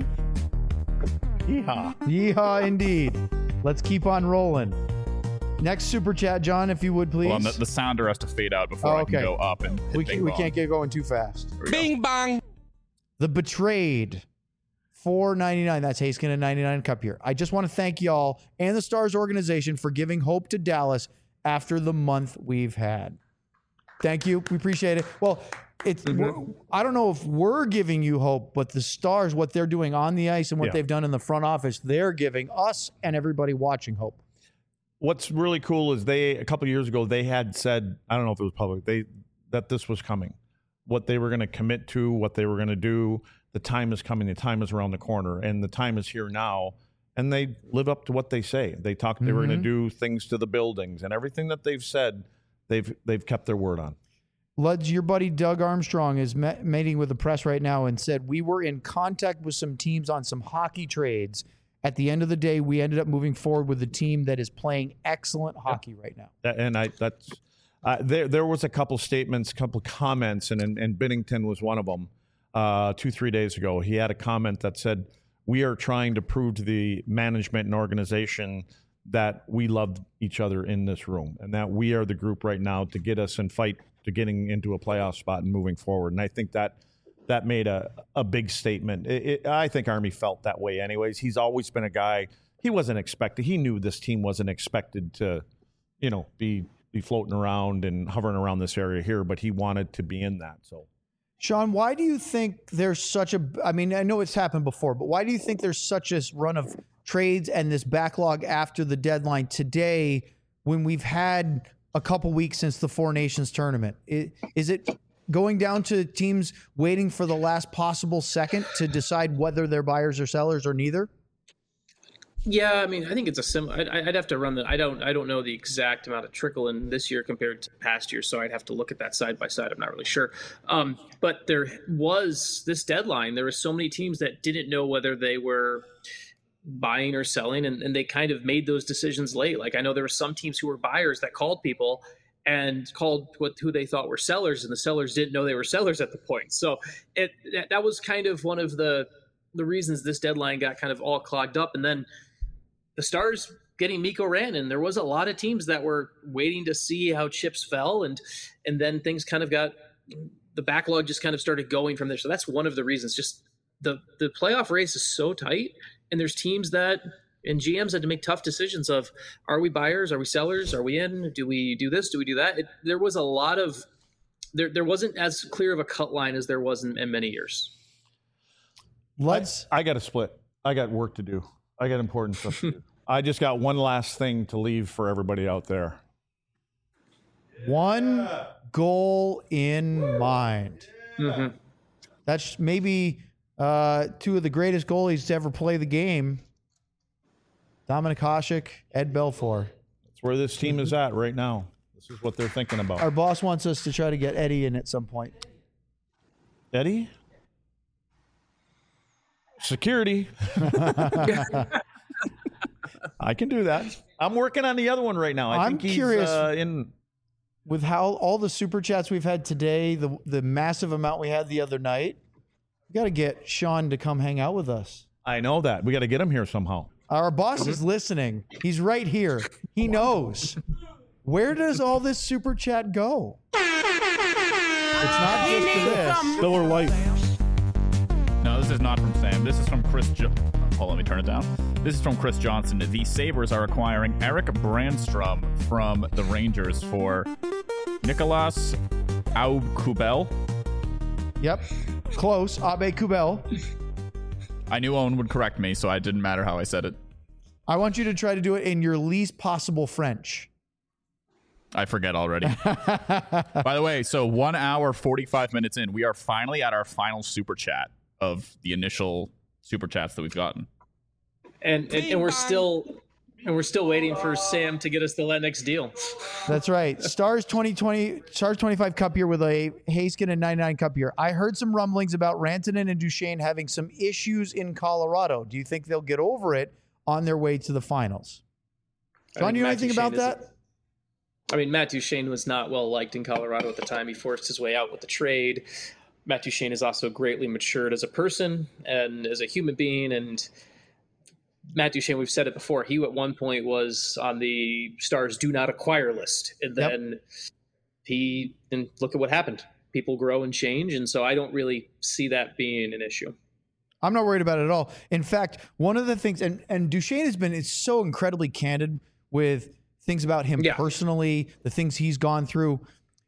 Yeehaw. Yeehaw, indeed. Let's keep on rolling. Next super chat, John, if you would, please. Well, and the, the sounder has to fade out before Oh, I okay. can go up and hit we, bing can, we bong. can't get going too fast. There we go. Bing bong. The Betrayed, four ninety-nine. That's Haskin and ninety-nine Cup here. I just want to thank y'all and the Stars organization for giving hope to Dallas after the month we've had. Thank you. We appreciate it. Well, it's we're- I don't know if we're giving you hope, but the Stars, what they're doing on the ice and what Yeah. they've done in the front office, they're giving us and everybody watching hope. What's really cool is they a couple of years ago they had said, I don't know if it was public, they that this was coming, what they were going to commit to, what they were going to do. The time is coming. The time is around the corner, and the time is here now. And they live up to what they say. They talked. They were going to do things to the buildings, and everything that they've said, they've they've kept their word on. Luds, your buddy Doug Armstrong is met, meeting with the press right now and said, we were in contact with some teams on some hockey trades. At the end of the day, we ended up moving forward with a team that is playing excellent hockey right now. That- And I that's uh, there. There was a couple statements, a couple comments, and and, and Binnington was one of them. Uh, two three days ago, he had a comment that said, "We are trying to prove to the management and organization that we love each other in this room, and that we are the group right now to get us and fight to getting into a playoff spot and moving forward." And I think that that made a, a big statement. It, it, I think Army felt that way anyways. He's always been a guy, he wasn't expected. He knew this team wasn't expected to, you know, be be floating around and hovering around this area here, but he wanted to be in that. So, Sean, why do you think there's such a, I mean, I know it's happened before, but why do you think there's such a run of trades and this backlog after the deadline today when we've had a couple weeks since the Four Nations tournament? Is, is it going down to teams waiting for the last possible second to decide whether they're buyers or sellers or neither? Yeah, I mean, I think it's a sim. I'd, I'd have to run the. I don't. I don't know the exact amount of trickle in this year compared to past years, so I'd have to look at that side by side. I'm not really sure. Um, but there was this deadline. There were so many teams that didn't know whether they were buying or selling, and, and they kind of made those decisions late. Like I know there were some teams who were buyers that called people and called what who they thought were sellers, and the sellers didn't know they were sellers at the point. So it that, that was kind of one of the the reasons this deadline got kind of all clogged up, and then. The Stars getting Mikko Rantanen, there was a lot of teams that were waiting to see how chips fell, and and then things kind of got the backlog just kind of started going from there. So that's one of the reasons. Just the the playoff race is so tight, and there's teams that and G Ms had to make tough decisions of are we buyers, are we sellers, are we in, do we do this, do we do that? It, there was a lot of there there wasn't as clear of a cut line as there was in, in many years. Let's. I, I got to split. I got work to do. I got important stuff to do. I just got one last thing to leave for everybody out there. One goal in mind. Mm-hmm. That's maybe uh, two of the greatest goalies to ever play the game. Dominic Hasek, Ed Belfour. That's where this team is at right now. This is what they're thinking about. Our boss wants us to try to get Eddie in at some point. Eddie? Security. I can do that. I'm working on the other one right now. I I'm think he's, curious uh, in with how all the super chats we've had today, the the massive amount we had the other night. We got to get Sean to come hang out with us. I know that. We got to get him here somehow. Our boss is listening. He's right here. He knows. Where does all this super chat go? It's not just for this. Miller Lite. No, this is not from Sam. This is from Chris. Jo- Hold on, let me turn it down. This is from Chris Johnson. The Sabres are acquiring Eric Brandstrom from the Rangers for Nicolas Aube-Kubel. Yep. Close. Abe Kubel. I knew Owen would correct me, so it didn't matter how I said it. I want you to try to do it in your least possible French. I forget already. By the way, so one hour, forty-five minutes in, we are finally at our final super chat of the initial super chats that we've gotten. And and, and we're still and we're still waiting for Sam to get us the Lennox deal. That's right. Stars twenty twenty, Stars twenty-five Cup year with a Haskin and ninety-nine Cup year. I heard some rumblings about Rantanen and Duchesne having some issues in Colorado. Do you think they'll get over it on their way to the finals? John, you know anything about that? I mean, Matt Duchesne was not well liked in Colorado at the time. He forced his way out with the trade. Matt Duchesne is also greatly matured as a person and as a human being. And Matt Duchesne, we've said it before, he at one point was on the Stars do not acquire list. And then yep. he, and look at what happened. People grow and change. And so I don't really see that being an issue. I'm not worried about it at all. In fact, one of the things, and, and Duchesne has been is so incredibly candid with things about him yeah. personally, the things he's gone through.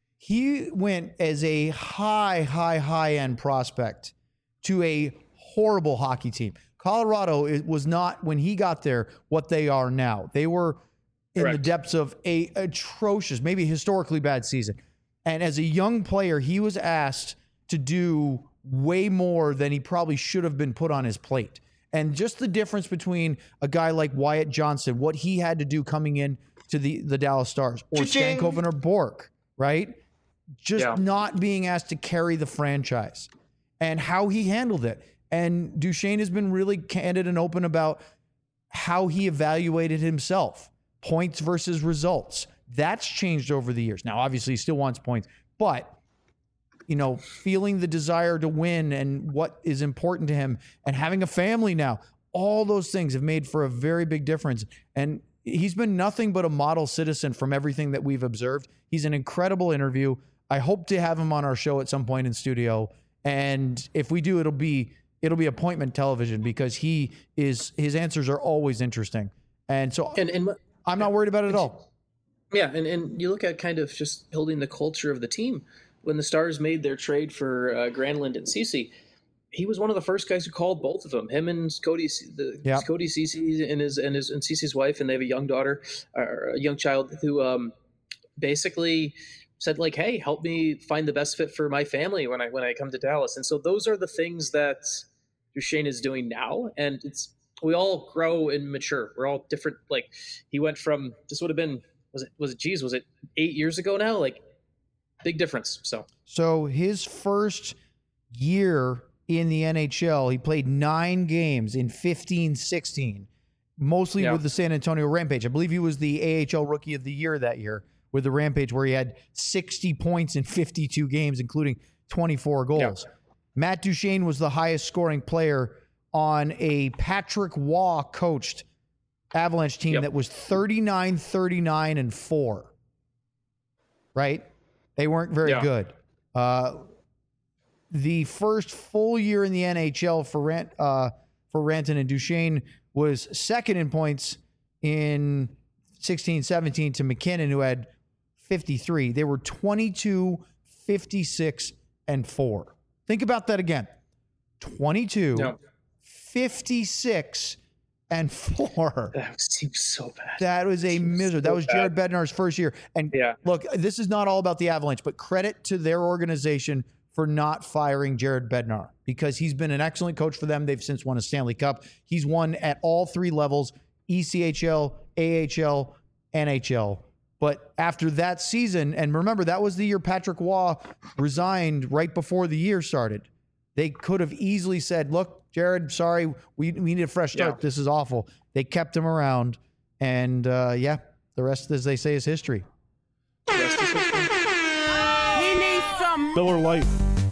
He went as a high, high, high end prospect to a horrible hockey team. Colorado it was not, when he got there, what they are now. They were in Correct. the depths of a atrocious, maybe historically bad season. And as a young player, he was asked to do way more than he probably should have been put on his plate. And just the difference between a guy like Wyatt Johnston, what he had to do coming in to the, the Dallas Stars, or Cha-ching. Stankoven or Bork, right? Just yeah. not being asked to carry the franchise and how he handled it. And Duchesne has been really candid and open about how he evaluated himself, points versus results. That's changed over the years. Now, obviously, he still wants points, but you know, feeling the desire to win and what is important to him and having a family now, all those things have made for a very big difference. And he's been nothing but a model citizen from everything that we've observed. He's an incredible interview. I hope to have him on our show at some point in studio. And if we do, it'll be it'll be appointment television because he is his answers are always interesting. And so and, and I'm not worried about it at all. Yeah, and, and you look at kind of just building the culture of the team. When the Stars made their trade for uh, Granlund and Ceci, he was one of the first guys who called both of them. Him and Cody, the yep. Cody Ceci and his and his and Ceci's wife, and they have a young daughter, or a young child, who um, basically said like, "Hey, help me find the best fit for my family when I when I come to Dallas." And so those are the things that Duchesne is doing now, and it's we all grow and mature. We're all different. Like he went from this would have been was it was it geez was it eight years ago now? Like big difference. So so his first year in the N H L, he played nine games in fifteen sixteen, mostly yeah. with the San Antonio Rampage. I believe he was the A H L Rookie of the Year that year with the Rampage, where he had sixty points in fifty-two games, including twenty-four goals. Yeah. Matt Duchesne was the highest scoring player on a Patrick Waugh coached Avalanche team yep. that was thirty-nine, thirty-nine, and four. Right? They weren't very yeah. good. Uh, the first full year in the N H L for Rant, uh, for Rantanen and Duchesne was second in points in sixteen seventeen to McKinnon, who had fifty-three. They were twenty-two, fifty-six, and four. Think about that again. twenty-two, no. fifty-six, and four. That seems so bad. That was a misery. That was so Jared Bednar's first year. And yeah. look, this is not all about the Avalanche, but credit to their organization for not firing Jared Bednar because he's been an excellent coach for them. They've since won a Stanley Cup. He's won at all three levels, E C H L, A H L, N H L. But after that season, and remember, that was the year Patrick Waugh resigned right before the year started. They could have easily said, look, Jared, sorry, we, we need a fresh start. Yeah. This is awful. They kept him around. And, uh, yeah, the rest, as they say, is history. He needs some Miller Lite.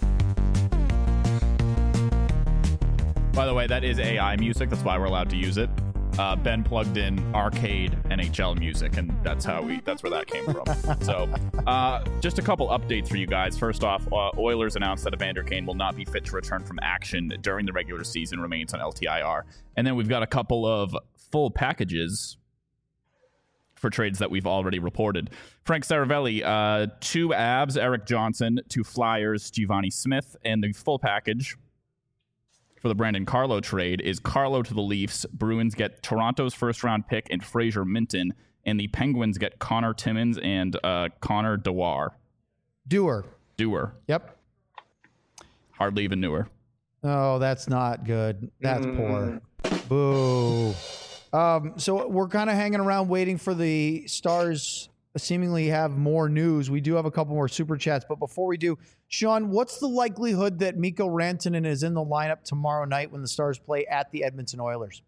By the way, that is A I music. That's why we're allowed to use it. Uh, Ben plugged in arcade N H L music, and that's how we that's where that came from. So uh, just a couple updates for you guys. First off, uh, Oilers announced that Evander Kane will not be fit to return from action during the regular season, remains on L T I R. And then we've got a couple of full packages for trades that we've already reported. Frank Saravelli, uh, two Abs, Eric Johnson, two Flyers, Giovanni Smith, and the full package for the Brandon Carlo trade is Carlo to the Leafs. Bruins get Toronto's first-round pick and Fraser Minton, and the Penguins get Connor Timmins and uh, Connor Dewar. Dewar. Dewar. Yep. Hardly even newer. Oh, that's not good. That's Mm. poor. Boo. Um, so we're kind of hanging around waiting for the Stars seemingly have more news. We do have a couple more super chats, but before we do, Sean, what's the likelihood that Mikko Rantanen is in the lineup tomorrow night when the Stars play at the Edmonton Oilers?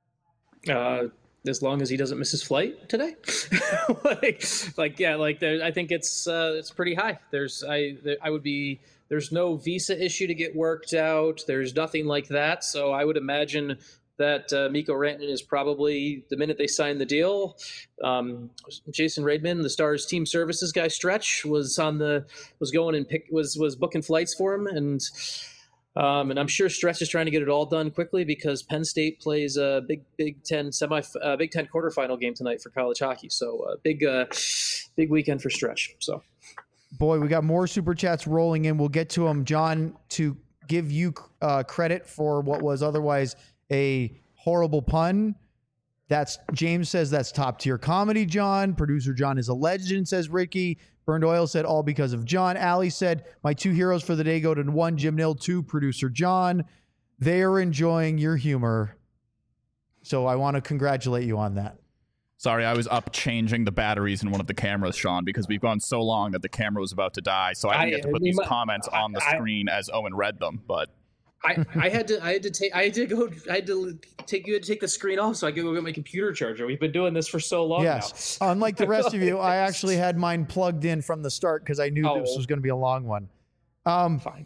Uh, as long as he doesn't miss his flight today, like, like, yeah, like there, I think it's uh, it's pretty high. There's I there, I would be there's no visa issue to get worked out. There's nothing like that. So I would imagine that uh, Mikko Rantanen is probably the minute they sign the deal. Um, Jason Reitman, the Stars team services guy, Stretch was on the was going and pick was was booking flights for him, and um, and I'm sure Stretch is trying to get it all done quickly because Penn State plays a big Big Ten semi uh, Big Ten quarterfinal game tonight for college hockey. So uh, big uh, big weekend for Stretch. So boy, we got more super chats rolling in. We'll get to them, John, to give you uh, credit for what was otherwise a horrible pun. That's James says that's top tier comedy, John. Producer John is a legend, says Ricky. Burned Oil said all because of John. Allie said my two heroes for the day go to one, Jim Nill, two, producer John. They are enjoying your humor. So I want to congratulate you on that. Sorry, I was up changing the batteries in one of the cameras, Sean, because we've gone so long that the camera was about to die. So I didn't I- get to put we these might- comments on the I- screen as Owen read them, but I, I had to I had to take I had to go I had to take you had to take the screen off so I could go get my computer charger. We've been doing this for so long Yes. now. Unlike the rest of you, I actually had mine plugged in from the start because I knew Oh. this was going to be a long one. Um, Fine.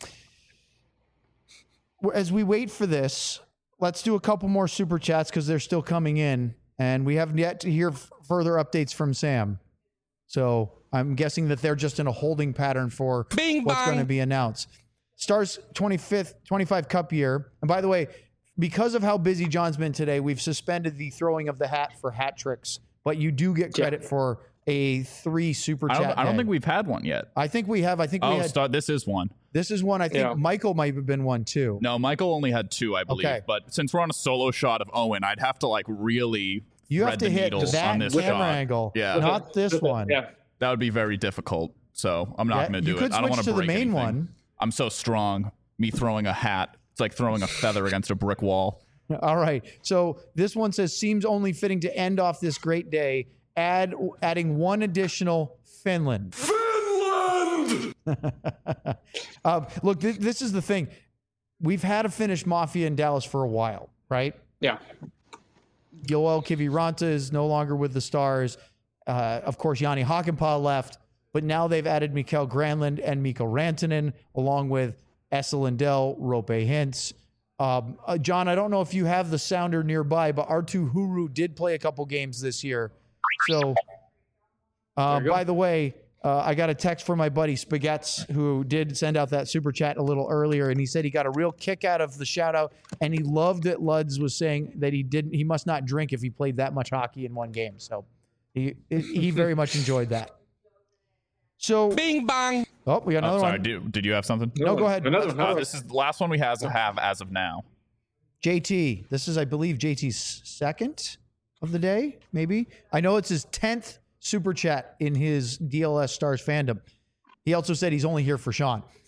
As we wait for this, let's do a couple more super chats because they're still coming in, and we haven't yet to hear f- further updates from Sam. So I'm guessing that they're just in a holding pattern for Bing what's bong. going to be announced. Stars twenty-fifth, twenty-five Cup year. And by the way, because of how busy John's been today, we've suspended the throwing of the hat for hat tricks, but you do get credit for a three super I chat. don't, I don't day. think we've had one yet. I think we have. I think we Oh, had. start, this is one. This is one. I think Yeah. Michael might have been one too. No, Michael only had two, I believe. Okay. But since we're on a solo shot of Owen, I'd have to like really You have thread to the hit needles that on this camera shot. angle, Yeah, not this one. Yeah. that would be very difficult. So I'm not Yeah, going to do you could it. I don't switch want to the break main anything. one. I'm so strong. Me throwing a hat, it's like throwing a feather against a brick wall. All right. So this one says seems only fitting to end off this great day. Add adding one additional Finland. Finland. uh, look, th- this is the thing. We've had a Finnish mafia in Dallas for a while, right? Yeah. Joel Kiviranta is no longer with the Stars. Uh, of course, Yanni Hakanpää left, but now they've added Mikael Granlund and Mikko Rantanen, along with Esa Lindell, Rope Hintz. Um, uh, John, I don't know if you have the sounder nearby, but Arttu Huru did play a couple games this year. So, uh, There you go. by the way, uh, I got a text from my buddy Spaghetts, who did send out that super chat a little earlier, and he said he got a real kick out of the shout out, and he loved that Luds was saying that he didn't, he must not drink if he played that much hockey in one game. So he he very much enjoyed that. So, Bing bong. oh, we got another Oh, sorry, one. did, did you have something? No, go ahead. Another one. Uh, Another this is the last one we has have as of now. J T, this is, I believe, J T's second of the day, maybe. I know it's his tenth super chat in his D L S Stars fandom. He also said he's only here for Sean.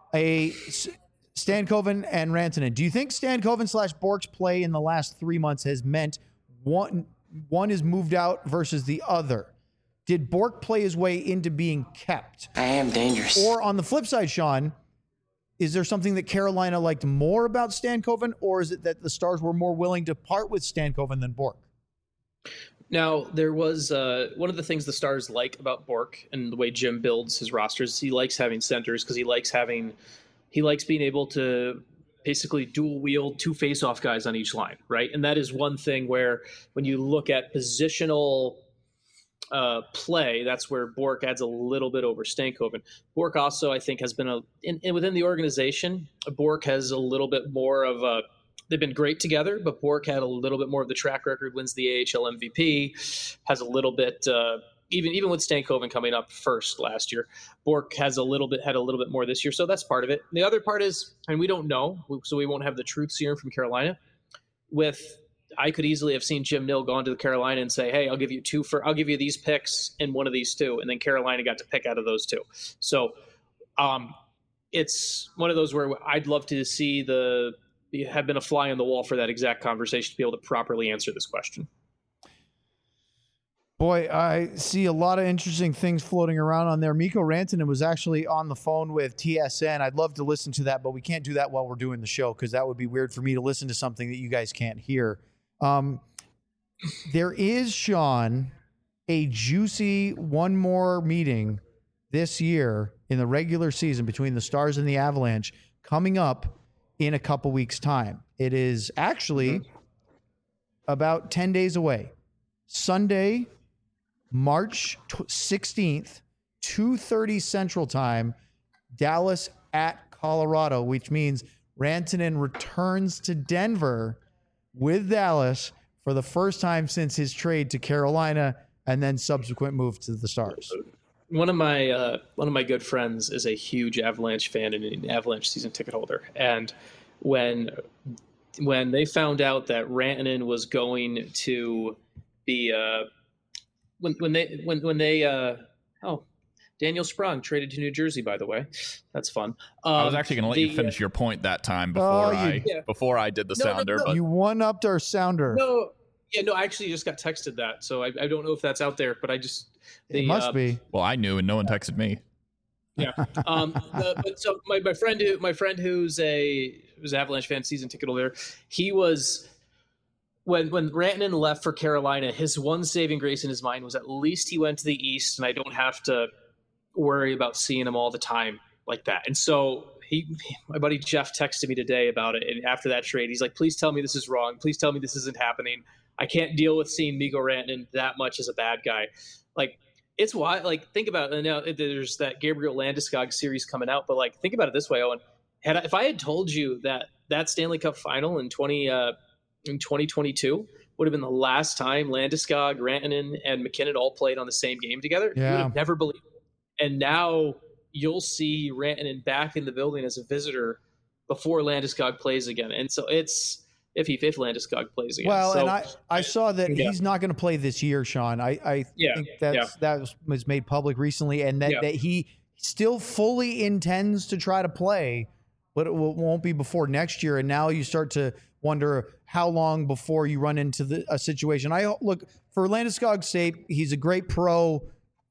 a Stankoven and Rantanen. Do you think Stankoven slash Bork's play in the last three months has meant one one is moved out versus the other? Did Bork play his way into being kept? I am dangerous. Or on the flip side, Sean, is there something that Carolina liked more about Stankoven, or is it that the Stars were more willing to part with Stankoven than Bork? Now, there was uh, one of the things the Stars like about Bork and the way Jim builds his rosters. He likes having centers because he likes having, he likes being able to basically dual wield two face-off guys on each line, right? And that is one thing where when you look at positional uh, play, that's where Bork adds a little bit over Stankoven. Bork also, I think, has been a in, in within the organization. Bork has a little bit more of a. They've been great together, but Bork had a little bit more of the track record. Wins the A H L M V P, has a little bit. Uh, even even with Stankoven coming up first last year, Bork has a little bit had a little bit more this year. So that's part of it. The other part is, and we don't know, so we won't have the truth serum from Carolina. With I could easily have seen Jim Nill go on to Carolina and say, "Hey, I'll give you two for I'll give you these picks and one of these two," and then Carolina got to pick out of those two. So, um, it's one of those where I'd love to see the have been a fly on the wall for that exact conversation to be able to properly answer this question. Boy, I see a lot of interesting things floating around on there. Mikko Rantanen was actually on the phone with T S N. I'd love to listen to that, but we can't do that while we're doing the show because that would be weird for me to listen to something that you guys can't hear. Um, there is, Sean, a juicy one more meeting this year in the regular season between the Stars and the Avalanche coming up in a couple weeks' time. It is actually mm-hmm. about ten days away. Sunday, March sixteenth, two thirty Central Time, Dallas at Colorado, which means Rantanen returns to Denver with Dallas for the first time since his trade to Carolina and then subsequent move to the Stars. One of my uh, one of my good friends is a huge Avalanche fan and an Avalanche season ticket holder. And when when they found out that Rantanen was going to be uh, when when they when when they uh, oh Daniel Sprong traded to New Jersey, by the way, that's fun. Um, I was actually going to let the, you finish your point that time before oh, you, I yeah. before I did the No, no, sounder. no. But You one-upped our sounder. No, yeah, no, I actually just got texted that, so I, I don't know if that's out there, but I just the, it must uh, be. well, I knew, and no one texted me. Yeah. Um, the, but so my, my friend who my friend who's a who's an Avalanche fan, season ticket holder, he was when when Rantanen left for Carolina, his one saving grace in his mind was at least he went to the East, and I don't have to worry about seeing him all the time like that. And so he, my buddy Jeff texted me today about it, and after that trade, he's like, "Please tell me this is wrong. Please tell me this isn't happening. I can't deal with seeing Mikko Rantanen that much as a bad guy." Like. It's why, like, think about it. Now there's that Gabriel Landeskog series coming out, but like, think about it this way, Owen. Had I, if I had told you that that Stanley Cup final in twenty uh, in twenty twenty-two would have been the last time Landeskog, Rantanen, and McKinnon all played on the same game together, yeah. you would have never believed it. And now you'll see Rantanen back in the building as a visitor before Landeskog plays again, and so it's. If he if Landeskog plays again. Well, so, and I, I saw that yeah. he's not going to play this year, Sean. I, I yeah, think that's, yeah. that was, was made public recently, and that, yeah. that he still fully intends to try to play, but it will, won't be before next year. And now you start to wonder how long before you run into the, a situation. I look for Landeskog's sake. He's a great pro.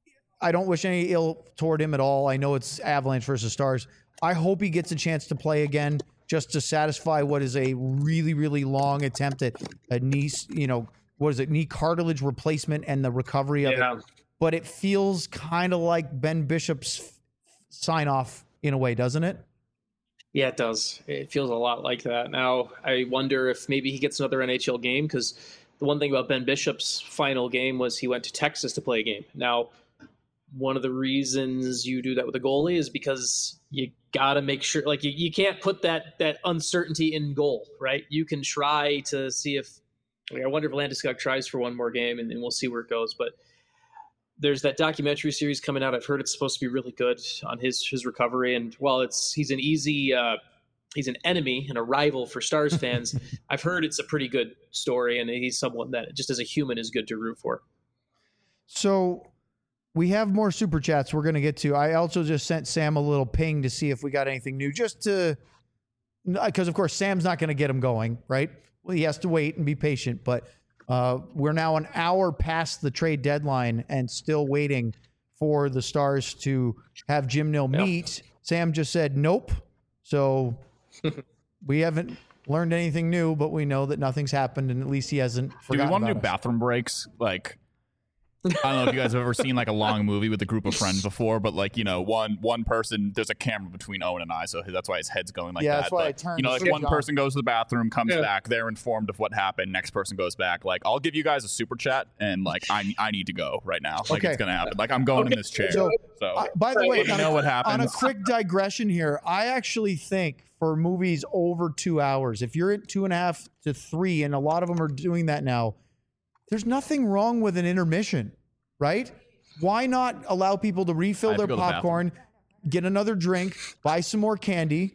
I don't wish any ill toward him at all. I know it's Avalanche versus Stars. I hope he gets a chance to play again, just to satisfy what is a really, really long attempt at a knee, you know, what is it, knee cartilage replacement and the recovery of yeah. it. But it feels kind of like Ben Bishop's sign off in a way, doesn't it? Yeah, it does. It feels a lot like that. Now, I wonder if maybe he gets another N H L game, because the one thing about Ben Bishop's final game was he went to Texas to play a game. Now, one of the reasons you do that with a goalie is because you got to make sure, like, you, you can't put that that uncertainty in goal, right? You can try to see if, like, I wonder if Landeskog tries for one more game, and, and we'll see where it goes. But there's that documentary series coming out. I've heard it's supposed to be really good on his his recovery. And while it's he's an easy, uh, he's an enemy and a rival for Stars fans, I've heard it's a pretty good story, and he's someone that just as a human is good to root for. So we have more super chats we're going to get to. I also just sent Sam a little ping to see if we got anything new, just to, because of course Sam's not going to get him going, right? Well, he has to wait and be patient, but uh, we're now an hour past the trade deadline and still waiting for the Stars to have Jim Nill meet. Yep. Sam just said nope. So we haven't learned anything new, but we know that nothing's happened, and at least he hasn't forgotten. Do we want to about do us. bathroom breaks? Like, I don't know if you guys have ever seen like a long movie with a group of friends before, but like, you know, one one person, there's a camera between Owen and I, so that's why his head's going like yeah, that. That's why but, I turned you know, like one John. person goes to the bathroom, comes Yeah. back, they're informed of what happened. Next person goes back. Like, I'll give you guys a super chat, and like, I I need to go right now. Like, Okay. it's gonna happen. Like, I'm going Okay. in this chair. So, So, Uh, by the way, let me on know a, what on a happens. quick digression here, I actually think for movies over two hours, if you're at two and a half to three, and a lot of them are doing that now, there's nothing wrong with an intermission, right? Why not allow people to I refill have to their go to the popcorn, get another drink, buy some more candy,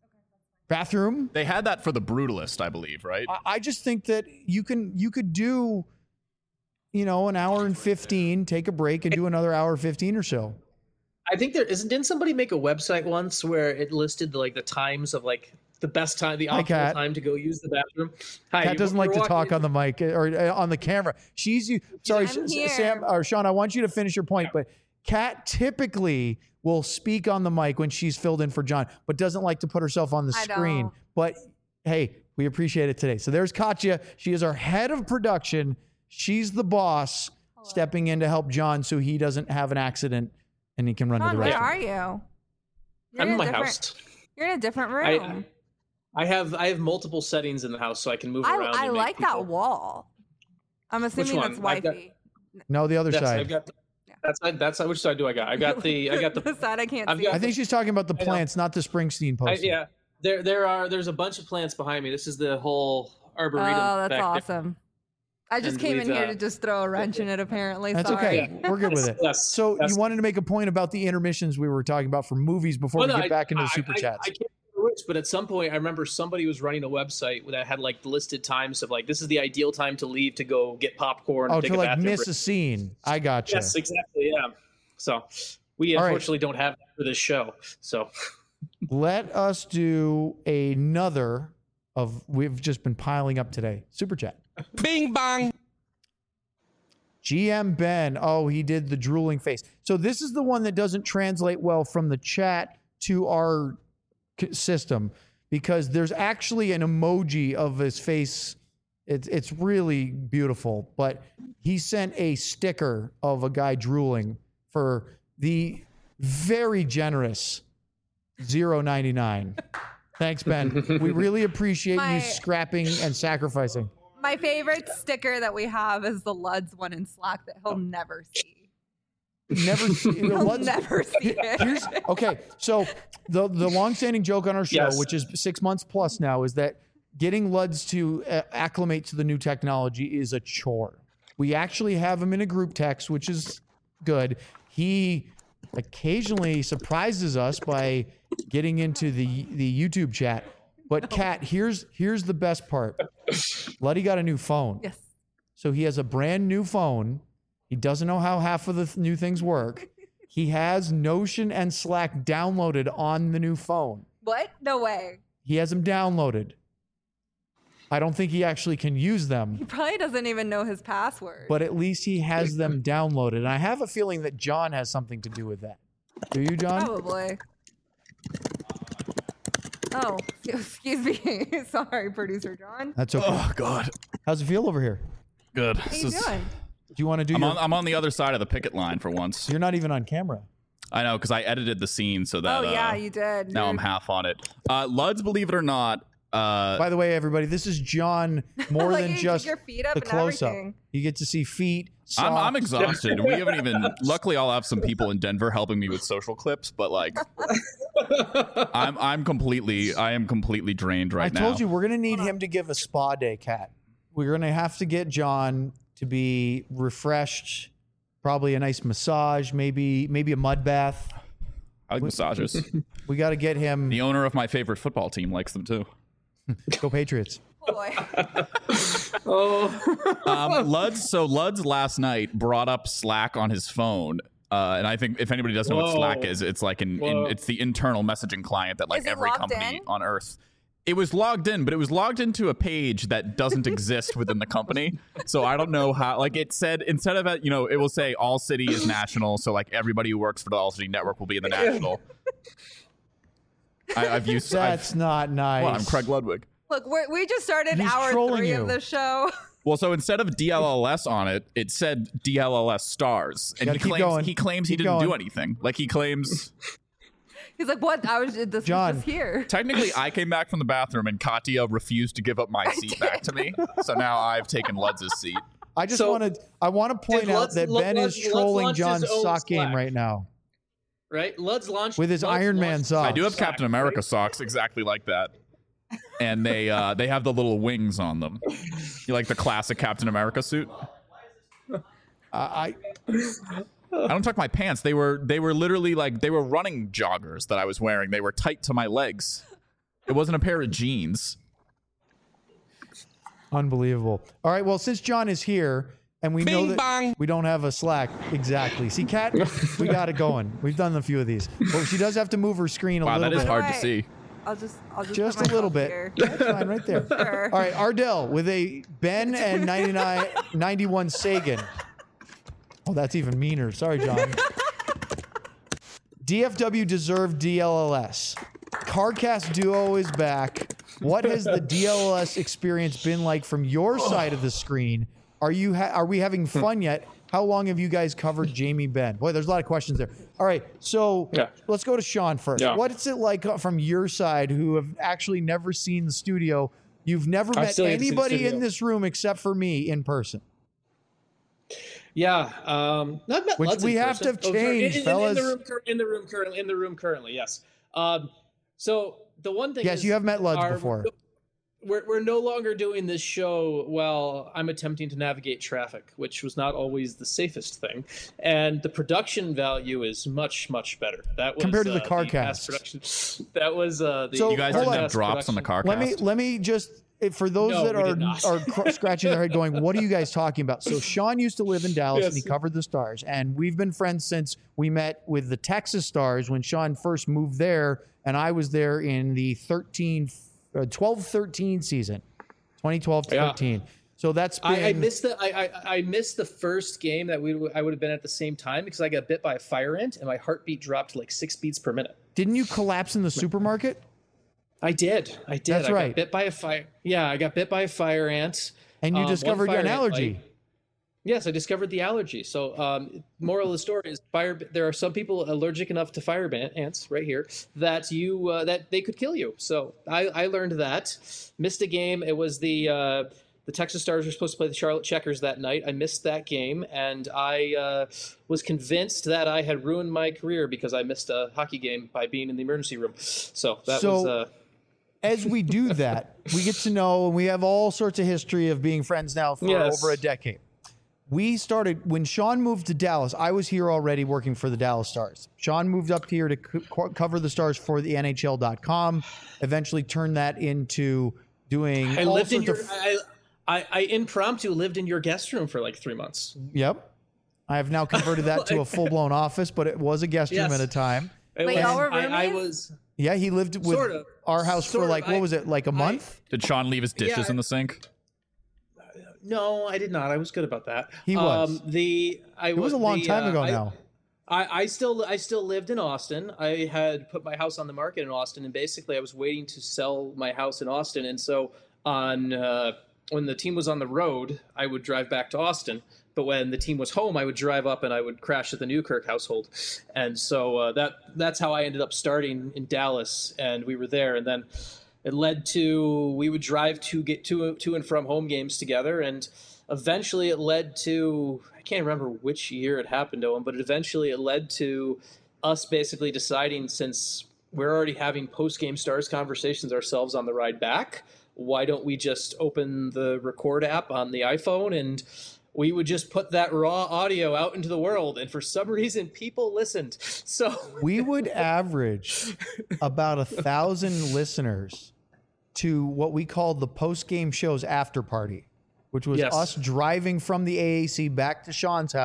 bathroom? They had that for The Brutalist, I believe, right? I, I just think that you can you could do, you know, an hour and fifteen, take a break, and do another hour fifteen or so. I think there isn't. Didn't somebody make a website once where it listed like the times of like the best time, the Hi, optimal Kat. time to go use the bathroom? Hi, Kat you- doesn't you're like to walking talk into- on the mic or uh, on the camera. She's you. Sorry, I'm S- here. Sam or Sean. I want you to finish your point, but Kat typically will speak on the mic when she's filled in for John, but doesn't like to put herself on the I screen. don't. But hey, we appreciate it today. So there's Katya. She is our head of production. She's the boss, stepping in to help John so he doesn't have an accident and he can run to John, the where restroom. are you? You're I'm in a my different- house. You're in a different I, room. I have I have multiple settings in the house, so I can move I, around. I, and make like people- that wall. I'm assuming one? that's I've got- wifey. No, the other Yes, side. I've got. That's that's which side do I got? I got the I got the. the side I can't I've see. got- I think she's talking about the I know. plants, not the Springsteen I, poster. yeah, there there are there's a bunch of plants behind me. This is the whole arboretum. Oh, that's back there. awesome. I just And came in we've, here uh, to just throw a wrench in it, apparently. That's Sorry. okay. We're good with it. Yes, So yes. you wanted to make a point about the intermissions we were talking about for movies before Well, we no, get I- back into the I- super I, chats. I, can't remember which, but at some point, I remember somebody was running a website that had like listed times of like this is the ideal time to leave to go get popcorn. oh, or take to a like bathroom miss break. a scene. I got you. Yes, exactly. Yeah. So we All right. unfortunately don't have that for this show. So Let us do another of we've just been piling up today. Super chat. Bing bong. G M Ben. Oh, he did the drooling face. So this is the one that doesn't translate well from the chat to our c- system because there's actually an emoji of his face. It's it's really beautiful, but he sent a sticker of a guy drooling for the very generous zero ninety-nine. Thanks, Ben. We really appreciate My- you scrapping and sacrificing. My favorite sticker that we have is the Luds one in Slack that he'll never see. Never see He'll what's- never see it. Here's okay. So the the longstanding joke on our show, Yes. which is six months plus now, is that getting Luds to uh, acclimate to the new technology is a chore. We actually have him in a group text, which is good. He occasionally surprises us by getting into the the YouTube chat. But Kat, here's here's the best part. Luddy got a new phone. Yes. So he has a brand new phone. He doesn't know how half of the th- new things work. He has Notion and Slack downloaded on the new phone. What? No way. He has them downloaded. I don't think he actually can use them, He probably doesn't even know his password. but at least he has them downloaded. And I have a feeling that John has something to do with that. Do you, John? Probably. Oh, excuse me. Sorry, producer John. That's okay. Oh God, How's it feel over here? good. How This you is- doing? Do you want to do I'm your... on. I'm on the other side of the picket line for once. You're not even on camera. I know because I edited the scene so that. Oh yeah, uh, you did. Now I'm You're- half on it. Uh, Luds, believe it or not. Uh, By the way, everybody, this is John more Like, than you took just your feet up the and close-up. everything. You get to see feet, I'm, I'm socks. exhausted. We haven't even. Luckily, I'll have some people in Denver helping me with social clips, but like, I'm I'm completely I am completely drained right I now. told you we're gonna need him to give a spa day, Kat. We're gonna have to get John to be refreshed, probably a nice massage, maybe maybe a mud bath. I like massages. We got to get him. The owner of my favorite football team likes them too. Go Patriots. Oh, boy. oh, Um, Luds. So Luds last night brought up Slack on his phone Uh, and I think if anybody doesn't know what Whoa. Slack is, it's like an in, Whoa. it's the internal messaging client that like Is it every logged company in? on Earth. It was logged in, but it was logged into a page that doesn't exist within the company. So I don't know how. Like it said, instead of you know, it will say All City is national. So like everybody who works for the All City Network will be in the national. I, I've used. That's I've, not nice. well, I'm Craig Ludwig. Look, we're, we just started He's hour trolling three you. of the show. Well, so instead of D L L S on it, it said D L L S stars, and Gotta he keep claims going. he claims he Keep didn't do going. anything. Like he claims. He's like, what? I was this John. was just here. Technically, I came back from the bathroom and Katya refused to give up my seat back to me. So now I've taken Ludz's seat. I just So- want to. I want to point Dude, out let's- that let- Ben let's- is let's trolling launch his John's own sock game Slack. right now Right? Lud's launched with his Lud's Iron Man launched- socks. I do have Slack, Captain America right? socks exactly like that. And they uh, they have the little wings on them. You like the classic Captain America suit? I, I don't tuck my pants. They were they were literally like they were running joggers that I was wearing. They were tight to my legs. It wasn't a pair of jeans. Unbelievable. All right. Well, since John is here and we know Bing that bong. we don't have a Slack exactly. See, Kat, we got it going. We've done a few of these. But she does have to move her screen a Wow, little that is bit. hard to Right. see. I'll just, I'll just, Just put a little myself bit. here. That's fine, right there. Sure. All right, Ardell with a Ben and ninety-nine, ninety-one Sagan. Oh, that's even meaner. Sorry, John. D F W deserved D L L S. Carcast Duo is back. What has the D L L S experience been like from your side of the screen? Are you ha- are we having fun yet? How long have you guys covered Jamie Benn? Boy, there's a lot of questions there. All right, so Yeah. let's go to Sean first. Yeah. What is it like from your side, who have actually never seen the studio? You've never I've met still yet to see the anybody studio. in this room except for me in person. Yeah, um, no, I've met Which Lutz we in have to person. have Oh, sorry, changed, in, in, fellas. In the room, cur- in the room currently. In the room currently, yes. Um, so the one thing. Yes, is you have met Lutz our- before. We're we're no longer doing this show while I'm attempting to navigate traffic, which was not always the safest thing, and the production value is much much better. That was Compared to the uh, car past casts. production. That was uh, the So, You guys hold didn't on. have drops on the car Let cast? me let me just if- for those No, that we are did not. are cr- scratching their head, going, "What are you guys talking about?" So Sean used to live in Dallas and he Yes. covered the Stars, and we've been friends since we met with the Texas Stars when Sean first moved there, and I was there in the thirteen, uh, twelve thirteen season, twenty twelve to Yeah. thirteen. So that's been. I, I missed the I, I I missed the first game that we w- I would have been at the same time because I got bit by a fire ant and my heartbeat dropped to like six beats per minute. Didn't you collapse in the supermarket? I did. I did. That's I right. got bit by a fire. Yeah, I got bit by a fire ant. And you Um, one discovered fire an ant allergy. bite. Yes, I discovered the allergy. So, um, moral of the story is, fire. There are some people allergic enough to fire ban- ants right here that you uh, that they could kill you. So, I, I learned that. Missed a game. It was the uh, the Texas Stars were supposed to play the Charlotte Checkers that night. I missed that game, and I uh, was convinced that I had ruined my career because I missed a hockey game by being in the emergency room. So that So- was. Uh, As we do that, we get to know, and we have all sorts of history of being friends now for Yes. over a decade. We started when Sean moved to Dallas. I was here already working for the Dallas Stars. Sean moved up here to co- cover the Stars for the N H L dot com. Eventually turned that into doing I all lived in sorts your. of. I, I, I impromptu lived in your guest room for like three months. Yep, I have now converted that to a full blown office, but it was a guest room Yes. at a time. It Wait, was- y'all were I, I roomies? was. Yeah, he lived with Sort of. our house for Sort of. like what I- was it, like a month? Did Sean leave his dishes Yeah, in the sink? No, I did not. I was good about that. He was. Um, the I It was a long the, time uh, ago I, now. I, I still I still lived in Austin. I had put my house on the market in Austin, and basically I was waiting to sell my house in Austin. And so on uh, when the team was on the road, I would drive back to Austin. But when the team was home, I would drive up and I would crash at the Newkirk household. And so uh, that that's how I ended up starting in Dallas, and we were there. And then it led to we would drive to get to to and from home games together, and eventually it led to I can't remember which year it happened to him, but eventually it led to us basically deciding, since we're already having post game Stars conversations ourselves on the ride back, why don't we just open the record app on the iPhone and we would just put that raw audio out into the world, and for some reason people listened. So We would average about a thousand listeners to what we called the post game shows after party, which was Yes. us driving from the A A C back to Sean's house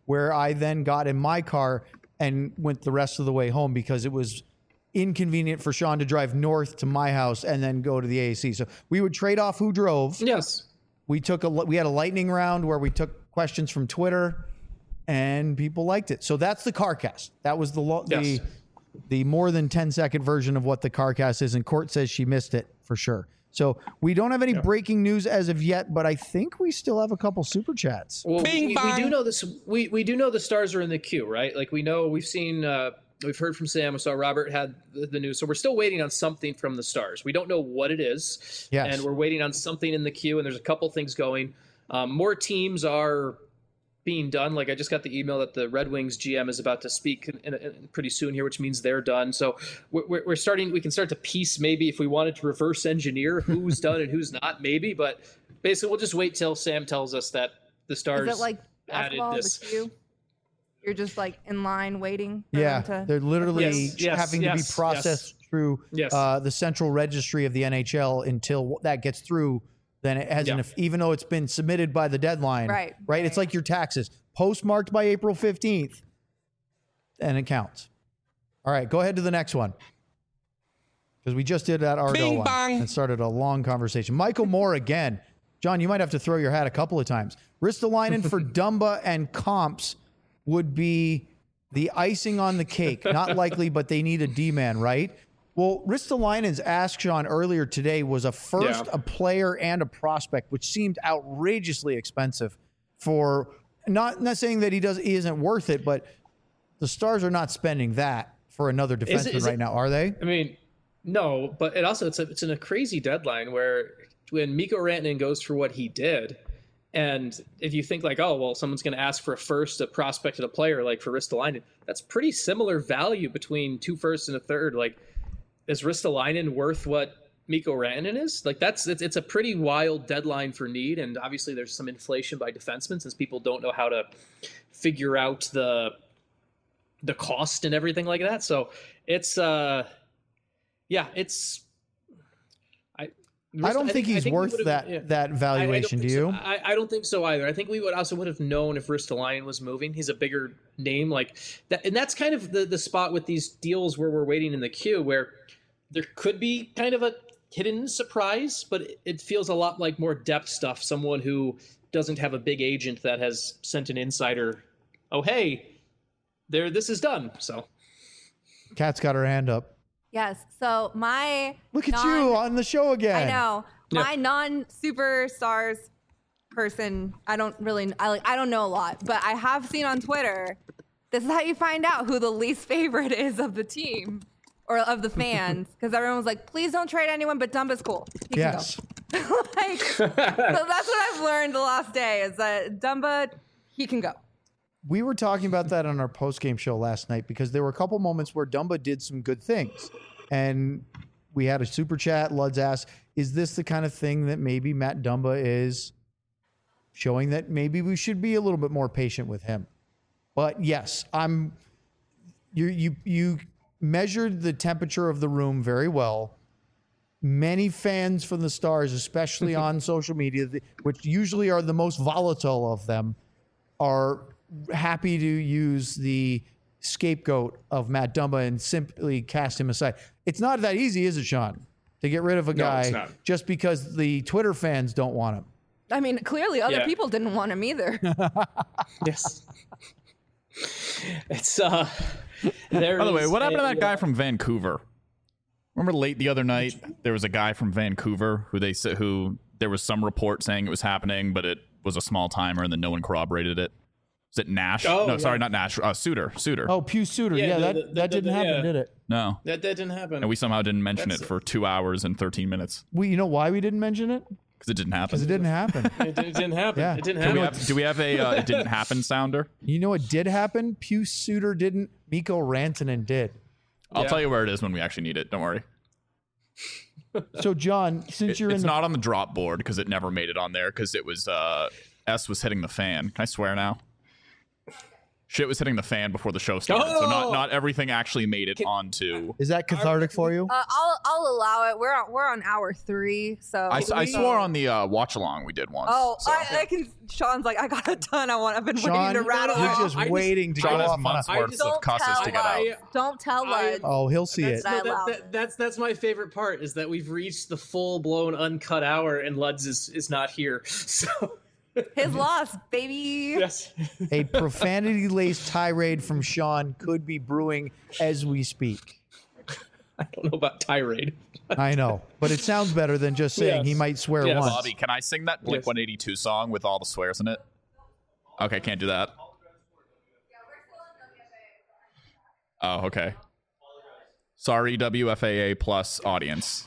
where I then got in my car and went the rest of the way home because it was inconvenient for Sean to drive north to my house and then go to the A A C. So we would trade off who drove. Yes. We took a we had a lightning round where we took questions from Twitter, and people liked it. So that's the CarCast. That was the lo- Yes. the the more than ten second version of what the CarCast is. And Court says she missed it for sure. So we don't have any breaking news as of yet, but I think we still have a couple super chats. Well, Bing we, we bong. do know this. We we do know the Stars are in the queue, right? Like we know we've seen. Uh, we've heard from Sam. We saw Robert had the, the news, so we're still waiting on something from the Stars. We don't know what it is, Yes. and we're waiting on something in the queue. And there's a couple things going. Um, more teams are being done. Like I just got the email that the Red Wings G M is about to speak in, in, in pretty soon here, which means they're done. So we're, we're starting. We can start to piece maybe if we wanted to reverse engineer who's done and who's not, maybe. But basically, we'll just wait till Sam tells us that the Stars Is it like added basketball, this. the queue? You're just like in line waiting for Yeah, them to... they're literally Yes, yes, having to yes, be processed through Yes. uh, the central registry of the N H L until that gets through. Then it hasn't, Yeah. even though it's been submitted by the deadline. Right, Right. It's right. like your taxes, postmarked by April fifteenth, and it counts. All right, go ahead to the next one. Because we just did that Argo Bing one bong. and started a long conversation. Michael Moore again. John, you might have to throw your hat a couple of times. Ristolainen for Dumba and Comps would be the icing on the cake. Not likely, but they need a D-man, right? Well, Ristolainen's ask, Sean, earlier today was a first, Yeah. a player, and a prospect, which seemed outrageously expensive for not not saying that he does he isn't worth it, but the Stars are not spending that for another defenseman Is it- is right it- now, are they? I mean, no, but it also it's a, it's in a crazy deadline where when Mikko Rantanen goes for what he did, and if you think like, oh well, someone's going to ask for a first, a prospect, and a player, like for Ristolainen, that's pretty similar value between two firsts and a third. Like, is Ristolainen worth what Mikko Rantanen is? Like, that's it's, it's a pretty wild deadline for need, and obviously there's some inflation by defensemen since people don't know how to figure out the the cost and everything like that. So it's uh. Yeah, it's. I. I don't think, I he's think we worth would've- that yeah. that I- I don't valuation, do think so. you? I, I don't think so either. I think we would also would have known if Ristolainen was moving. He's a bigger name, like that, and that's kind of the the spot with these deals where we're waiting in the queue, where there could be kind of a hidden surprise, but it, it feels a lot like more depth stuff. Someone who doesn't have a big agent that has sent an insider, oh hey, there, this is done. So Kat's got her hand up. Yes. So my Look at non- you on the show again. I know. Yeah. My non-superstars person, I don't really I like I don't know a lot, but I have seen on Twitter, this is how you find out who the least favorite is of the team or of the fans, because everyone was like, please don't trade anyone, but Dumba's cool. He can Yes. go. Like, so that's what I've learned the last day is that Dumba, he can go. We were talking about that on our post-game show last night because there were a couple moments where Dumba did some good things. And we had a super chat. Luds asked, is this the kind of thing that maybe Matt Dumba is showing that maybe we should be a little bit more patient with him? But yes, I'm you you you measured the temperature of the room very well. Many fans from the Stars, especially on social media, which usually are the most volatile of them, are happy to use the scapegoat of Matt Dumba and simply cast him aside. It's not that easy, is it, Sean? To get rid of a No, it's guy not. just because the Twitter fans don't want him. I mean, clearly other Yeah. people didn't want him either. yes, it's uh. There By the way, is what happened to a, that guy uh, from Vancouver? Remember late the other night, there was a guy from Vancouver who they said who there was some report saying it was happening, but it was a small timer and then no one corroborated it. Is it Nash? Oh, no, yeah. sorry, not Nash. Uh, Suter. Suter. Oh, Pew Suter. Yeah, Yeah, the- that, the- that the- didn't the- happen, yeah. did it? No. That, that didn't happen. And we somehow didn't mention That's- it for two hours and thirteen minutes We, you know why we didn't mention it? because it didn't happen. Because it didn't happen. it, it didn't happen. Yeah. It didn't do, we happen. have, do we have a uh, it didn't happen sounder? You know what did happen? Pew Suter didn't. Mikko Rantanen did. I'll Yeah. tell you where it is when we actually need it. Don't worry. So, John, since It- you're it's in the not on the drop board because it never made it on there because it was uh, S was hitting the fan. Can I swear now? Shit was hitting the fan before the show started, so not Oh! not everything actually made it onto. Is that cathartic for you? Uh, I'll I'll allow it. We're on we're on hour three, so I, I swore on the uh, watch along we did once. Oh, so. I, I can. Sean's like, I got a ton. I want. I've been Sean, waiting to rattle. you're off. just I just- waiting to Sean go has off on months a... I worth don't of cusses tell to get out. I- Don't tell I- Lud. Oh, he'll see That's, it. I no, that, allow that, that's that's my favorite part is that we've reached the full blown uncut hour and Luds is, is not here. So His loss, baby. yes, A profanity-laced tirade from Sean could be brewing as we speak. I don't know about tirade. I know, but it sounds better than just saying Yes. he might swear Yes. once. Bobby, can I sing that Blink Yes. one eighty-two song with all the swears in it? Okay, can't do that. Oh, okay. Sorry, W F A A plus audience.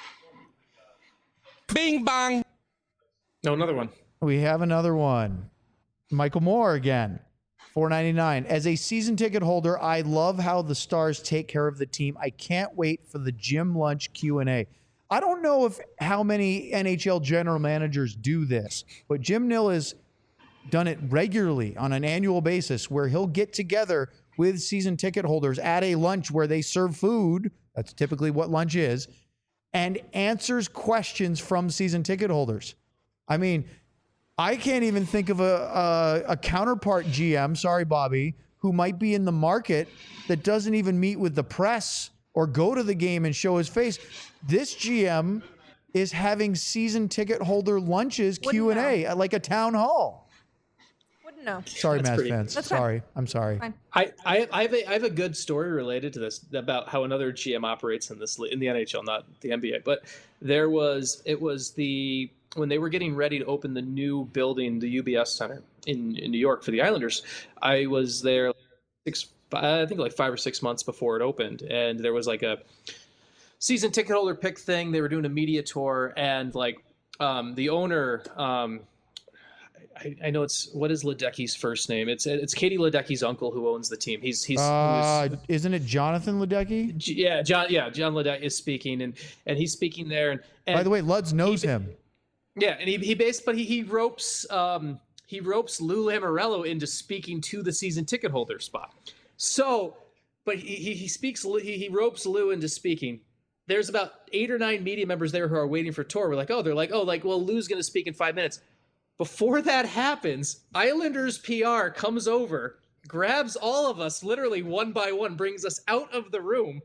Bing bong. No, another one. We have another one. Michael Moore again. four ninety-nine. As a season ticket holder, I love how the Stars take care of the team. I can't wait for the gym lunch Q and A. I don't know if how many N H L general managers do this, but Jim Nill has done it regularly on an annual basis where he'll get together with season ticket holders at a lunch where they serve food. That's typically what lunch is, and answers questions from season ticket holders. I mean, I can't even think of a, a, a counterpart G M, sorry, Bobby, who might be in the market that doesn't even meet with the press or go to the game and show his face. This G M is having season ticket holder lunches, Wouldn't Q and A, know. at like a town hall. Wouldn't know. Sorry, That's Mavs pretty- fans. That's fine. Sorry. I'm sorry. Fine. I, I, I have a I have a good story related to this about how another G M operates in this in the N H L, not the N B A. But there was it was the when they were getting ready to open the new building, the U B S Center in, in New York for the Islanders. I was there six, I think like five or six months before it opened, and there was like a season ticket holder pick thing. They were doing a media tour, and like um, the owner. Um, I, I know it's what is Ledecky's first name? It's it's Katie Ledecky's uncle who owns the team. He's he's Uh, who's- isn't it Jonathan Ledecky? J- yeah John yeah John Ledecky is speaking and and he's speaking there and, and By the way, Luds knows him. yeah and he he based but he he ropes um he ropes Lou Lamoriello into speaking to the season ticket holder spot. So, but he he, he speaks he, he ropes Lou into speaking. There's about eight or nine media members there who are waiting for tour. We're like, oh, they're like, oh, like, well, Lou's going to speak in five minutes. Before that happens, Islanders P R comes over, grabs all of us, literally one by one, brings us out of the room,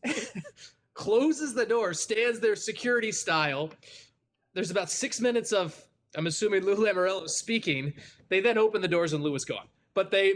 closes the door, stands there security style. There's about six minutes of, I'm assuming Lou Lamoriello speaking. They then open the doors and Lou is gone. But they,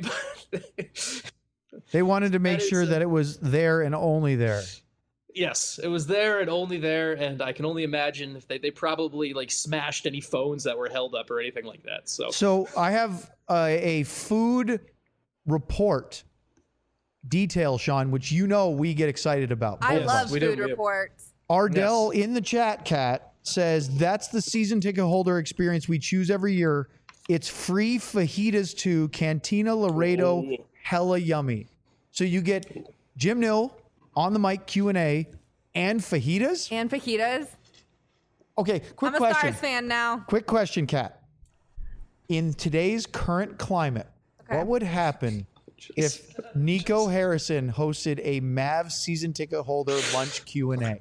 They wanted to make That is sure a- that it was there and only there. yes, it was there and only there. And I can only imagine if they, they probably like smashed any phones that were held up or anything like that. So, So I have uh, a food report detail, Sean, which you know we get excited about. I both of love us. we do, food we do. reports. Ardell in the chat, Cat, says that's the season ticket holder experience we choose every year. It's free fajitas too, Cantina Laredo, Ooh. hella yummy. So you get Jim Nill on the mic Q and A and fajitas. And fajitas. Okay, quick I'm a question. Stars fan now. Quick question, Kat. In today's current climate, Okay. what would happen if Nico Harrison hosted a Mavs season ticket holder lunch Q and A?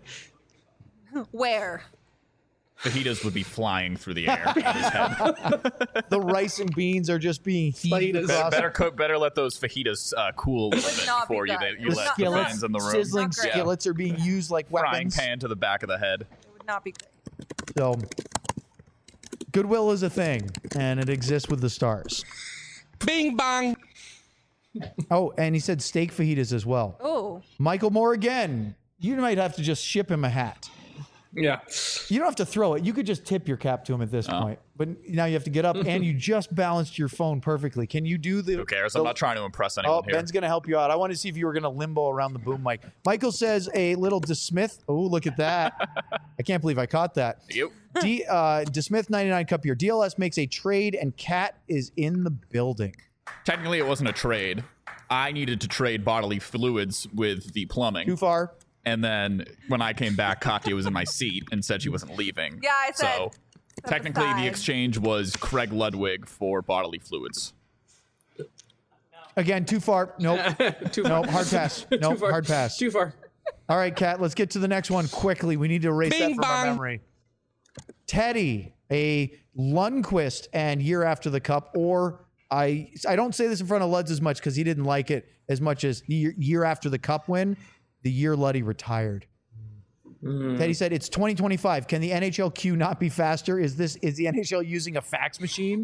Where? Fajitas would be flying through the air at his head. The rice and beans are just being heaved Fajitas. across. Better cook. Better let those fajitas uh, cool a little Would bit not be before you, good. you Would The let not- the skillets, fans in the room. sizzling Not great. skillets are being used like Frying weapons. pan to the back of the head. It would not be good. So, goodwill is a thing, and it exists with the Stars. Bing bong. Oh, and he said steak fajitas as well. Oh, Michael Moore again. You might have to just ship him a hat. yeah. You don't have to throw it. You could just tip your cap to him at this point. But now you have to get up, and you just balanced your phone perfectly. Can you do the? Who cares? the- I'm not trying to impress anyone Oh, here. Ben's going to help you out. I want to see if you were going to limbo around the boom mic. Michael says a little DeSmith. Oh, look at that. I can't believe I caught that. Yep. D, uh, DeSmith ninety-nine Cup here. D L S makes a trade, and Cat is in the building. Technically, it wasn't a trade. I needed to trade bodily fluids with the plumbing. Too far? And then when I came back, Katya was in my seat and said she wasn't leaving. Yeah, I said, So step technically, aside. the exchange was Craig Ludwig for bodily fluids. Again, too far. Nope. Too Nope. far. Hard pass. Too Nope. far. Hard pass. Too far. All right, Kat, let's get to the next one quickly. We need to erase Bing that from our bong. memory. Teddy, a Lundqvist and year after the cup, or I I don't say this in front of Luds as much because he didn't like it as much as year, year after the cup win, the year Luddy retired. Mm. Teddy said it's twenty twenty-five. Can the N H L queue not be faster? Is this is the N H L using a fax machine?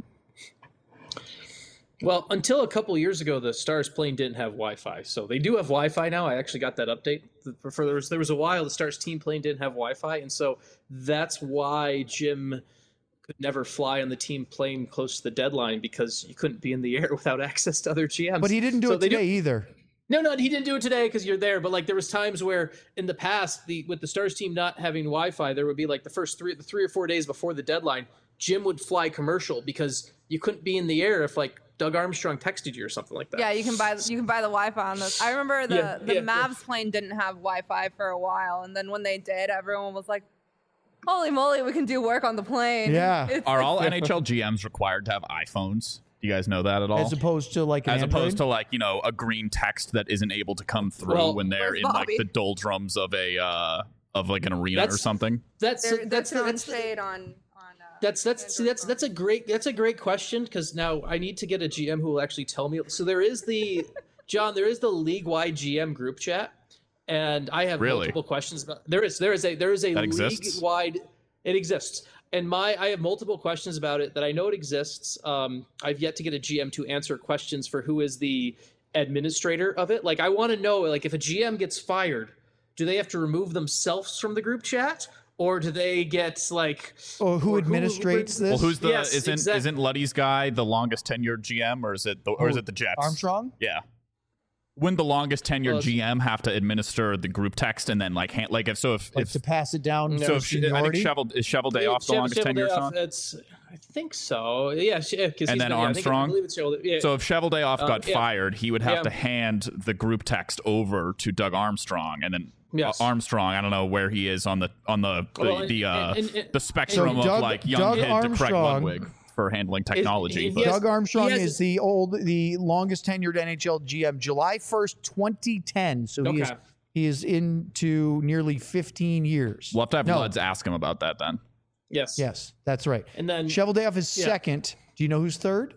Well, until a couple years ago, the Stars plane didn't have Wi-Fi. So they do have Wi-Fi now. I actually got that update. For, for there was there was a while the Stars team plane didn't have Wi-Fi, and so that's why Jim could never fly on the team plane close to the deadline because you couldn't be in the air without access to other G Ms. But he didn't do So it they today either. No, no, he didn't do it today because you're there. But like there was times where in the past, the with the Stars team not having Wi-Fi, there would be like the first three, the three or four days before the deadline, Jim would fly commercial because you couldn't be in the air if like Doug Armstrong texted you or something like that. Yeah, you can buy you can buy the Wi-Fi on this. I remember the Yeah, the yeah, Mavs yeah. plane didn't have Wi-Fi for a while, and then when they did, everyone was like, "Holy moly, we can do work on the plane!" Yeah. It's- Are all N H L G Ms required to have iPhones? Do you guys know that at all? As opposed to like an As Android? opposed to like, you know, a green text that isn't able to come through Well, when they're Where's in like Bobby? the doldrums of a uh of like an arena or That's- something. That's they're, they're that's throwing that's shade on on. Uh, That's that's see, that's that's a great that's a great question because now I need to get a G M who will actually tell me. So there is the John, there is the league wide G M group chat, and I have Really? multiple questions about. There is there is a there is a That league exists? wide. It exists, and my I have multiple questions about it that I know it exists. Um, I've yet to get a G M to answer questions for who is the administrator of it. Like I want to know, like if a G M gets fired, do they have to remove themselves from the group chat? Or do they get like? Oh, who or administrates Well, this? who's the Yes, isn't exact- isn't Luddy's guy the longest tenured G M or is it the or is Who, it the Jets? Armstrong? Yeah. Wouldn't the longest tenured Well, G M have to administer the group text and then like hand, like if so if, Like if to pass it down so to if I think seniority? Shovel is Shovel Day off the Chev- longest Chevel tenured Dayoff, Sean? It's, I think so. Yeah, because And he's then been, yeah, I, think, I Armstrong? believe it's Chevel- yeah. So if Shovel Day off Um, got yeah. fired, he would have Yeah. to hand the group text over to Doug Armstrong, and then Yes. uh, Armstrong. I don't know where he is on the on the the, Well, and- the, uh, and- and- the spectrum So of Doug- like young Doug kid to Craig Armstrong- Ludwig for handling technology. Is- but he has- Doug Armstrong he has- is the old, the longest tenured N H L G M, July first, twenty ten. So he is Okay. he is into nearly fifteen years. we'll have to have No. Luds ask him about that then. Yes. Yes, that's right. And then Cheveldayoff is Yeah. second. Do you know who's third?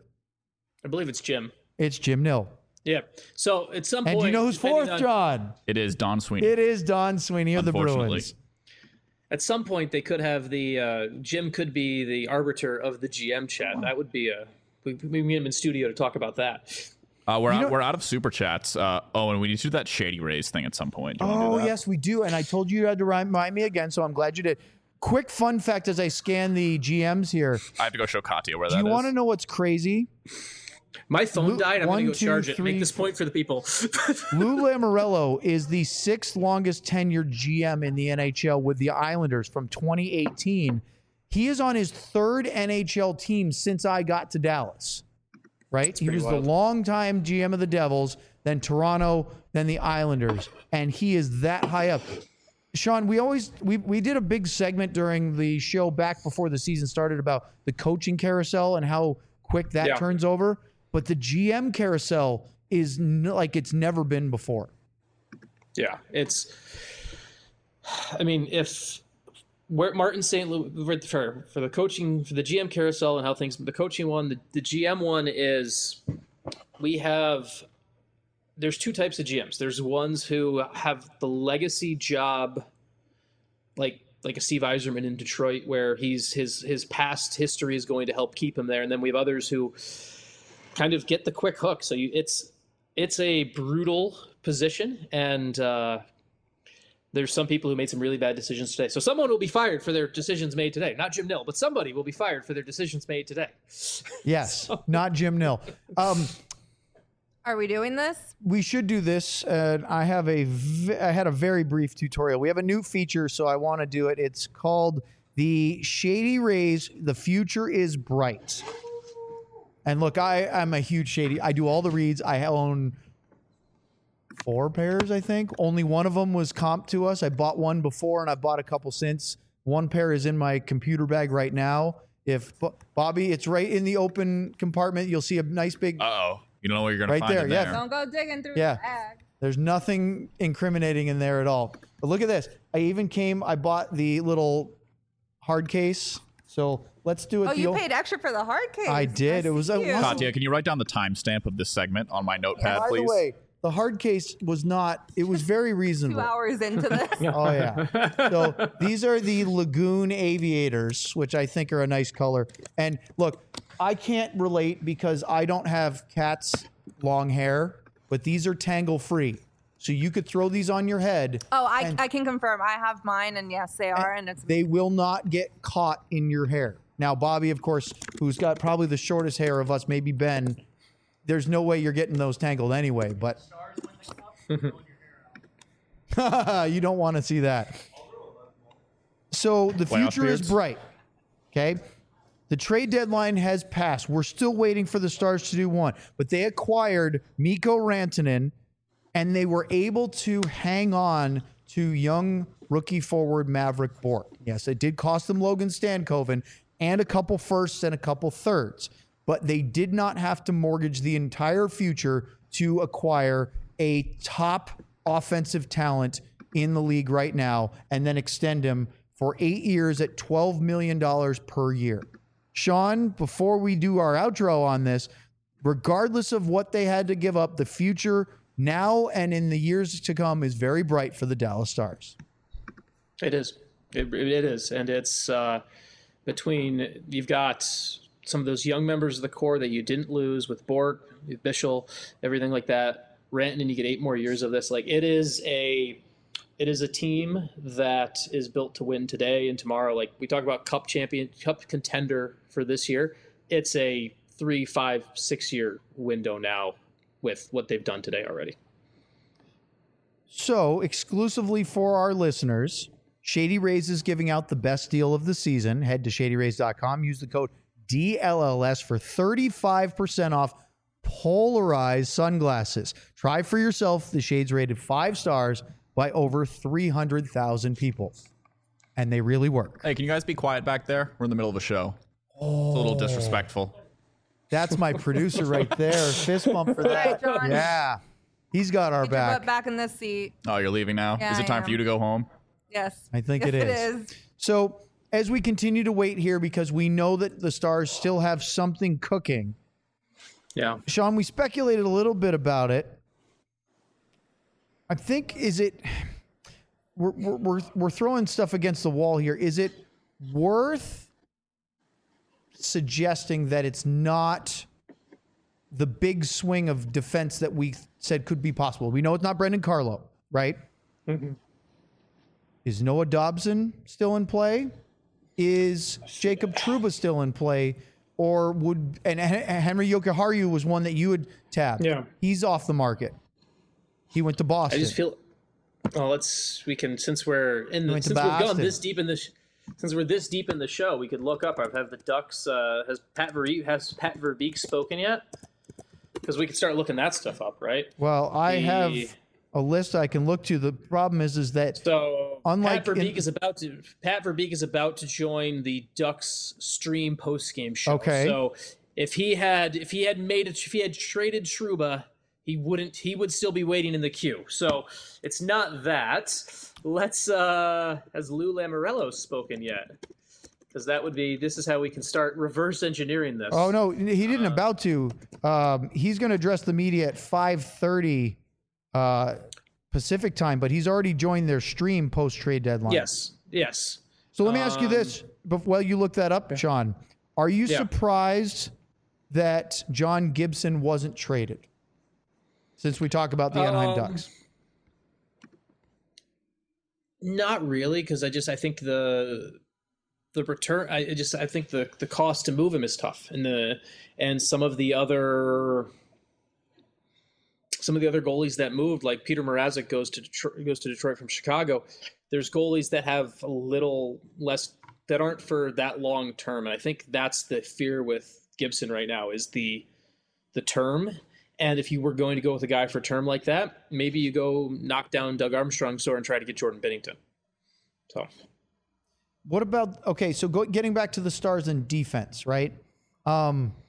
I believe it's Jim. It's Jim Nill. Yeah. So at some And point, do you know who's depending fourth, on- John? It is Don Sweeney. It is Don Sweeney of the Unfortunately. Bruins. At some point, they could have the uh, Jim could be the arbiter of the G M chat. That would be a we we meet him in studio to talk about that. Uh, we're You out, know- we're out of super chats. Uh, oh, and we need to do that Shady Rays thing at some point. Do you wanna do Oh, that? yes, we do. And I told you you had to remind me again, so I'm glad you did. Quick fun fact as I scan the G Ms here. I have to go show Katya where Do that you is. want to know what's crazy? My phone Lu- died. I'm one, going to go two, charge it. three, Make this point for the people. Lou Lamoriello is the sixth longest tenured G M in the N H L with the Islanders from twenty eighteen. He is on his third N H L team since I got to Dallas. Right? He pretty was wild. the longtime G M of the Devils, then Toronto, then the Islanders, and he is that high up. Sean, we always we we did a big segment during the show back before the season started about the coaching carousel and how quick that Yeah. turns over. But the G M carousel is n- like it's never been before. Yeah, it's. I mean, if where Martin Saint Louis for for the coaching for the G M carousel and how things the coaching one, the, the G M one is we have. There's two types of G Ms. There's ones who have the legacy job, like like a Steve Yzerman in Detroit, where he's his his past history is going to help keep him there, and then we have others who kind of get the quick hook. So you, it's it's a brutal position, and uh, there's some people who made some really bad decisions today. So someone will be fired for their decisions made today. Not Jim Nill, but somebody will be fired for their decisions made today. Yes, not Jim Nill. Um, Are we doing this? we should do this. Uh, I have a v- I had a very brief tutorial. We have a new feature, so I want to do it. It's called the Shady Rays. The future is bright. And look, I I'm a huge Shady. I do all the reads. I own four pairs, I think. Only one of them was comp to us. I bought one before, and I bought a couple since. One pair is in my computer bag right now. If Bobby, it's right in the open compartment. You'll see a nice big Uh oh. You don't know what you're gonna Right find there, in yeah. there. Don't go digging through Yeah. the bag. There's nothing incriminating in there at all. But look at this. I even came, I bought the little hard case. So let's do it. Oh, the you old- paid extra for the hard case. I did. It was a- see you. was a- Katya, can you write down the timestamp of this segment on my notepad, By please? the way, the hard case was not, it was very Two reasonable. hours into this. Oh, yeah. So these are the Lagoon Aviators, which I think are a nice color. And look, I can't relate because I don't have cat's long hair, but these are tangle free. So you could throw these on your head. Oh, I, and I can confirm. I have mine, and yes, they are, and it's they will not get caught in your hair. Now, Bobby, of course, who's got probably the shortest hair of us, maybe Ben, there's no way you're getting those tangled anyway, but you don't want to see that. So the Playoff future is beards? bright. Okay. The trade deadline has passed. We're still waiting for the Stars to do one, but they acquired Mikko Rantanen and they were able to hang on to young rookie forward Maverick Bourque. Yes, it did cost them Logan Stankoven and a couple firsts and a couple thirds, but they did not have to mortgage the entire future to acquire a top offensive talent in the league right now and then extend him for eight years at twelve million dollars per year. Sean, before we do our outro on this, regardless of what they had to give up, the future now and in the years to come is very bright for the Dallas Stars. It is. It, it is. And it's uh, between, you've got some of those young members of the core that you didn't lose with Bourque, with Bischel, everything like that. Rantanen, you get eight more years of this. Like it is a, it is a team that is built to win today and tomorrow. Like we talk about cup champion, cup contender for this year. It's a three, five, six year window now with what they've done today already. So, exclusively for our listeners, Shady Rays is giving out the best deal of the season. Head to shady rays dot com. Use the code D L L S for thirty-five percent off polarized sunglasses. Try for yourself. The shades rated five stars by over three hundred thousand people. And they really work. Hey, can you guys be quiet back there? We're in the middle of a show. Oh. It's a little disrespectful. That's my producer right there. Fist bump for All right, that. John. Yeah. He's got our Get your butt back. back in this seat. Oh, you're leaving now? Yeah, is it I time for am. you to go home? Yes. I think yes, it It is. is. So, as we continue to wait here, because we know that the Stars still have something cooking, Yeah. Sean, we speculated a little bit about it. I think, is it, we're, we're, we're, we're throwing stuff against the wall here. Is it worth suggesting that it's not the big swing of defense that we said could be possible? We know it's not Brendan Carlo, right? Mm-hmm. Is Noah Dobson still in play? Is Jacob Trouba still in play? Or would, and Henry Jokiharju was one that you would tap. Yeah. He's off the market. He went to I Boston. just feel. Oh, let's. We can since we're in the Went to since we've gone Boston. this deep in the sh- since we're this deep in the show, we could look up. Have the Ducks? Uh, has Pat Verbeek has Pat Verbeek spoken yet? Because we could start looking that stuff up, right? well, I The- have a list I can look to. The problem is, is that So Unlike Pat Verbeek in- is about to Pat Verbeek is about to join the Ducks stream post game show. Okay. So if he had if he had made it if he had traded Trouba, he wouldn't he would still be waiting in the queue. So it's not that. Let's uh has Lou Lamoriello spoken yet? Because that would be this is how we can start reverse engineering this. oh no, he didn't about to. Um, he's going to address the media at five thirty uh, Pacific time, but he's already joined their stream post trade deadline. Yes. Yes. So let me ask you Um, this, but while you look that up, Sean, are you Yeah. surprised that John Gibson wasn't traded? Since we talk about the Anaheim Um, Ducks. Not really, because I just I think the the return I I just I think the the cost to move him is tough, and the and some of the other some of the other goalies that moved, like Peter Mrazek goes to Detroit, goes to Detroit from Chicago. There's goalies that have a little less that aren't for that long term, and I think that's the fear with Gibson right now is the the term. And if you were going to go with a guy for a term like that, maybe you go knock down Doug Armstrong's door and try to get Jordan Binnington. So, What about, okay, so go, getting back to the Stars and defense, right? Um,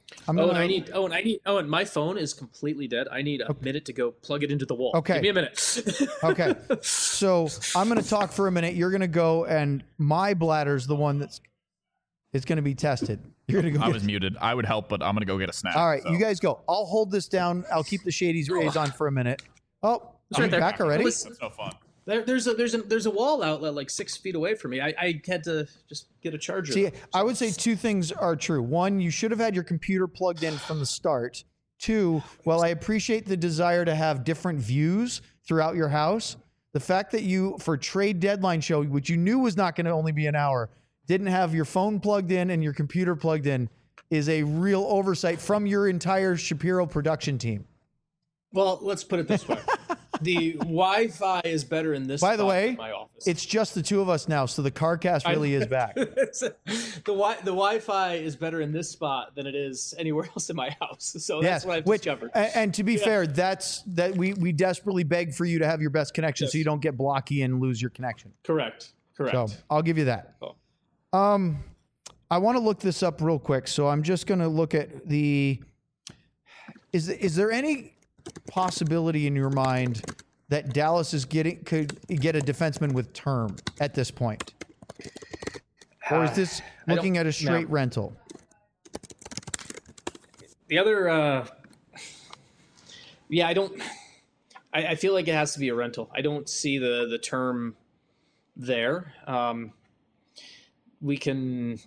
I'm Oh, gonna, and I need. Oh, and I need. Oh, and my phone is completely dead. I need a minute to go plug it into the wall. Okay. Give me a minute. Okay. So I'm going to talk for a minute. You're going to go, and my bladder's the one that's is going to be tested. You're going to go. I get- was muted. I would help, but I'm gonna go get a snack. All right, so. you guys go. I'll hold this down. I'll keep the Shady's rays on for a minute. Oh, It's are right you there. back already? Listen, That's no fun. there, there's a there's a there's a wall outlet like six feet away from me. I, I had to just get a charger. See, though. I would say two things are true. One, you should have had your computer plugged in from the start. Two, while I appreciate the desire to have different views throughout your house, the fact that you, for trade deadline show, which you knew was not going to only be an hour, didn't have your phone plugged in and your computer plugged in is a real oversight from your entire Shapiro production team. Well, let's put it this way: the Wi-Fi is better in this. By the spot way, than my office. it's just the two of us now, so the CarCast really is back. the wi the Wi-Fi is better in this spot than it is anywhere else in my house. So that's Yes, what I've which, discovered. and, and to be fair, that's that we we desperately beg for you to have your best connection, so Yes. you don't get blocky and lose your connection. Correct. Correct. So I'll give you that. Oh. Um, I want to look this up real quick, so I'm just going to look at the. Is is there any possibility in your mind that Dallas is getting could get a defenseman with term at this point, or is this I don't- looking at a straight no. rental? The other, uh, yeah, I don't. I, I feel like it has to be a rental. I don't see the the term there. Um, we can.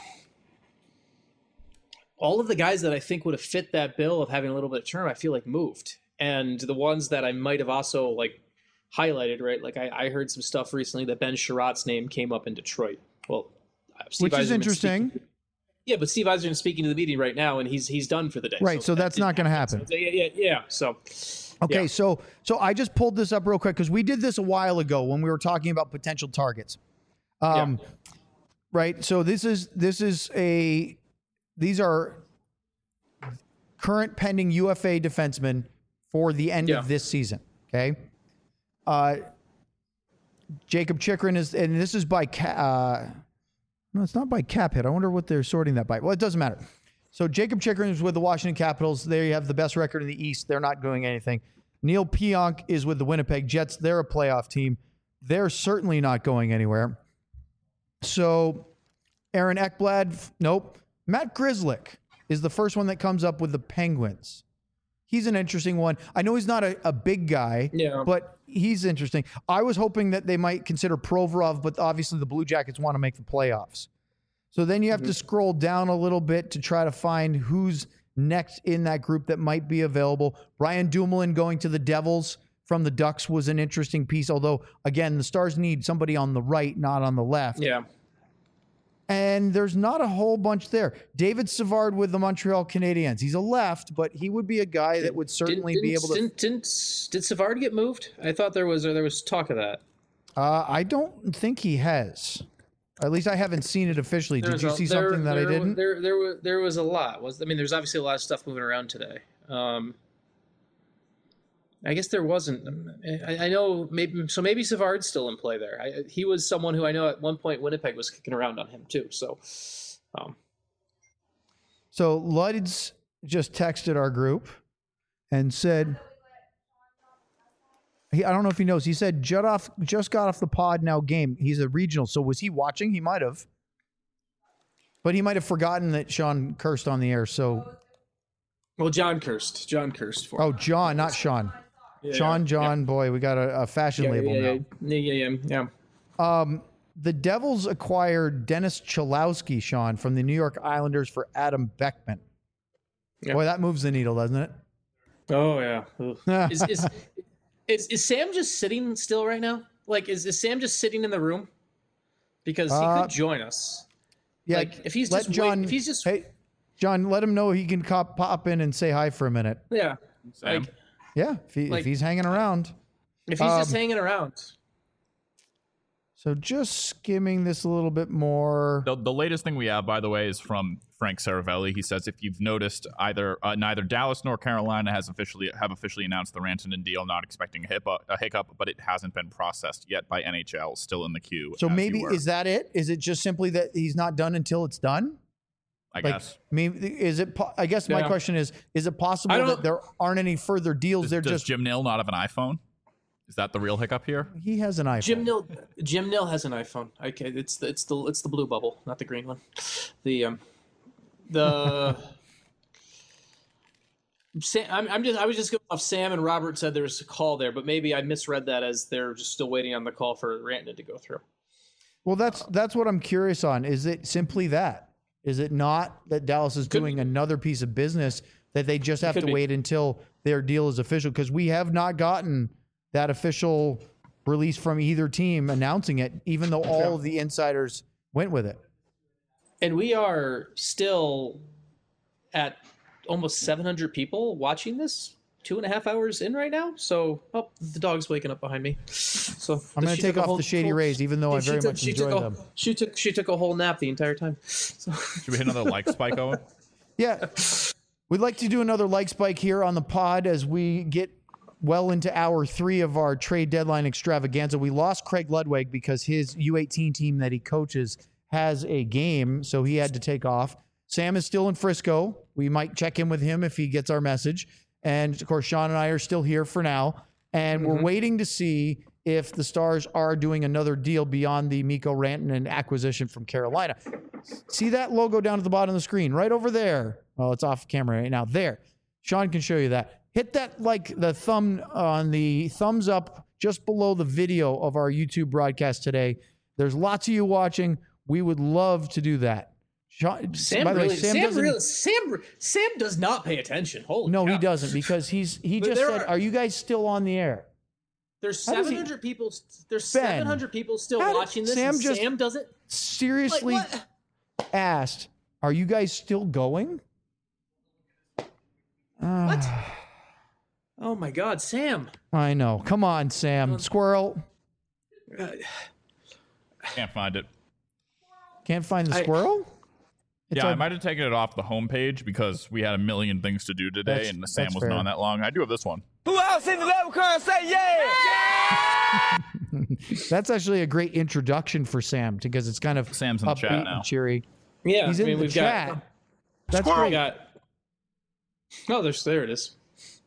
All of the guys that I think would have fit that bill of having a little bit of term, I feel like moved, and the ones that I might have also like highlighted, right? Like I, I heard some stuff recently that Ben Sherratt's name came up in Detroit. Well, uh, Steve Which is Yzerman's interesting. speaking- Yeah, but Steve Yzerman's speaking to the meeting right now, and he's he's done for the day. Right, so that's that not didn't gonna happen. So, yeah, yeah, yeah. So Okay, yeah. so so I just pulled this up real quick because we did this a while ago when we were talking about potential targets. Um, Right. So this is this is a these are current pending U F A defensemen for the end Yeah. of this season. Okay. Uh, Jacob Chikrin is, and this is by ca- uh, no, it's not by cap hit. I wonder what they're sorting that by. Well, it doesn't matter. So Jacob Chikrin is with the Washington Capitals. They have the best record in the East. They're not doing anything. Neil Pionk is with the Winnipeg Jets. They're a playoff team. They're certainly not going anywhere. So Aaron Ekblad, f- nope. Matt Grzelcyk is the first one that comes up with the Penguins. He's an interesting one. I know he's not a, a big guy, Yeah. but he's interesting. I was hoping that they might consider Provorov, but obviously the Blue Jackets want to make the playoffs. So then you have to scroll down a little bit to try to find who's next in that group that might be available. Brian Dumoulin going to the Devils from the Ducks was an interesting piece, although, again, the Stars need somebody on the right, not on the left. Yeah. And there's not a whole bunch there. David Savard with the Montreal Canadiens. He's a left, but he would be a guy that would certainly didn't, be able to. Didn't, didn't, did Savard get moved? I thought there was or there was talk of that. Uh, I don't think he has. At least I haven't seen it officially. Did There's you a- see there- something that there, I didn't? There, there, was, there was a lot. Was I mean, there's obviously a lot of stuff moving around today. Um, I guess there wasn't. I, I know maybe so. Maybe Savard's still in play there. I, he was someone who I know at one point Winnipeg was kicking around on him too. So, um, So Luds just texted our group and said, he, I don't know if he knows. He said, Judd off, just got off the pod now game. He's a regional. So was he watching? He might have. But he might have forgotten that Sean cursed on the air. So, well, John cursed. John cursed for. oh, him. John, not Sean. Yeah, Sean, yeah. John, boy, we got a, a fashion Yeah, label yeah, now. yeah, yeah, yeah, yeah, yeah. Um, the Devils acquired Dennis Cholowski, Sean, from the New York Islanders for Adam Beckman. Yeah. Boy, that moves the needle, doesn't it? Oh yeah. Ugh. is, is, is is Sam just sitting still right now? Like, is, is Sam just sitting in the room? Because he Uh, could join us. Yeah, Like, if he's let just wait- John, if he's just- hey, John, let him know he can cop, pop in and say hi for a minute. Yeah. Sam. Like, Yeah, if, he, Like- if he's hanging around. if he's just Um, hanging around. So just skimming this a little bit more. The, the latest thing we have, by the way, is from Frank Saravelli. He says, if you've noticed, either uh, neither Dallas nor Carolina has officially have officially announced the Rantanen deal. Not expecting a hiccup, a hiccup, but it hasn't been processed yet by N H L. Still in the queue. So as you maybe were. is that it? Is it just simply that he's not done until it's done? I Like, guess. I mean, is it? po- I guess my Yeah. question is: Is it possible I don't- that there aren't any further deals? Does, They're does just Jim Nill not have an iPhone? Is that the real hiccup here? he has an iPhone. Jim Nill, Jim Nill has an iPhone. Okay, it's the it's the it's the blue bubble, not the green one. The um, the Sam, I'm, I'm just I was just going off. Sam and Robert said there was a call there, but maybe I misread that as they're just still waiting on the call for Rantanen to go through. Well, that's that's what I'm curious on. Is it simply that? Is it not that Dallas is Could doing be. another piece of business that they just have Could to be. wait until their deal is official? Because we have not gotten that official release from either team announcing it, even though all of the insiders went with it. And we are still at almost seven hundred people watching this. Two and a half hours in right now. So, oh, the dog's waking up behind me. So I'm going she to take took a off whole- the Shady whole- Rays, even though I she very took- much she enjoy took a, them. She took she took a whole nap the entire time. So, Should we hit another like spike, Owen? Yeah. We'd like to do another like spike here on the pod as we get well into hour three of our trade deadline extravaganza. We lost Craig Ludwig because his U eighteen team that he coaches has a game, so he had to take off. Sam is still in Frisco. We might check in with him if he gets our message. And of course, Sean and I are still here for now. And we're waiting to see if the Stars are doing another deal beyond the Mikko Rantanen acquisition from Carolina. See that logo down at the bottom of the screen, right over there. Well, it's off camera right now. There. Sean can show you that. Hit that, like the thumb on the thumbs up just below the video of our YouTube broadcast today. There's lots of you watching. We would love to do that. Sean, Sam by the way, really, Sam Sam, doesn't- really, Sam, Sam does not pay attention. Holy no, cow. he doesn't because he's he But just there said, are- "Are you guys still on the air?" There's How does he- seven hundred people. There's Ben, seven hundred people still how did watching this. Sam and just- Sam doesn't. Like, Seriously what? asked, "Are you guys still going?" What? Oh my God, Sam. I know. Come on, Sam. Squirrel. Uh, Can't find it. Can't find the I- squirrel? It's yeah, our- I might have taken it off the homepage because we had a million things to do today, That's- and Sam that's wasn't fair. on that long. I do have this one. Who else in the level car say yeah? That's actually a great introduction for Sam because it's kind of Sam's in the upbeat chat now. and cheery. yeah, He's I in mean, the we've chat. got. That's We great. got. Oh, there's there it is.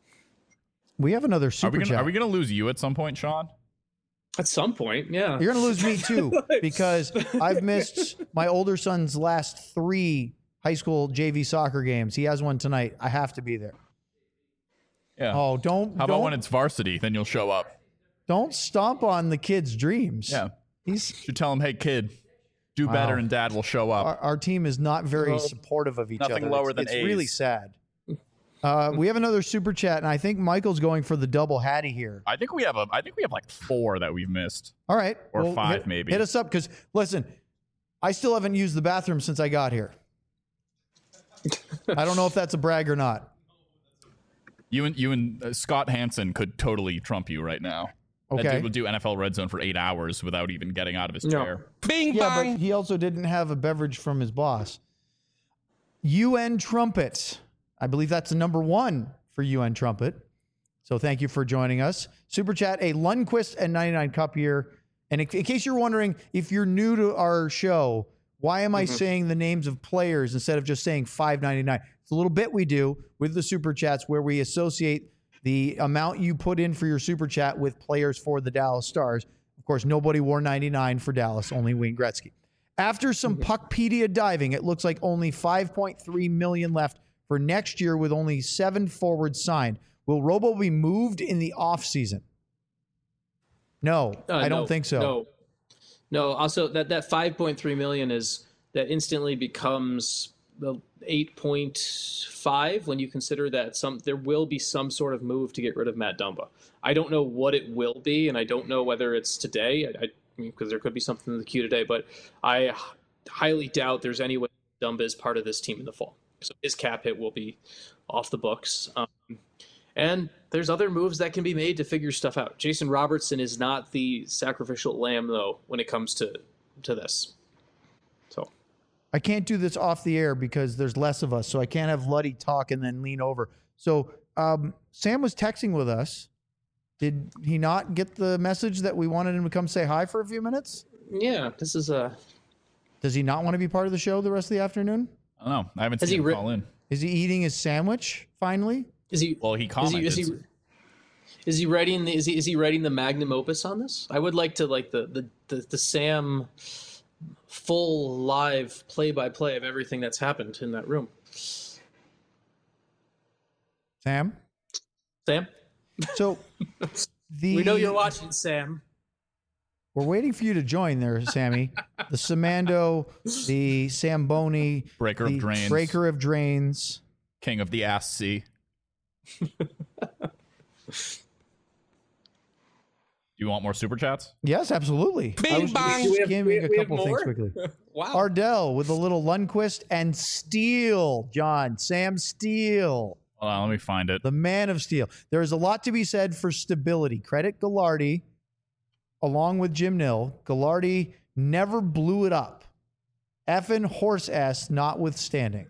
We have another Are super we, gonna, chat. are we gonna lose you at some point, Sean? At some point, yeah. You're going to lose me too because I've missed my older son's last three high school J V soccer games. He has one tonight. I have to be there. Yeah. Oh, don't How about don't, when it's varsity? Then you'll show up. don't stomp on the kid's dreams. Yeah. He's Should tell him, hey kid, do better, Wow. and Dad will show up. our, our team is not very supportive of each Nothing other. lower it's, than it's A's. really sad. Uh, we have another super chat, and I think Michael's going for the double hattie here. I think we have a. I think we have like four that we've missed. All right, Or five, hit, maybe. Hit us up because listen, I still haven't used the bathroom since I got here. I don't know if that's a brag or not. You and you and uh, Scott Hansen could totally trump you right now. That Okay. dude would do N F L Red Zone for eight hours without even getting out of his No. chair. Bing Yeah, bang. but he also didn't have a beverage from his boss. U N Trumpet. I believe that's the number one for U N Trumpet. So thank you for joining us. Super Chat, a Lundqvist and ninety-nine Cup here. And in, in case you're wondering, if you're new to our show, why am I saying the names of players instead of just saying five ninety-nine? It's a little bit we do with the Super Chats where we associate the amount you put in for your Super Chat with players for the Dallas Stars. Of course, nobody wore ninety-nine for Dallas, only Wayne Gretzky. After some Puckpedia diving, it looks like only five point three million dollars left for next year with only seven forwards signed. Will Robo be moved in the offseason? No, Uh, I don't no, think so. No, no. Also, that that five point three million is that instantly becomes the eight point five when you consider that some there will be some sort of move to get rid of Matt Dumba. I don't know what it will be, and I don't know whether it's today. I, I mean, because there could be something in the queue today, but I h- highly doubt there's any way Dumba is part of this team in the fall. So his cap hit will be off the books. Um, And there's other moves that can be made to figure stuff out. Jason Robertson is not the sacrificial lamb, though, when it comes to to this. So I can't do this off the air because there's less of us, so I can't have Luddy talk and then lean over. So um, Sam was texting with us. Did he not get the message that we wanted him to come say hi for a few minutes? yeah, this is a Does he not want to be part of the show the rest of the afternoon? I don't know. I haven't Has seen he him ri- call in. Is he eating his sandwich finally? Is he? Well, he Is he, commented. is he? Is he writing? The, is he? Is he writing the magnum opus on this? I would like to like the the the, the Sam full live play by play of everything that's happened in that room. Sam? Sam, So the we know you're watching, Sam. We're waiting for you to join there, Sammy. The Samando, the Samboni, Breaker of the drains. Breaker of Drains. King of the Ass Sea. Do you want more super chats? Yes, absolutely. I was bang. just Do we have- skimming we- a we have couple things more? quickly. Wow. Ardell with a little Lundquist and Steele, John. Sam Steele, Hold on, let me find it. the man of steel. There is a lot to be said for stability. Credit Gallardi, along with Jim Nill. Gallardi never blew it up. Effing horse ass notwithstanding.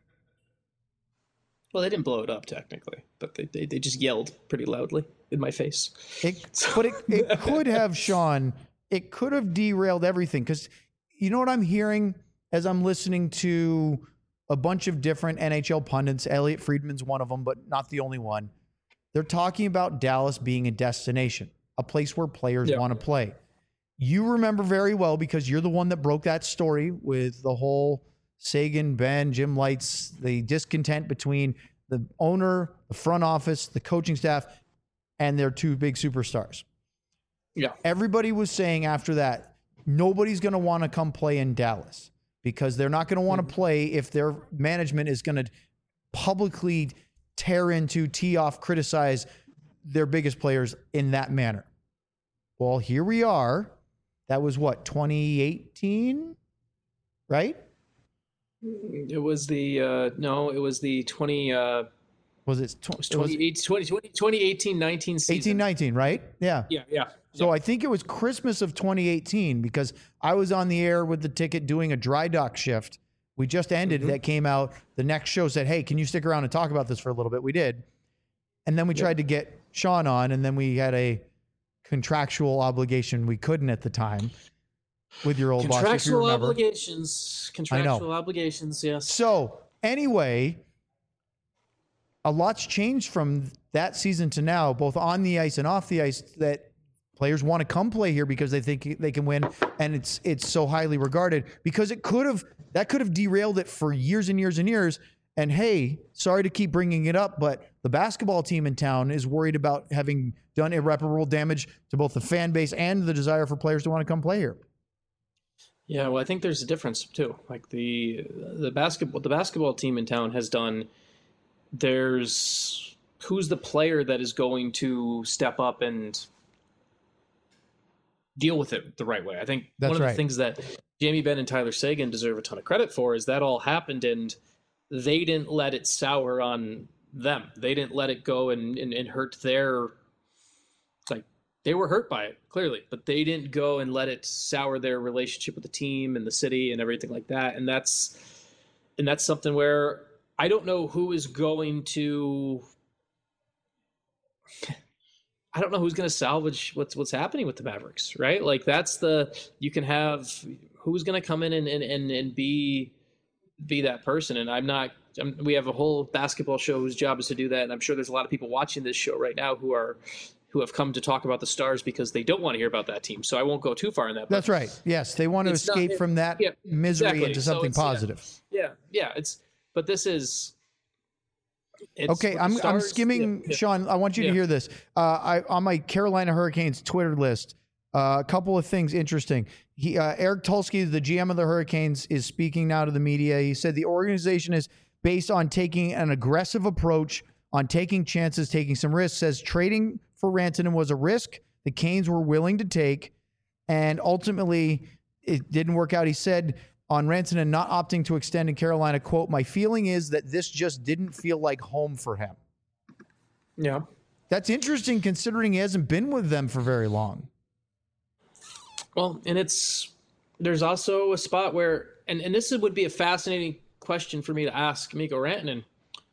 Well, they didn't blow it up technically, but they they, they just yelled pretty loudly in my face. It, but it, it could have, Sean, it could have derailed everything. Because you know what I'm hearing as I'm listening to a bunch of different N H L pundits. Elliot Friedman's one of them, but not the only one. They're talking about Dallas being a destination, a place where players Yeah. want to play. You remember very well because you're the one that broke that story with the whole Sagan, Ben, Jim Lights, the discontent between the owner, the front office, the coaching staff, and their two big superstars. Yeah. Everybody was saying after that, nobody's going to want to come play in Dallas because they're not going to want to play if their management is going to publicly tear into, tee off, criticize their biggest players in that manner. Well, here we are. That was what, twenty eighteen, right? It was the uh, no, it was the twenty. Uh, Was it, tw- it was it was twenty, twenty, twenty, twenty eighteen nineteen season. eighteen nineteen, right? Yeah. Yeah, yeah. So I think it was Christmas of twenty eighteen because I was on the air with the ticket doing a dry dock shift. We just ended. Mm-hmm. That came out. The next show said, hey, can you stick around and talk about this for a little bit? We did. And then we tried to get Sean on, and then we had a contractual obligation we couldn't at the time with your old boss, if you Contractual remember. obligations. Contractual obligations. Yes. So anyway, a lot's changed from that season to now, both on the ice and off the ice, that players want to come play here because they think they can win, and it's it's so highly regarded because it could have that could have derailed it for years and years and years. And hey, sorry to keep bringing it up, but the basketball team in town is worried about having done irreparable damage to both the fan base and the desire for players to want to come play here. Yeah, well, I think there's a difference too. Like the the basketball the basketball team in town has done. There's who's the player that is going to step up and deal with it the right way. I think That's one of right. the things that Jamie Benn and Tyler Sagan deserve a ton of credit for is that all happened and they didn't let it sour on them. They didn't let it go and, and, and hurt their like they were hurt by it clearly, but they didn't go and let it sour their relationship with the team and the city and everything like that. And that's and that's something where I don't know who is going to I don't know who's going to salvage what's what's happening with the Mavericks, right? Like that's the you can have who's going to come in and, and, and, and be be that person. And I'm not. I'm, we have a whole basketball show whose job is to do that. And I'm sure there's a lot of people watching this show right now who are who have come to talk about the Stars because they don't want to hear about that team. So I won't go too far in that. That's right. Yes, they want to It's not- escape from that yeah, misery exactly. into So something it's- yeah. positive. Yeah, yeah. It's but this is. It's, Okay, with the I'm I'm Stars- skimming, yeah, yeah. Sean. I want you to Yeah. hear this. Uh, I on my Carolina Hurricanes Twitter list. Uh, a couple of things interesting. He, uh, Eric Tulsky, the G M of the Hurricanes, is speaking now to the media. He said the organization is based on taking an aggressive approach, on taking chances, taking some risks. Says trading for Rantanen was a risk the Canes were willing to take, and ultimately it didn't work out. He said on Rantanen not opting to extend in Carolina, quote, "My feeling is that this just didn't feel like home for him." Yeah. That's interesting considering he hasn't been with them for very long. Well, and it's there's also a spot where, and, and this would be a fascinating question for me to ask Mikko Rantanen.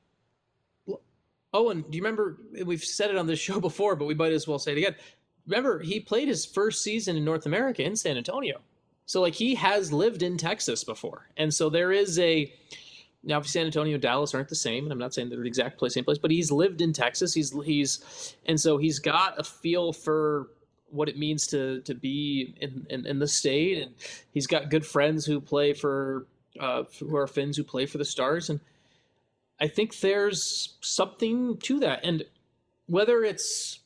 Oh, and do you remember, we've said it on this show before, but we might as well say it again. Remember, he played his first season in North America in San Antonio. So, like, he has lived in Texas before. And so there is a, Now, obviously, San Antonio and Dallas aren't the same, and I'm not saying they're the exact place, same place, but he's lived in Texas. He's he's, and so he's got a feel for what it means to to be in, in, in the state, and he's got good friends who play for uh, who are Finns who play for the Stars, and I think there's something to that. And whether it's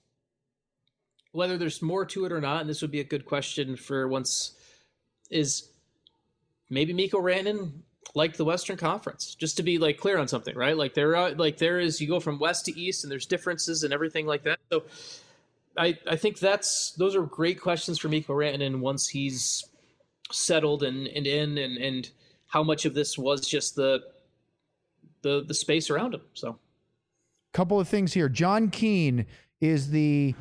whether there's more to it or not, and this would be a good question for once, is maybe Mikko Rantanen liked the Western Conference, just to be like clear on something, right? Like there are like there is you go from west to east and there's differences and everything like that. So I I think that's those are great questions for Mikko Rantanen once he's settled and, and in and and how much of this was just the the the space around him. So couple of things here. John Keane is the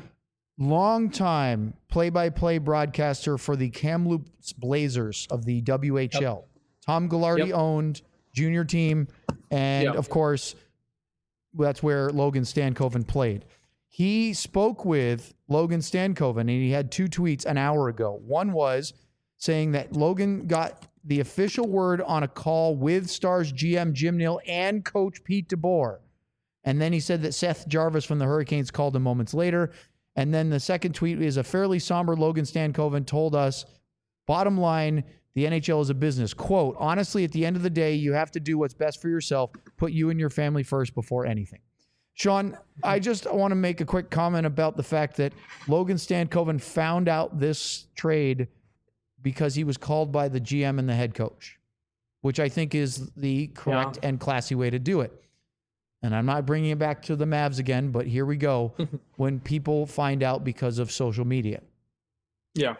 longtime play-by-play broadcaster for the Kamloops Blazers of the W H L. Yep. Tom Ghilardi yep. owned junior team, and yep. of course, that's where Logan Stankoven played. He spoke with Logan Stankoven, and he had two tweets an hour ago. One was saying that Logan got the official word on a call with Stars G M Jim Nill and Coach Pete DeBoer. And then he said that Seth Jarvis from the Hurricanes called him moments later. And then the second tweet is a fairly somber Logan Stankoven told us, bottom line, the N H L is a business. Quote, honestly, at the end of the day, you have to do what's best for yourself. Put you and your family first before anything. Sean, I just want to make a quick comment about the fact that Logan Stankoven found out this trade because he was called by the G M and the head coach, which I think is the correct yeah. and classy way to do it. And I'm not bringing it back to the Mavs again, but here we go. When people find out because of social media. Yeah.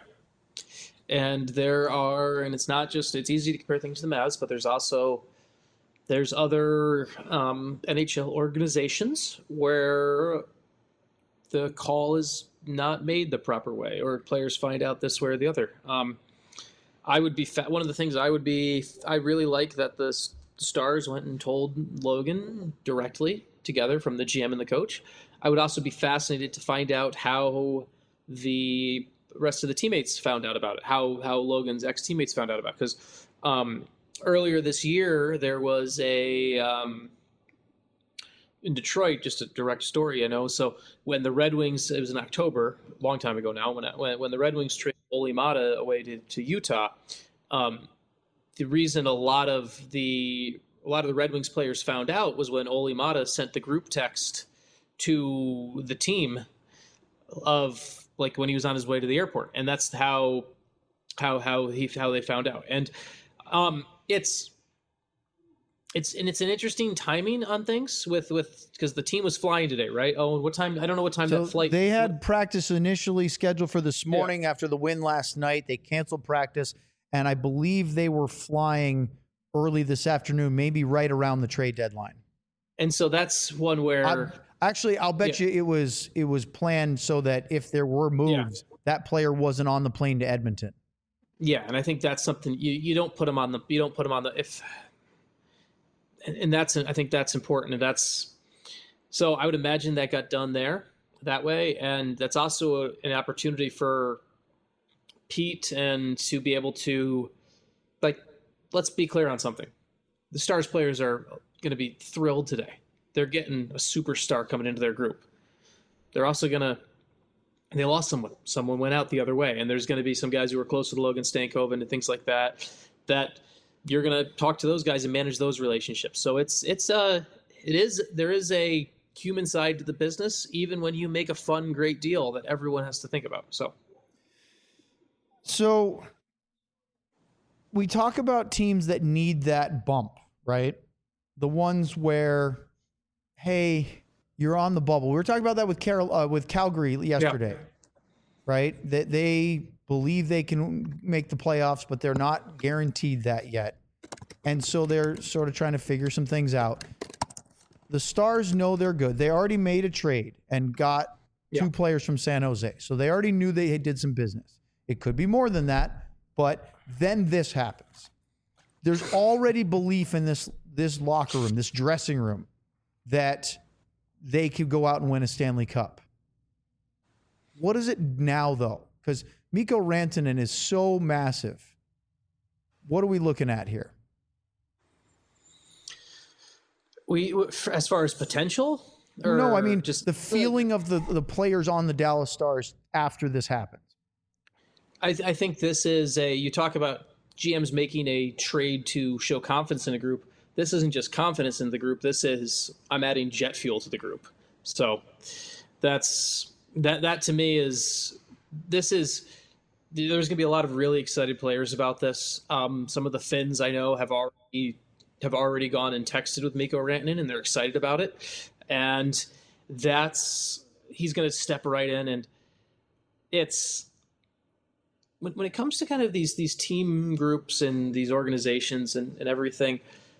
And there are, and it's not just, it's easy to compare things to the Mavs, but there's also, there's other um, N H L organizations where the call is not made the proper way, or players find out this way or the other. Um, I would be, fa- one of the things I would be, I really like that the Stars went and told Logan directly together from the G M and the coach. I would also be fascinated to find out how the rest of the teammates found out about it, how how Logan's ex-teammates found out about it. Because um, earlier this year, there was a, um, in Detroit, just a direct story, you know, so when the Red Wings, it was in October, a long time ago now, when when, when the Red Wings traded Olli Maatta away to, to Utah, um, the reason a lot of the a lot of the Red Wings players found out was when Olli Maatta sent the group text to the team of, like, when he was on his way to the airport, and that's how how how he how they found out. And um, it's it's and it's an interesting timing on things with with because the team was flying today, right? Oh, what time? I don't know what time so that flight. They had practice initially scheduled for this morning yeah. after the win last night. They canceled practice, and I believe they were flying early this afternoon, maybe right around the trade deadline. And so that's one where. I'm, Actually, I'll bet yeah. you it was it was planned so that if there were moves, yeah. that player wasn't on the plane to Edmonton. Yeah, and I think that's something you, you don't put him on the you don't put him on the if, and, and that's I think that's important, and that's so I would imagine that got done there that way, and that's also a, an opportunity for Pete and to be able to, like, let's be clear on something. The Stars players are going to be thrilled today. They're getting a superstar coming into their group. They're also going to, they lost someone. Someone went out the other way. And there's going to be some guys who are closer to Logan Stankoven and things like that, that you're going to talk to those guys and manage those relationships. So it's, it's, uh, it is, there is a human side to the business, even when you make a fun, great deal that everyone has to think about. So, so we talk about teams that need that bump, right? The ones where, hey, you're on the bubble. We were talking about that with Carol, uh, with Calgary yesterday, yeah. right? That they believe they can make the playoffs, but they're not guaranteed that yet. And so they're sort of trying to figure some things out. The Stars know they're good. They already made a trade and got yeah. two players from San Jose. So they already knew they did some business. It could be more than that, but then this happens. There's already belief in this this locker room, this dressing room, that they could go out and win a Stanley Cup. What is it now, though? Because Mikko Rantanen is so massive. What are we looking at here? We as far as potential. Or no, I mean just the feeling of the the players on the Dallas Stars after this happens. I, th- I think this is a. You talk about G Ms making a trade to show confidence in a group. This isn't just confidence in the group. This is I'm adding jet fuel to the group. So that's that. That to me is this is. There's going to be a lot of really excited players about this. Um, some of the Finns I know have already have already gone and texted with Mikko Rantanen, and they're excited about it. And that's he's going to step right in, and it's when when it comes to kind of these these team groups and these organizations and, and everything.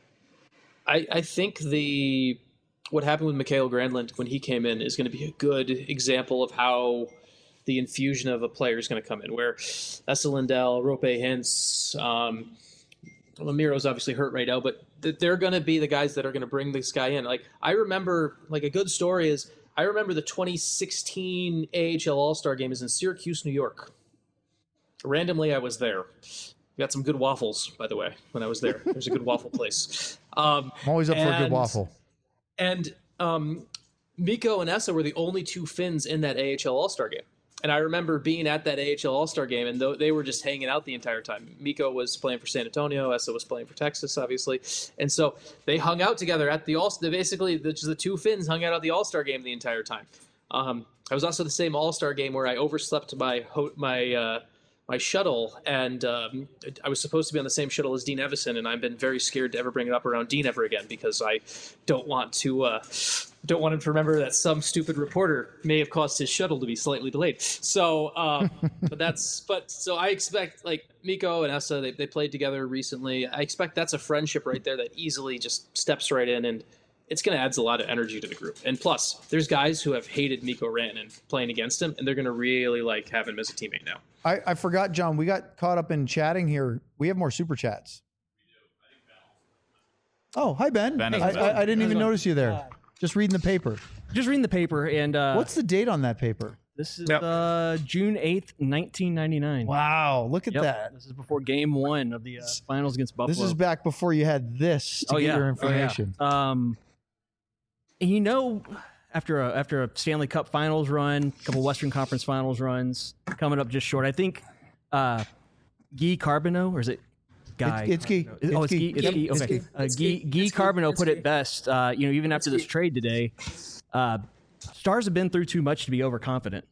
I I think the what happened with Mikael Granlund when he came in is going to be a good example of how the infusion of a player is going to come in, where Esa Lindell, Rope Hintz, um, Lemiro's obviously hurt right now, but th- they're going to be the guys that are going to bring this guy in. Like I remember, like a good story is I remember the twenty sixteen A H L All-Star game is in Syracuse, New York. Randomly, I was there. Got some good waffles, by the way, when I was there. There's a good waffle place. Um, I'm always up and, for a good waffle. And um, Mikko and Esa were the only two Finns in that A H L All-Star game. And I remember being at that A H L All-Star game, and th- they were just hanging out the entire time. Mikko was playing for San Antonio. Esa was playing for Texas, obviously. And so they hung out together at the All-Star. Basically, the, the two Finns hung out at the All-Star game the entire time. Um, I was also at the same All-Star game where I overslept my ho- my uh, my shuttle, and um, I was supposed to be on the same shuttle as Dean Evison, and I've been very scared to ever bring it up around Dean ever again because I don't want to uh, don't want him to remember that some stupid reporter may have caused his shuttle to be slightly delayed. So, um, but that's but so I expect like Mikko and Esa, they they played together recently. I expect that's a friendship right there that easily just steps right in, and it's going to add a lot of energy to the group. And plus, there's guys who have hated Mikko Rantanen playing against him, and they're going to really like have him as a teammate now. I, I forgot, John. We got caught up in chatting here. We have more super chats. Oh, hi Ben. Ben is I, Ben. I, I didn't even How's it going? notice you there. Uh, Just reading the paper. Just reading the paper, and uh, What's the date on that paper? this is Yep. uh, June eighth, nineteen ninety-nine. Wow, look at Yep. that. This is before Game One of the uh, finals against Buffalo. This is back before you had this to oh, get yeah. your Oh, information. yeah. Um, and you know, after a after a Stanley Cup Finals run, a couple Western Conference Finals runs, coming up just short. I think uh, Guy Carbonneau, or is it Guy? It's- it's Guy. Oh, It's it's Guy. Guy. It's Yep, Guy. it's Okay. Guy. Uh, It's Guy, Guy. Guy It's Guy. Carbonneau It's put Guy. it best. Uh, you know, even after this trade today, uh, Stars have been through too much to be overconfident.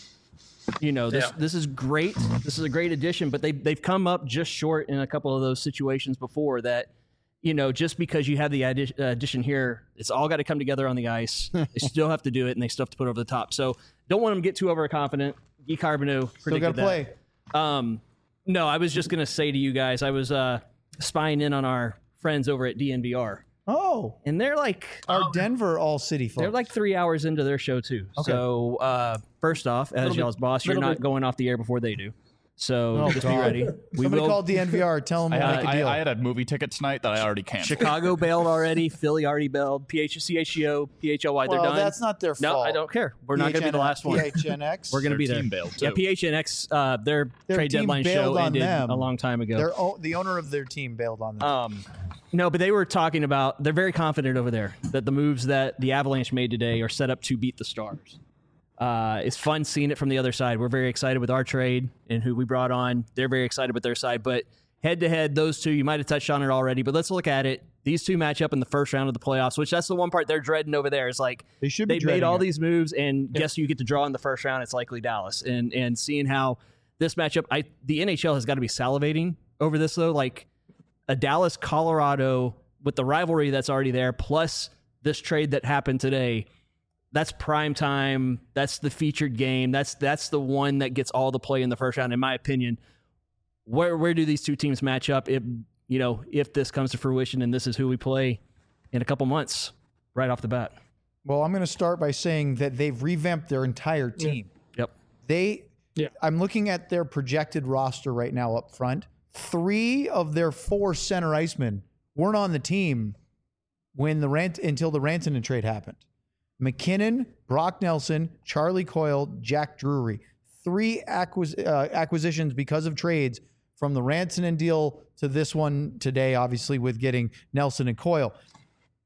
You know, this Yeah. this is great. This is a great addition, but they they've come up just short in a couple of those situations before that. You know, just because you have the addi- uh, addition here, it's all got to come together on the ice. They still have to do it, and they still have to put it over the top. So don't want them to get too overconfident. Guy Carbonneau Still got predicted to play. that. Um, no, I was just going to say to you guys, I was uh, spying in on our friends over at D N V R, Oh, and they're like our Denver All City folks. they're like three hours into their show too. Okay. So uh, first off, as Little y'all's bit- boss, you're little not bit- going off the air before they do. So Oh, just God. be ready. We Somebody will. call D N V R. Tell them I, we'll had, make a I, deal. I had a movie ticket tonight that I already canceled. Chicago bailed already. Philly already bailed. P H C H G O, P H L Y, they're well, done. that's not their no, fault. I don't care. We're not going to be the last one. P H N X. We're going to Their be there. team bailed, Yeah, too. P H N X, uh, their, Their trade team deadline bailed show on ended them. a long time ago. Their o- the owner of their team bailed on them. Um, no, but they were talking about, they're very confident over there that the moves that the Avalanche made today are set up to beat the Stars. Uh, it's fun seeing it from the other side. We're very excited with our trade and who we brought on. They're very excited with their side. But head to head, those two, you might have touched on it already, but let's look at it. These two match up in the first round of the playoffs, which that's the one part they're dreading over there. It's like They should be they made dreading all it. these moves, and guess who you get to draw in the first round? It's likely Dallas. And and seeing how this matchup, I the N H L has got to be salivating over this though. Like a Dallas Colorado with the rivalry that's already there, plus this trade that happened today. That's prime time. That's the featured game. That's that's the one that gets all the play in the first round, in my opinion. Where where do these two teams match up? If you know if this comes to fruition and this is who we play in a couple months, right off the bat. Well, I'm going to start by saying that they've revamped their entire team. Yep. They, Yeah. I'm looking at their projected roster right now up front. Three of their four center icemen weren't on the team when the rant until the Rantanen trade happened. McKinnon, Brock Nelson, Charlie Coyle, Jack Drury. Three acquis- uh, acquisitions because of trades from the Rantanen deal to this one today, obviously with getting Nelson and Coyle.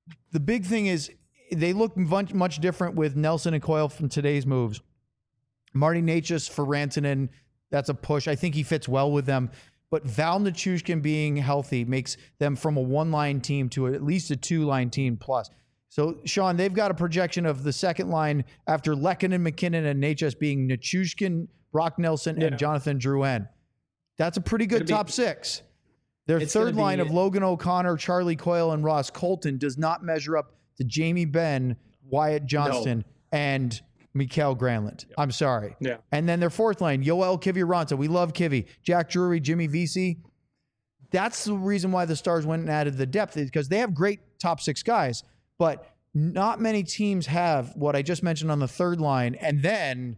the big thing is they look much, much different with Nelson and Coyle from today's moves. Marty Necas for Rantanen, that's a push. I think he fits well with them. But Val Nichushkin being healthy makes them from a one-line team to at least a two-line team plus. So, Sean, they've got a projection of the second line after Lehkonen, McKinnon, and Necas being Nichushkin, Brock Nelson, Yeah. and Jonathan Drouin. That's a pretty good It'll be- top six. Their It's third gonna line be- of Logan O'Connor, Charlie Coyle, and Ross Colton does not measure up to Jamie Benn, Wyatt Johnston, and Mikael Granlund. I'm sorry. Yeah. And then their fourth line, Yoel Kiviranta. We love Kivy. Jack Drury, Jimmy Vesey. That's the reason why the Stars went and added the depth, is because they have great top six guys, but not many teams have what I just mentioned on the third line. And then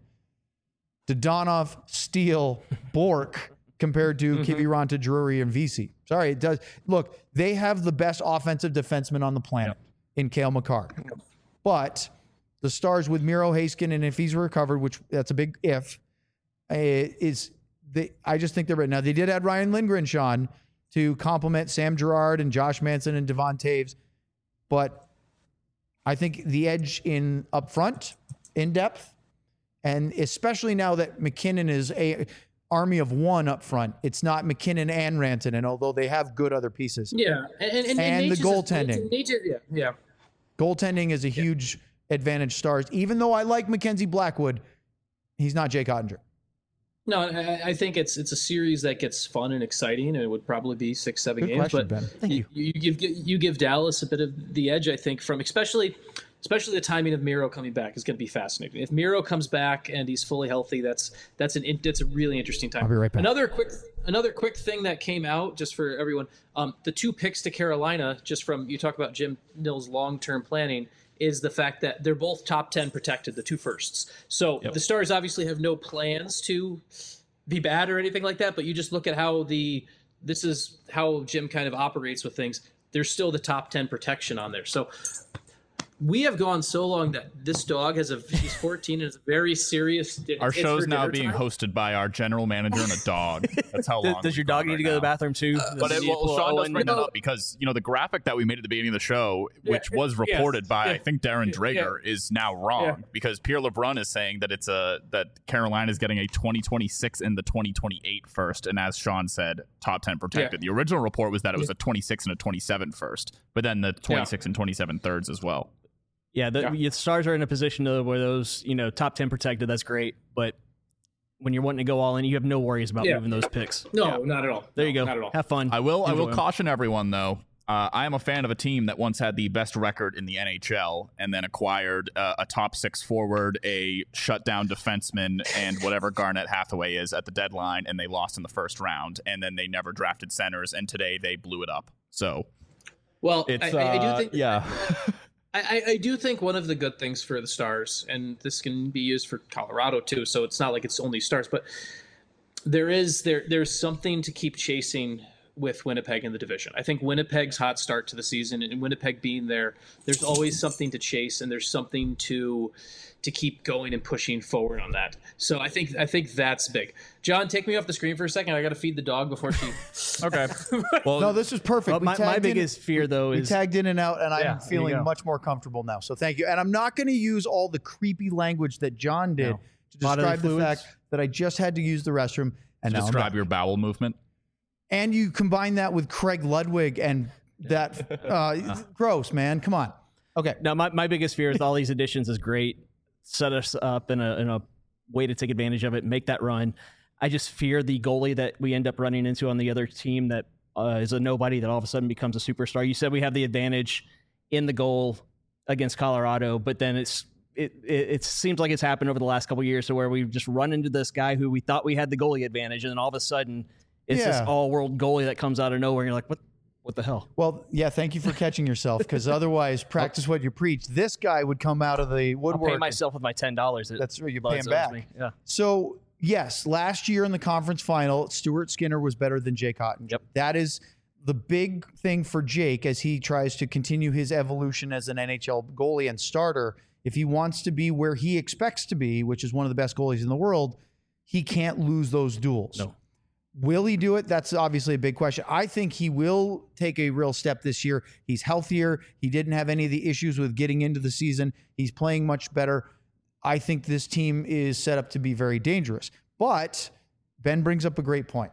Dodonov, Steele, Bork compared to Mm-hmm. Kiviranta, Drury, and Vesey. Sorry, it does. Look, they have the best offensive defenseman on the planet in Cale Makar. But the Stars with Miro Heiskanen, and if he's recovered, which that's a big if, uh, is they. I just think they're right now. They did add Ryan Lindgren, Sean, to complement Sam Girard and Josh Manson and Devon Taves, but I think the edge in up front, in depth, and especially now that McKinnon is a army of one up front, it's not McKinnon and Rantanen, although they have good other pieces. Yeah, and and, and, And the Necas is- goaltending. Necas- yeah, yeah. Goaltending is a huge advantage. Stars, even though I like Mackenzie Blackwood, he's not Jake Ottinger. No, I, I think it's it's a series that gets fun and exciting, and it would probably be six, seven Good games. question, but Ben. Thank you. you give you give Dallas a bit of the edge, I think, from especially especially the timing of Miro coming back is going to be fascinating. If Miro comes back and he's fully healthy, that's that's an that's a really interesting time. I'll be right back. Another quick another quick thing that came out just for everyone, um, the two picks to Carolina, just from you talk about Jim Nill's long term planning, is the fact that they're both top ten protected, the two firsts. So the Stars obviously have no plans to be bad or anything like that, but you just look at how the this is how Jim kind of operates with things. There's still the top ten protection on there. So we have gone so long that this dog has a he's fourteen and is a very serious. Our it's show's for now dinner being time. hosted by our general manager and a dog. That's how long. Does, does your we've dog gone need to right go to the now. bathroom too? But Does it, he well, pull Sean does Owen? bring that up because you know the graphic that we made at the beginning of the show, which Yeah, was yes, reported by yeah. I think Darren Yeah, Drager, is now wrong Yeah. because Pierre LeBrun is saying that it's a that Carolina is getting a twenty twenty-six and the twenty twenty-eight first, and as Sean said, top ten protected. The original report was that it was a twenty-six and a twenty-seven first, but then the twenty-six and twenty-seven thirds as well. Yeah, the, Yeah. the Stars are in a position to where those, you know, top ten protected, that's great. But when you're wanting to go all in, you have no worries about Yeah. moving those picks. No, not at all. There No, you go. Not at all. Have fun. I will. I Enjoy will them. caution everyone though. Uh, I am a fan of a team that once had the best record in the N H L and then acquired uh, a top six forward, a shutdown defenseman, and whatever Garnett Hathaway is at the deadline, and they lost in the first round. And then they never drafted centers, and today they blew it up. So Well, It's I, I, I uh, do think yeah. I, I- I do think one of the good things for the Stars, and this can be used for Colorado too, so it's not like it's only Stars, but there is there there's something to keep chasing with Winnipeg in the division. I think Winnipeg's hot start to the season and Winnipeg being there, there's always something to chase and there's something to to keep going and pushing forward on that. So I think I think that's big. John, take me off the screen for a second. I got to feed the dog before she. okay. Well, No, this is perfect. Well, We my, my tagged in- biggest fear, though, We is tagged in and out, and Yeah, I'm there you feeling go. much more comfortable now. So thank you. And I'm not going to use all the creepy language that John did No. to Bodily describe the fluids. fact that I just had to use the restroom. And now I'm describe back. your bowel movement. And you combine that with Craig Ludwig and that uh, gross, man. Come on. Okay. now my, my biggest fear with all these additions is great. Set us up in a in a way to take advantage of it, make that run. I just fear the goalie that we end up running into on the other team that uh, is a nobody that all of a sudden becomes a superstar. You said we have the advantage in the goal against Colorado, but then it's it it, it seems like it's happened over the last couple of years to where we've just run into this guy who we thought we had the goalie advantage, and then all of a sudden it's this Yeah. all-world goalie that comes out of nowhere, and you're like, what what the hell? Well, yeah, thank you for catching yourself, because otherwise, practice what you preach. This guy would come out of the I'll woodwork. pay myself with my ten dollars. That's right, you pay Loves him back. me. Yeah. So, yes, last year in the conference final, Stuart Skinner was better than Jake Ottinger. Yep. That is the big thing for Jake as he tries to continue his evolution as an N H L goalie and starter. If he wants to be where he expects to be, which is one of the best goalies in the world, he can't lose those duels. No. Will he do it? That's obviously a big question. I think he will take a real step this year. He's healthier. He didn't have any of the issues with getting into the season. He's playing much better. I think this team is set up to be very dangerous. But Ben brings up a great point.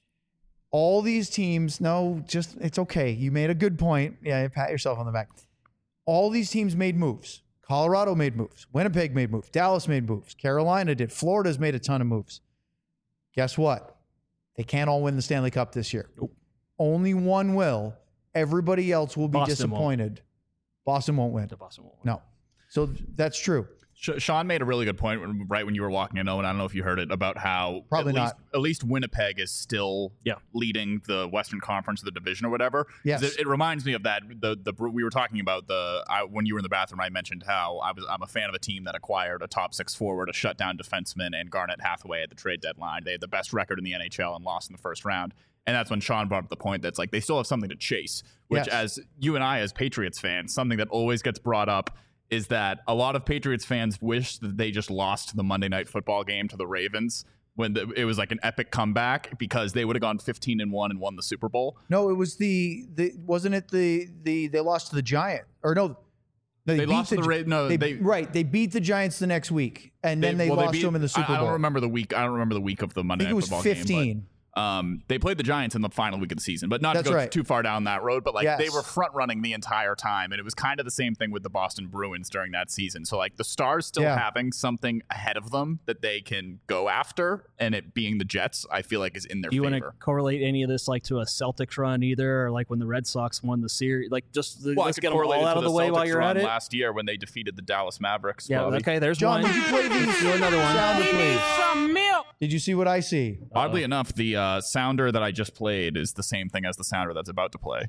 All these teams, no, just it's okay. You made a good point. Yeah, pat yourself on the back. All these teams made moves. Colorado made moves. Winnipeg made moves. Dallas made moves. Carolina did. Florida's made a ton of moves. Guess what? They can't all win the Stanley Cup this year. Nope. Only one will. Everybody else will be Boston disappointed. Won't. Boston won't win. The Boston won't win. No. So that's true. Sean made a really good point right when you were walking in, Owen. I don't know if you heard it, about how Probably at not. least, at least Winnipeg is still yeah. leading the Western Conference, the division or whatever. Yes. It, it reminds me of that. The the we were talking about the I, when you were in the bathroom. I mentioned how I was I'm a fan of a team that acquired a top six forward, a shutdown defenseman, and Garnet Hathaway at the trade deadline. They had the best record in the N H L and lost in the first round. And that's when Sean brought up the point that's like they still have something to chase. Which, Yes. as you and I, as Patriots fans, something that always gets brought up is that a lot of Patriots fans wish that they just lost the Monday Night Football game to the Ravens when the, it was like an epic comeback, because they would have gone fifteen and one and won the Super Bowl. No, it was the the wasn't it the the they lost to the Giant or no. They, They beat lost to the Ra- no, they, they- right. They beat the Giants the next week, and then they, well, lost beat- to them in the Super I, I Bowl. don't remember the week. I don't remember the week of the Monday I think it Night was Football fifteen. game. But, um, they played the Giants in the final week of the season, but not That's to go right. too far down that road. But like Yes. they were front running the entire time, and it was kind of the same thing with the Boston Bruins during that season. So like the Stars still Yeah. having something ahead of them that they can go after, and it being the Jets, I feel like is in their Do you want to favor. correlate any of this like to a Celtics run either, or like when the Red Sox won the series? Like just the, Well, let's I could get them correlate all it out to of the way Celtics while you're run at it. last year when they defeated the Dallas Mavericks. Yeah, Bobby. okay. There's John, one. did you play the Let's do another one. sounder, please? Some milk. Did you see what I see? Oddly enough, the uh, sounder that I just played is the same thing as the sounder that's about to play.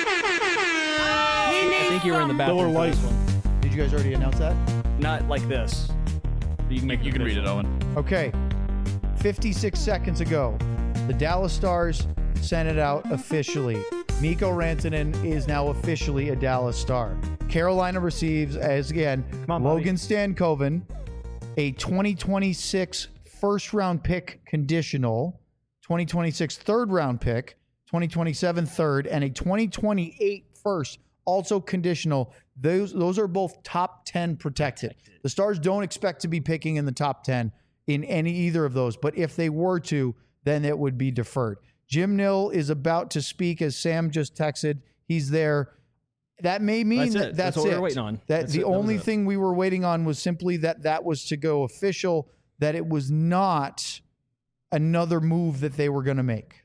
I think you were in the bathroom for this one. Did you guys already announce that? Not like this. You can make You can read it, Owen. Okay. fifty-six seconds ago, the Dallas Stars sent it out officially. Mikko Rantanen is now officially a Dallas Star. Carolina receives, as again, on, Logan Stankoven, a twenty twenty-six first round pick conditional, twenty twenty-six third round pick, twenty twenty-seven third, and a twenty twenty-eight first, also conditional. Those those are both top ten protected. The Stars don't expect to be picking in the top ten in any either of those, but if they were to, then it would be deferred. Jim Nill is about to speak, as Sam just texted. He's there. That may mean That's that it. that's, That's what we it. were waiting on. That That's the it. That was only it. thing we were waiting on was simply that that was to go official, that it was not another move that they were going to make.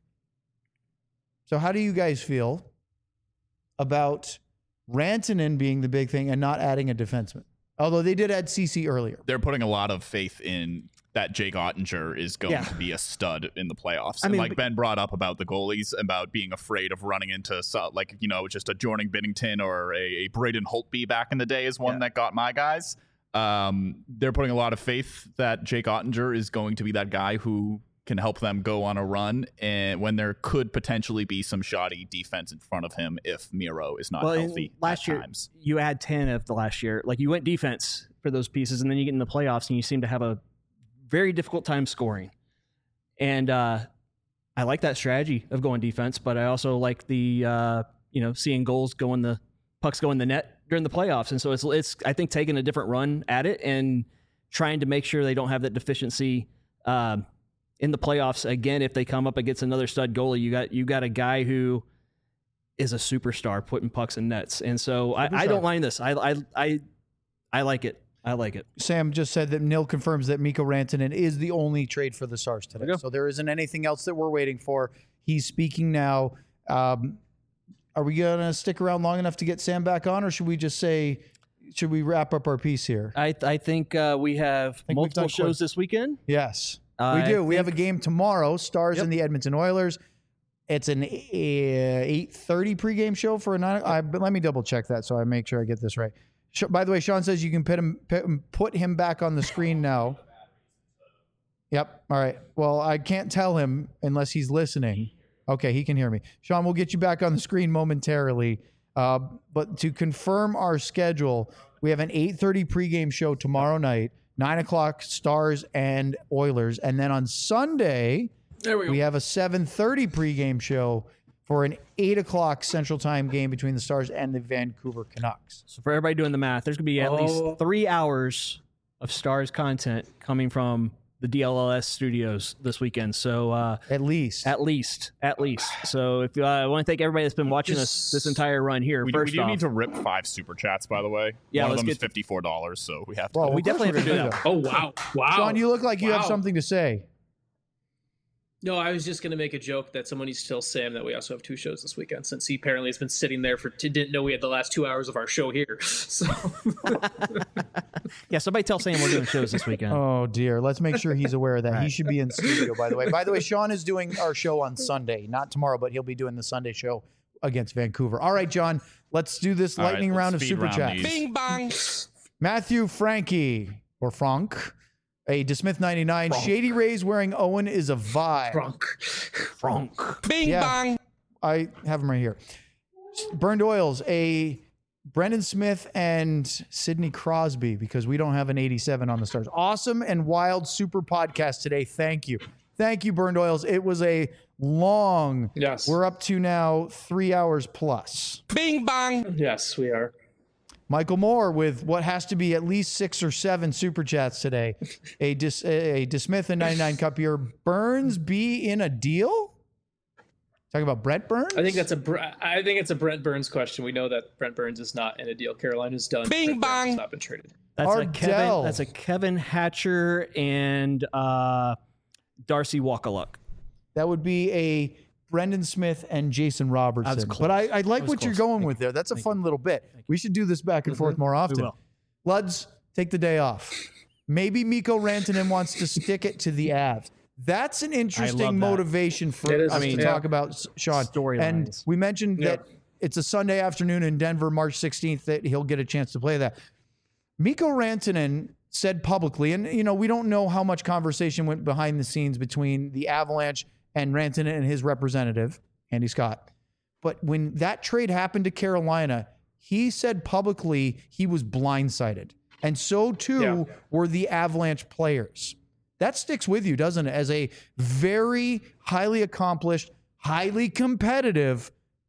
So how do you guys feel about Rantanen being the big thing and not adding a defenseman? Although they did add C C earlier. They're putting a lot of faith in that Jake Ottinger is going Yeah. to be a stud in the playoffs. I and mean, like but- Ben brought up about the goalies, about being afraid of running into, so- like, you know, just a Jordan Binnington or a, a Braden Holtby back in the day is one Yeah. that got my guys. Um, they're putting a lot of faith that Jake Ottinger is going to be that guy who can help them go on a run, and when there could potentially be some shoddy defense in front of him if Miro is not Well, in healthy last at year times. you had ten of the last year. Like you went defense for those pieces, and then you get in the playoffs and you seem to have a very difficult time scoring. And uh, I like that strategy of going defense, but I also like the uh, you know seeing goals go in the pucks go in the net during the playoffs. And so it's it's I think taking a different run at it and trying to make sure they don't have that deficiency um, in the playoffs again. If they come up against another stud goalie, you got you got a guy who is a superstar putting pucks in nets. And so I, I don't mind this. I I I I like it. I like it. Sam just said that Nil confirms that Mikko Rantanen is the only trade for the Stars today. There you go. So there isn't anything else that we're waiting for. He's speaking now. Um, are we going to stick around long enough to get Sam back on, or should we just say, should we wrap up our piece here? I I think uh, we have we've multiple done shows quick. this weekend. Yes, I we do. We have a think- game tomorrow, Stars Yep. and the Edmonton Oilers. It's an eight thirty pregame show for a nine. I, but let me double check that so I make sure I get this right. Sh- By the way, Sean says you can put him, put him put him back on the screen now. Yep. All right. Well, I can't tell him unless he's listening. Okay, he can hear me. Sean, we'll get you back on the screen momentarily. Uh, but to confirm our schedule, we have an eight thirty pregame show tomorrow night, nine o'clock Stars and Oilers. And then on Sunday, There we go. We have a seven thirty pregame show for an eight o'clock Central Time game between the Stars and the Vancouver Canucks. So for everybody doing the math, there's going to be at Oh. least three hours of Stars content coming from the D L L S studios this weekend. So uh, At least. at least, at least. So if uh, I want to thank everybody that's been watching us this entire run here. We do, we First do off, need to rip five super chats, by the way. Yeah, One of let's them is get- fifty-four dollars, so we have to. Well, we of course definitely we're have to gonna do do that. Oh, wow. Wow. Sean, you look like you have Wow. something to say. No, I was just going to make a joke that someone needs to tell Sam that we also have two shows this weekend, since he apparently has been sitting there for didn't know we had the last two hours of our show here. So Yeah, somebody tell Sam we're doing shows this weekend. Oh, dear. Let's make sure he's aware of that. He should be in studio, by the way. By the way, Sean is doing our show on Sunday. Not tomorrow, but he'll be doing the Sunday show against Vancouver. All right, John, let's do this All right, lightning let's round of speed Super round Chats. these. Bing bang. Matthew Frankie, or Frank, a DeSmith ninety-nine. Shady Rays wearing Owen is a vibe. Frank. Frank. Bing Yeah. bang. I have him right here. Burned Oils, a Brendan Smith and Sidney Crosby, because we don't have an eighty-seven on the Stars. Awesome and wild super podcast today. Thank you. Thank you, Burned Oils. It was a long, Yes. we're up to now three hours plus. Bing bang. Yes, we are. Michael Moore with what has to be at least six or seven super chats today. A Dis, a DeSmith and ninety-nine cup year. Burns be in a deal? Talking about Brent Burns? I think that's a Br- I think it's a Brent Burns question. We know that Brent Burns is not in a deal. Carolina's done. Bing Brent Burns has bang. not been traded. That's a Ardell. Kevin. That's a Kevin Hatcher and uh, Darcy Wakaluk. That would be a Brendan Smith and Jason Robertson. close. But I, I like was what you're close. going with there. That's a fun little bit. We should do this back and forth more often. will. Luds, take the day off. Maybe Mikko Rantanen wants to stick it to the Avs. That's an interesting that. motivation for It is. us I mean, to yeah. talk about, S- Sean. Storylines. And we mentioned Yeah. that it's a Sunday afternoon in Denver, March sixteenth, that he'll get a chance to play that. Mikko Rantanen said publicly, and you know, we don't know how much conversation went behind the scenes between the Avalanche and Rantanen and his representative, Andy Scott. But when that trade happened to Carolina, he said publicly he was blindsided. And so too Yeah. were the Avalanche players. That sticks with you, doesn't it? As a very highly accomplished, highly competitive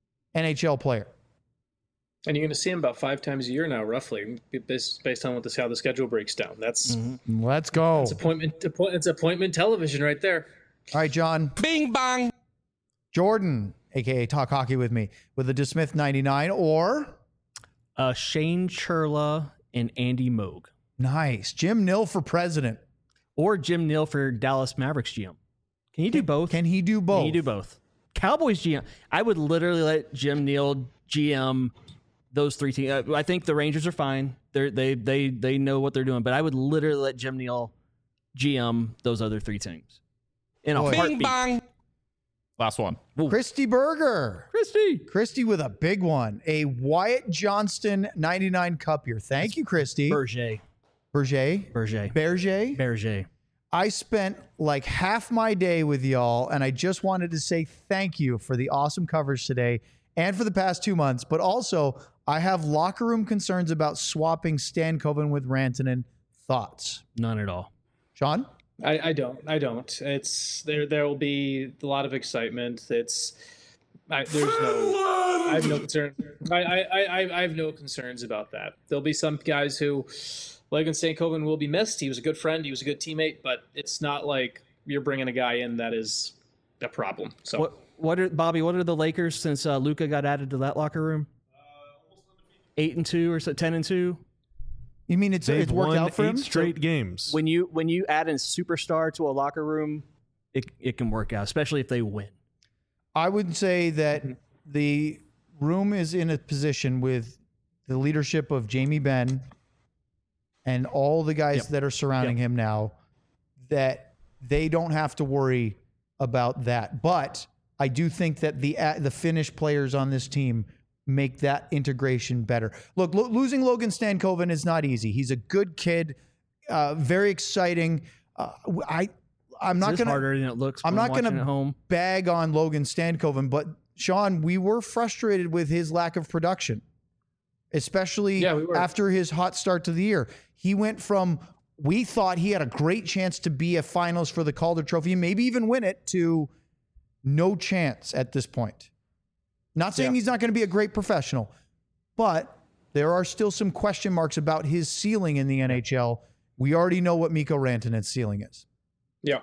N H L player. And you're going to see him about five times a year now, roughly, based, based on what this how the schedule breaks down. That's Let's go. it's appointment. appoint- It's appointment television right there. All right, John. Bing bang. Jordan, a k a. Talk Hockey with me, with a DeSmith ninety-nine, or Uh, Shane Churla and Andy Moog. nice, Jim Nill for president. Or Jim Neal for Dallas Mavericks G M. Can you do both? Can he do both? Can you do both? Cowboys G M. I would literally let Jim Neal G M those three teams. Uh, I think the Rangers are fine. They're, they they they know what they're doing. But I would literally let Jim Neal G M those other three teams in a Boy. Bing heartbeat. bang. Last one. Christy Berger. Christy. Christy with a big one. A Wyatt Johnston ninety-nine cup year. Thank you, Christy. Berger. Berger. Berger. Berger. Berger. I spent like half my day with y'all, and I just wanted to say thank you for the awesome coverage today and for the past two months. But also, I have locker room concerns about swapping Stankoven with Rantanen. Thoughts? None at all. Sean? I, I don't. I don't. It's there. There will be a lot of excitement. It's I, there's no. I have no concern. I, I, I, I have no concerns about that. There'll be some guys who, Logan Stankoven, will be missed. He was a good friend. He was a good teammate. But it's not like you're bringing a guy in that is a problem. So What what are Bobby? What are the Lakers since uh, Luka got added to that locker room? Eight and two or so, ten and two. You mean it's, They've it's worked won out for eight him? straight games. When you when you add a superstar to a locker room, it it can work out, especially if they win. I would say that the room is in a position with the leadership of Jamie Benn and all the guys Yep. that are surrounding him now that they don't have to worry about that. But I do think that the uh, the Finnish players on this team make that integration better. Look, lo- losing Logan Stankoven is not easy. He's a good kid, uh, very exciting. Uh, I I'm not It's going to harder than it looks. I'm when not watching going at to home. bag on Logan Stankoven, but Sean, we were frustrated with his lack of production, especially Yeah, we were. after his hot start to the year. He went from we thought he had a great chance to be a finalist for the Calder Trophy, maybe even win it, to no chance at this point. Not saying Yeah. he's not going to be a great professional, but there are still some question marks about his ceiling in the N H L. We already know what Mikko Rantanen's ceiling is. Yeah.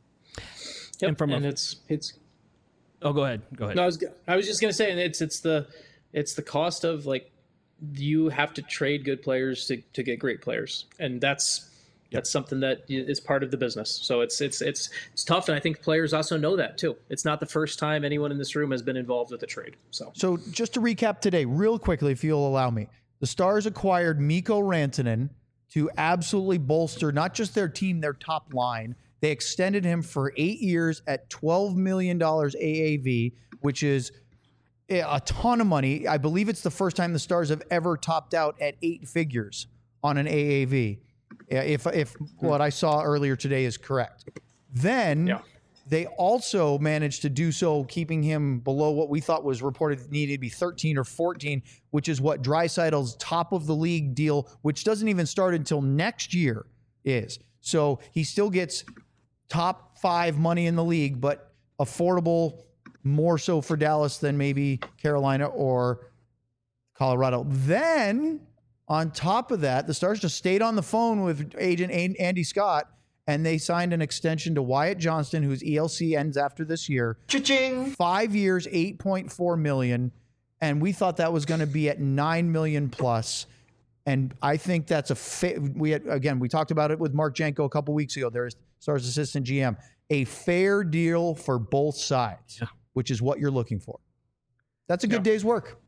Yep. And from a- and it's it's Oh, go ahead. Go ahead. No, I was I was just gonna say, and it's it's the it's the cost of, like, you have to trade good players to, to get great players, and that's that's something that is part of the business. So it's it's it's it's tough, and I think players also know that too. It's not the first time anyone in this room has been involved with a trade. So So just to recap today, real quickly, if you'll allow me, the Stars acquired Mikko Rantanen to absolutely bolster not just their team, their top line. They extended him for eight years at twelve million dollars A A V, which is a ton of money. I believe it's the first time the Stars have ever topped out at eight figures on an A A V, if if what I saw earlier today is correct. Then Yeah. they also managed to do so, keeping him below what we thought was reported needed to be thirteen or fourteen, which is what Draisaitl's top of the league deal, which doesn't even start until next year, is. So he still gets top five money in the league, but affordable more so for Dallas than maybe Carolina or Colorado. Then, on top of that, the Stars just stayed on the phone with agent Andy Scott, and they signed an extension to Wyatt Johnston, whose E L C ends after this year. Cha-ching! Five years, eight point four million dollars, and we thought that was going to be at nine million dollars plus. And I think that's a fa- we had, again, we talked about it with Mark Janko a couple weeks ago. There's Stars assistant G M, a fair deal for both sides, Yeah. which is what you're looking for. That's a good day's work.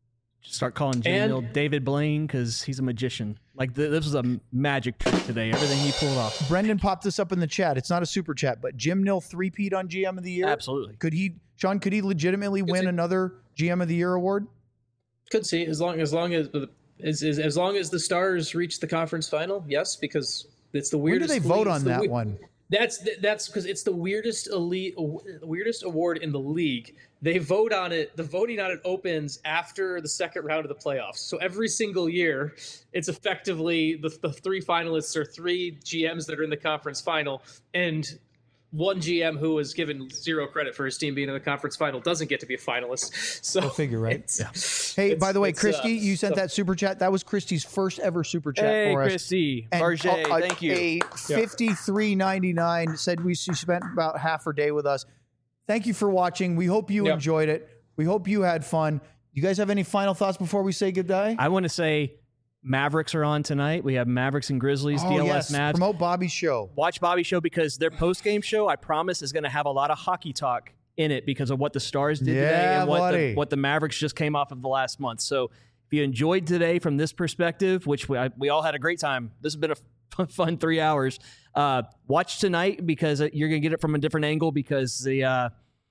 Start calling Jim And- Neal David Blaine because he's a magician. Like th- this was a magic trick today. Everything he pulled off. Brendan popped this up in the chat. It's not a super chat, but Jim Nill three-peat on G M of the year. Absolutely. Could he, Sean? Could he legitimately win see. another G M of the year award? could see as long as long as as, as as long as the Stars reach the conference final, yes, because it's the When do weirdest. they vote league- on it's the that we- one? That's that's because it's the weirdest elite, weirdest award in the league. They vote on it. The voting on it opens after the second round of the playoffs. So every single year, it's effectively the, the three finalists are three G Ms that are in the conference final, and one G M who was given zero credit for his team being in the conference final doesn't get to be a finalist. So Go figure, right? it's- Hey, it's- by the way, it's, Christy, uh, you sent so- that super chat. That was Christy's first ever super chat Hey, for us. Christy, And Barge, a- a- thank you. A fifty-three ninety-nine said we she spent about half her day with us. Thank you for watching. We hope you Yeah. enjoyed it. We hope you had fun. You guys have any final thoughts before we say goodbye? I want to say Mavericks are on tonight. We have Mavericks and Grizzlies, oh, D L yes. S Mavs. Promote Bobby's show. Watch Bobby Show because their post game show, I promise, is going to have a lot of hockey talk in it because of what the Stars did today Yeah, and what buddy. the, what the Mavericks just came off of the last month. So if you enjoyed today from this perspective, which we, I, we all had a great time, this has been a fun, fun three hours. Uh, watch tonight because you're going to get it from a different angle because the uh,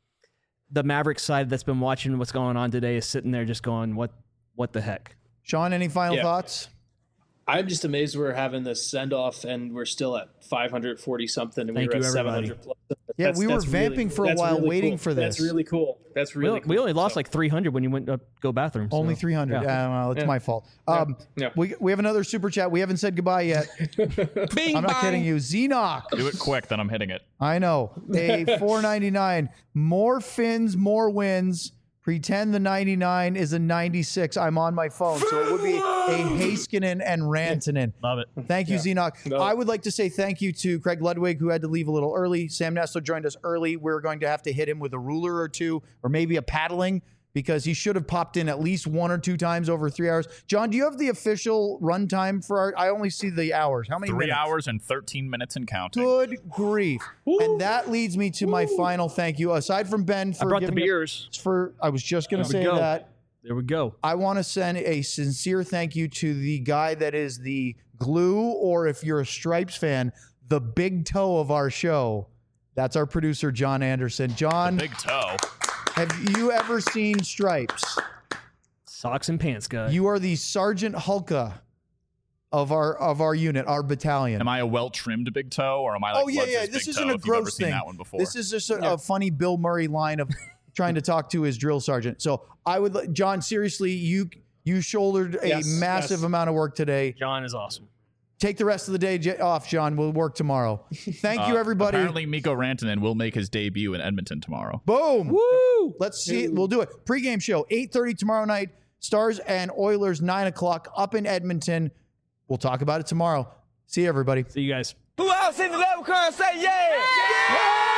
the Mavericks side that's been watching what's going on today is sitting there just going, what what the heck? Sean, any final Yeah. thoughts? I'm just amazed we're having this send off and we're still at five hundred forty something and Thank we were you, at everybody. seven hundred plus. Yeah, That's- we were that's really vamping cool. for a That's while really waiting cool. for That's this. really cool. That's We, really only- cool. we only lost So- like three hundred when you went to go bathroom. so- Only three hundred. Yeah. Yeah, well, it's Yeah. my fault. Um, Yeah. we, we have another super chat. We haven't said goodbye yet. Bing I'm not bang. kidding you. Xenoc. Do it quick, then I'm hitting it. I know. A four ninety-nine. More fins, more wins. Pretend the ninety-nine is a ninety-six. I'm on my phone. So it would be a Heiskanen and Rantanen. Love it. Thank you, Xenoc. No. I would like to say thank you to Craig Ludwig, who had to leave a little early. Sam Nessler joined us early. We're going to have to hit him with a ruler or two, or maybe a paddling, because he should have popped in at least one or two times over three hours. John, do you have the official runtime for our? I only see the hours. How many Three minutes? hours and thirteen minutes and counting. Good grief. And that leads me to my final thank you. Aside from Ben for I brought the giving us- beers. for I was just going to There we say go. that. There we go. I want to send a sincere thank you to the guy that is the glue, or if you're a Stripes fan, the big toe of our show. That's our producer, John Anderson. John, Big toe. have you ever seen Stripes? Socks and pants guy. You are the Sergeant Hulka of our of our unit, our battalion. Am I a well-trimmed big toe, or am I like oh yeah, Lutz's yeah. big This toe, isn't a if you've ever gross seen thing. that one before? This is just a, a funny Bill Murray line of trying to talk to his drill sergeant. So I would, let- John, seriously, you you shouldered a Yes, massive yes. amount of work today. John is awesome. take the rest of the day j- off, John. We'll work tomorrow. Thank you, Uh, everybody. Apparently, Mikko Rantanen will make his debut in Edmonton tomorrow. Boom. Woo. Let's see. We'll do it. Pre-game show, eight thirty tomorrow night. Stars and Oilers, nine o'clock up in Edmonton. We'll talk about it tomorrow. See you, everybody. See you guys. Who else in the level car say yeah? Yeah!